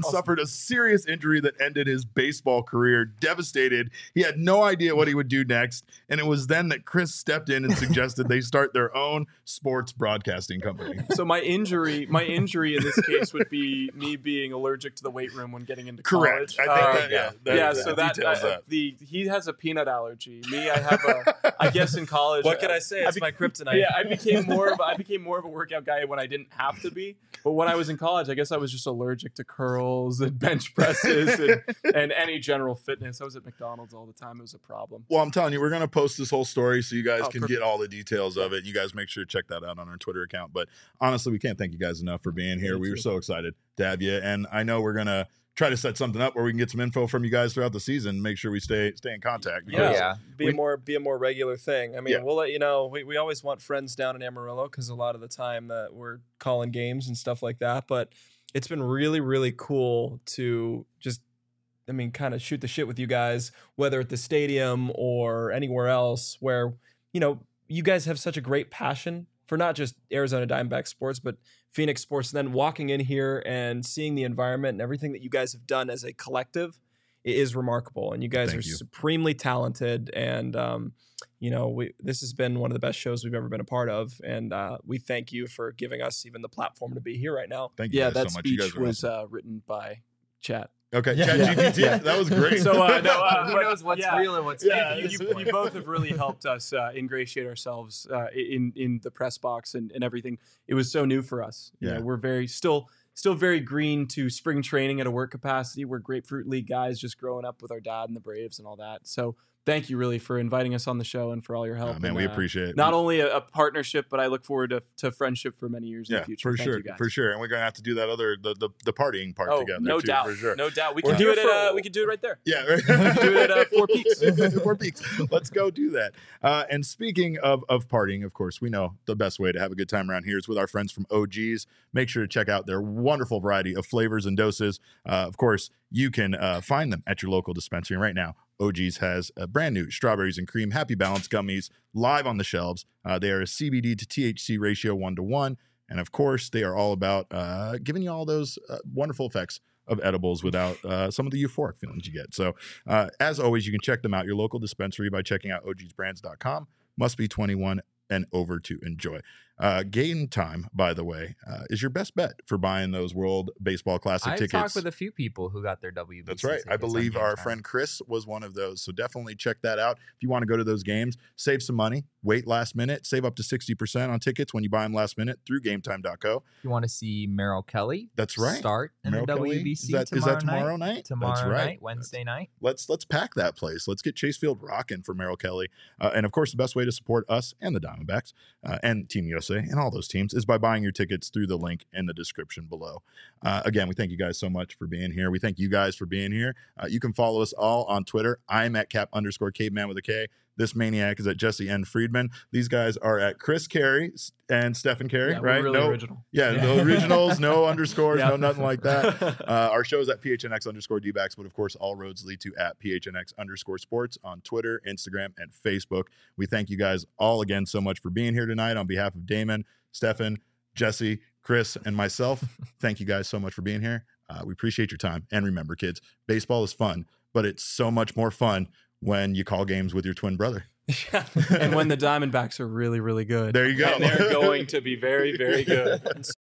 [SPEAKER 1] suffered a serious injury that ended his baseball career. Devastated, he had no idea what he would do next, and it was then that Chris stepped in and suggested they start their own sports broadcasting company.
[SPEAKER 3] So my injury, my injury in this case would be me being allergic to the weight room when getting into
[SPEAKER 1] Correct.
[SPEAKER 3] college.
[SPEAKER 1] I think
[SPEAKER 3] Uh,
[SPEAKER 1] that, yeah, that,
[SPEAKER 3] yeah,
[SPEAKER 1] that
[SPEAKER 3] so that,
[SPEAKER 1] details
[SPEAKER 3] uh,
[SPEAKER 1] that.
[SPEAKER 3] the he has a peanut allergy. Me, I have a. I guess in college.
[SPEAKER 4] What can I say? It's
[SPEAKER 3] be-
[SPEAKER 4] my kryptonite.
[SPEAKER 3] Yeah, I became more of a, I became more of a workout guy when I didn't have to be. But when I was in college, I guess I was just allergic to curls and bench presses and, and any general fitness. I was at McDonald's all the time. It was a problem.
[SPEAKER 1] Well, I'm telling you, we're going to post this whole story so you guys
[SPEAKER 3] Oh,
[SPEAKER 1] can
[SPEAKER 3] perfect.
[SPEAKER 1] get all the details of it. You guys make sure to check that out on our Twitter account. But honestly, we can't thank you guys enough for being here.
[SPEAKER 3] Me
[SPEAKER 1] We were
[SPEAKER 3] too.
[SPEAKER 1] so excited to have you. And I know we're going to try to set something up where we can get some info from you guys throughout the season. Make sure we stay stay in contact.
[SPEAKER 4] Yeah,
[SPEAKER 1] because-
[SPEAKER 2] Yeah.
[SPEAKER 4] be
[SPEAKER 1] We-
[SPEAKER 4] a more be a more regular thing. I mean,
[SPEAKER 1] Yeah.
[SPEAKER 4] we'll let you know. We, we always want friends down in Amarillo because a lot of the time that we're calling games and stuff like that. But it's been really really cool to just, I mean, kind of shoot the shit with you guys, whether at the stadium or anywhere else, where you know you guys have such a great passion for not just Arizona Diamondback sports, but Phoenix sports. And then walking in here and seeing the environment and everything that you guys have done as a collective i- is remarkable. And you guys
[SPEAKER 1] Thank
[SPEAKER 4] are
[SPEAKER 1] you.
[SPEAKER 4] supremely talented. And, um, you know, we, this has been one of the best shows we've ever been a part of. And uh, we thank you for giving us even the platform to be here right now.
[SPEAKER 1] Thank you
[SPEAKER 3] Yeah,
[SPEAKER 1] guys
[SPEAKER 3] that
[SPEAKER 1] so much. You
[SPEAKER 3] speech
[SPEAKER 1] guys are
[SPEAKER 3] was
[SPEAKER 1] awesome.
[SPEAKER 3] uh, written by Chat.
[SPEAKER 1] Okay,
[SPEAKER 4] Yeah.
[SPEAKER 1] ChatGPT.
[SPEAKER 3] Yeah.
[SPEAKER 1] That was great.
[SPEAKER 3] So uh, no, uh,
[SPEAKER 2] Who
[SPEAKER 3] but-
[SPEAKER 2] knows what's
[SPEAKER 3] yeah.
[SPEAKER 2] real and what's
[SPEAKER 1] Yeah,
[SPEAKER 2] fake?
[SPEAKER 3] you,
[SPEAKER 2] at
[SPEAKER 3] you,
[SPEAKER 2] this
[SPEAKER 3] you
[SPEAKER 2] point?
[SPEAKER 3] both have really helped us uh, ingratiate ourselves uh, in in the press box and, and everything. It was so new for us. You
[SPEAKER 1] Yeah.
[SPEAKER 3] know, we're very still still very green to spring training at a work capacity. We're Grapefruit League guys, just growing up with our dad and the Braves and all that. So thank you really for inviting us on the show and for all your help.
[SPEAKER 1] Oh, man,
[SPEAKER 3] and,
[SPEAKER 1] we
[SPEAKER 3] uh,
[SPEAKER 1] appreciate it.
[SPEAKER 3] not only a, a partnership, but I look forward to, to friendship for many years in
[SPEAKER 1] yeah,
[SPEAKER 3] the future.
[SPEAKER 1] for
[SPEAKER 3] Thank
[SPEAKER 1] sure,
[SPEAKER 3] you guys.
[SPEAKER 1] for sure. And we're gonna have to do that other the the, the partying part
[SPEAKER 3] Oh,
[SPEAKER 1] together.
[SPEAKER 3] no
[SPEAKER 1] too,
[SPEAKER 3] doubt,
[SPEAKER 1] for sure.
[SPEAKER 3] no doubt. We
[SPEAKER 1] We're
[SPEAKER 3] can do it.
[SPEAKER 1] here
[SPEAKER 3] At,
[SPEAKER 1] for-
[SPEAKER 3] uh, we can do it right there.
[SPEAKER 1] Yeah,
[SPEAKER 3] Do it at Four Peaks.
[SPEAKER 1] Four Peaks. Let's go do that. Uh, and speaking of of partying, of course, we know the best way to have a good time around here is with our friends from O G's. Make sure to check out their wonderful variety of flavors and doses. Uh, of course, you can uh, find them at your local dispensary. And right now, O G's has a brand new strawberries and cream Happy Balance gummies live on the shelves. Uh, they are a C B D to T H C ratio one to one. And of course, they are all about uh, giving you all those uh, wonderful effects of edibles without uh, some of the euphoric feelings you get. So, uh, as always, you can check them out, your local dispensary, by checking out O Gs brands dot com. Must be twenty-one and over to enjoy. Uh, Game Time, by the way, uh, is your best bet for buying those World Baseball Classic
[SPEAKER 2] I've
[SPEAKER 1] tickets.
[SPEAKER 2] talked with a few people who got their W B C
[SPEAKER 1] That's right. I
[SPEAKER 2] tickets on
[SPEAKER 1] believe
[SPEAKER 2] Game
[SPEAKER 1] our
[SPEAKER 2] Time.
[SPEAKER 1] friend Chris was one of those. So definitely check that out. If you want to go to those games, save some money, wait last minute, save up to sixty percent on tickets when you buy them last minute through game time dot co.
[SPEAKER 2] If you want to see Merrill Kelly,
[SPEAKER 1] That's right.
[SPEAKER 2] start in
[SPEAKER 1] Merrill
[SPEAKER 2] the
[SPEAKER 1] Kelly?
[SPEAKER 2] W B C
[SPEAKER 1] Is that, is
[SPEAKER 2] tomorrow,
[SPEAKER 1] that tomorrow
[SPEAKER 2] night.
[SPEAKER 1] night?
[SPEAKER 2] Tomorrow
[SPEAKER 1] That's right.
[SPEAKER 2] night, Wednesday night.
[SPEAKER 1] Let's let's pack that place. Let's get Chase Field rocking for Merrill Kelly. Uh, and of course, the best way to support us and the Diamondbacks uh, and Team U S A and all those teams is by buying your tickets through the link in the description below. Uh, again, we thank you guys so much for being here. We thank you guys for being here. Uh, you can follow us all on Twitter. I'm at cap underscore caveman with a K. This maniac is at Jesse N. Friedman. These guys are at Chris Carey and Stephen Carey,
[SPEAKER 3] Yeah, we're
[SPEAKER 1] right?
[SPEAKER 3] really
[SPEAKER 1] no,
[SPEAKER 3] original.
[SPEAKER 1] Yeah,
[SPEAKER 3] Yeah.
[SPEAKER 1] no originals, no underscores,
[SPEAKER 3] Yeah.
[SPEAKER 1] no nothing like that. Uh, our show is at P H N X underscore D-backs, but of course, all roads lead to at P H N X underscore sports on Twitter, Instagram, and Facebook. We thank you guys all again so much for being here tonight. On behalf of Damon, Stefan, Jesse, Chris, and myself, thank you guys so much for being here. Uh, we appreciate your time. And remember, kids, baseball is fun, but it's so much more fun when you call games with your twin brother.
[SPEAKER 3] And when the Diamondbacks are really, really good.
[SPEAKER 1] There you go.
[SPEAKER 3] And they're going to be very, very good.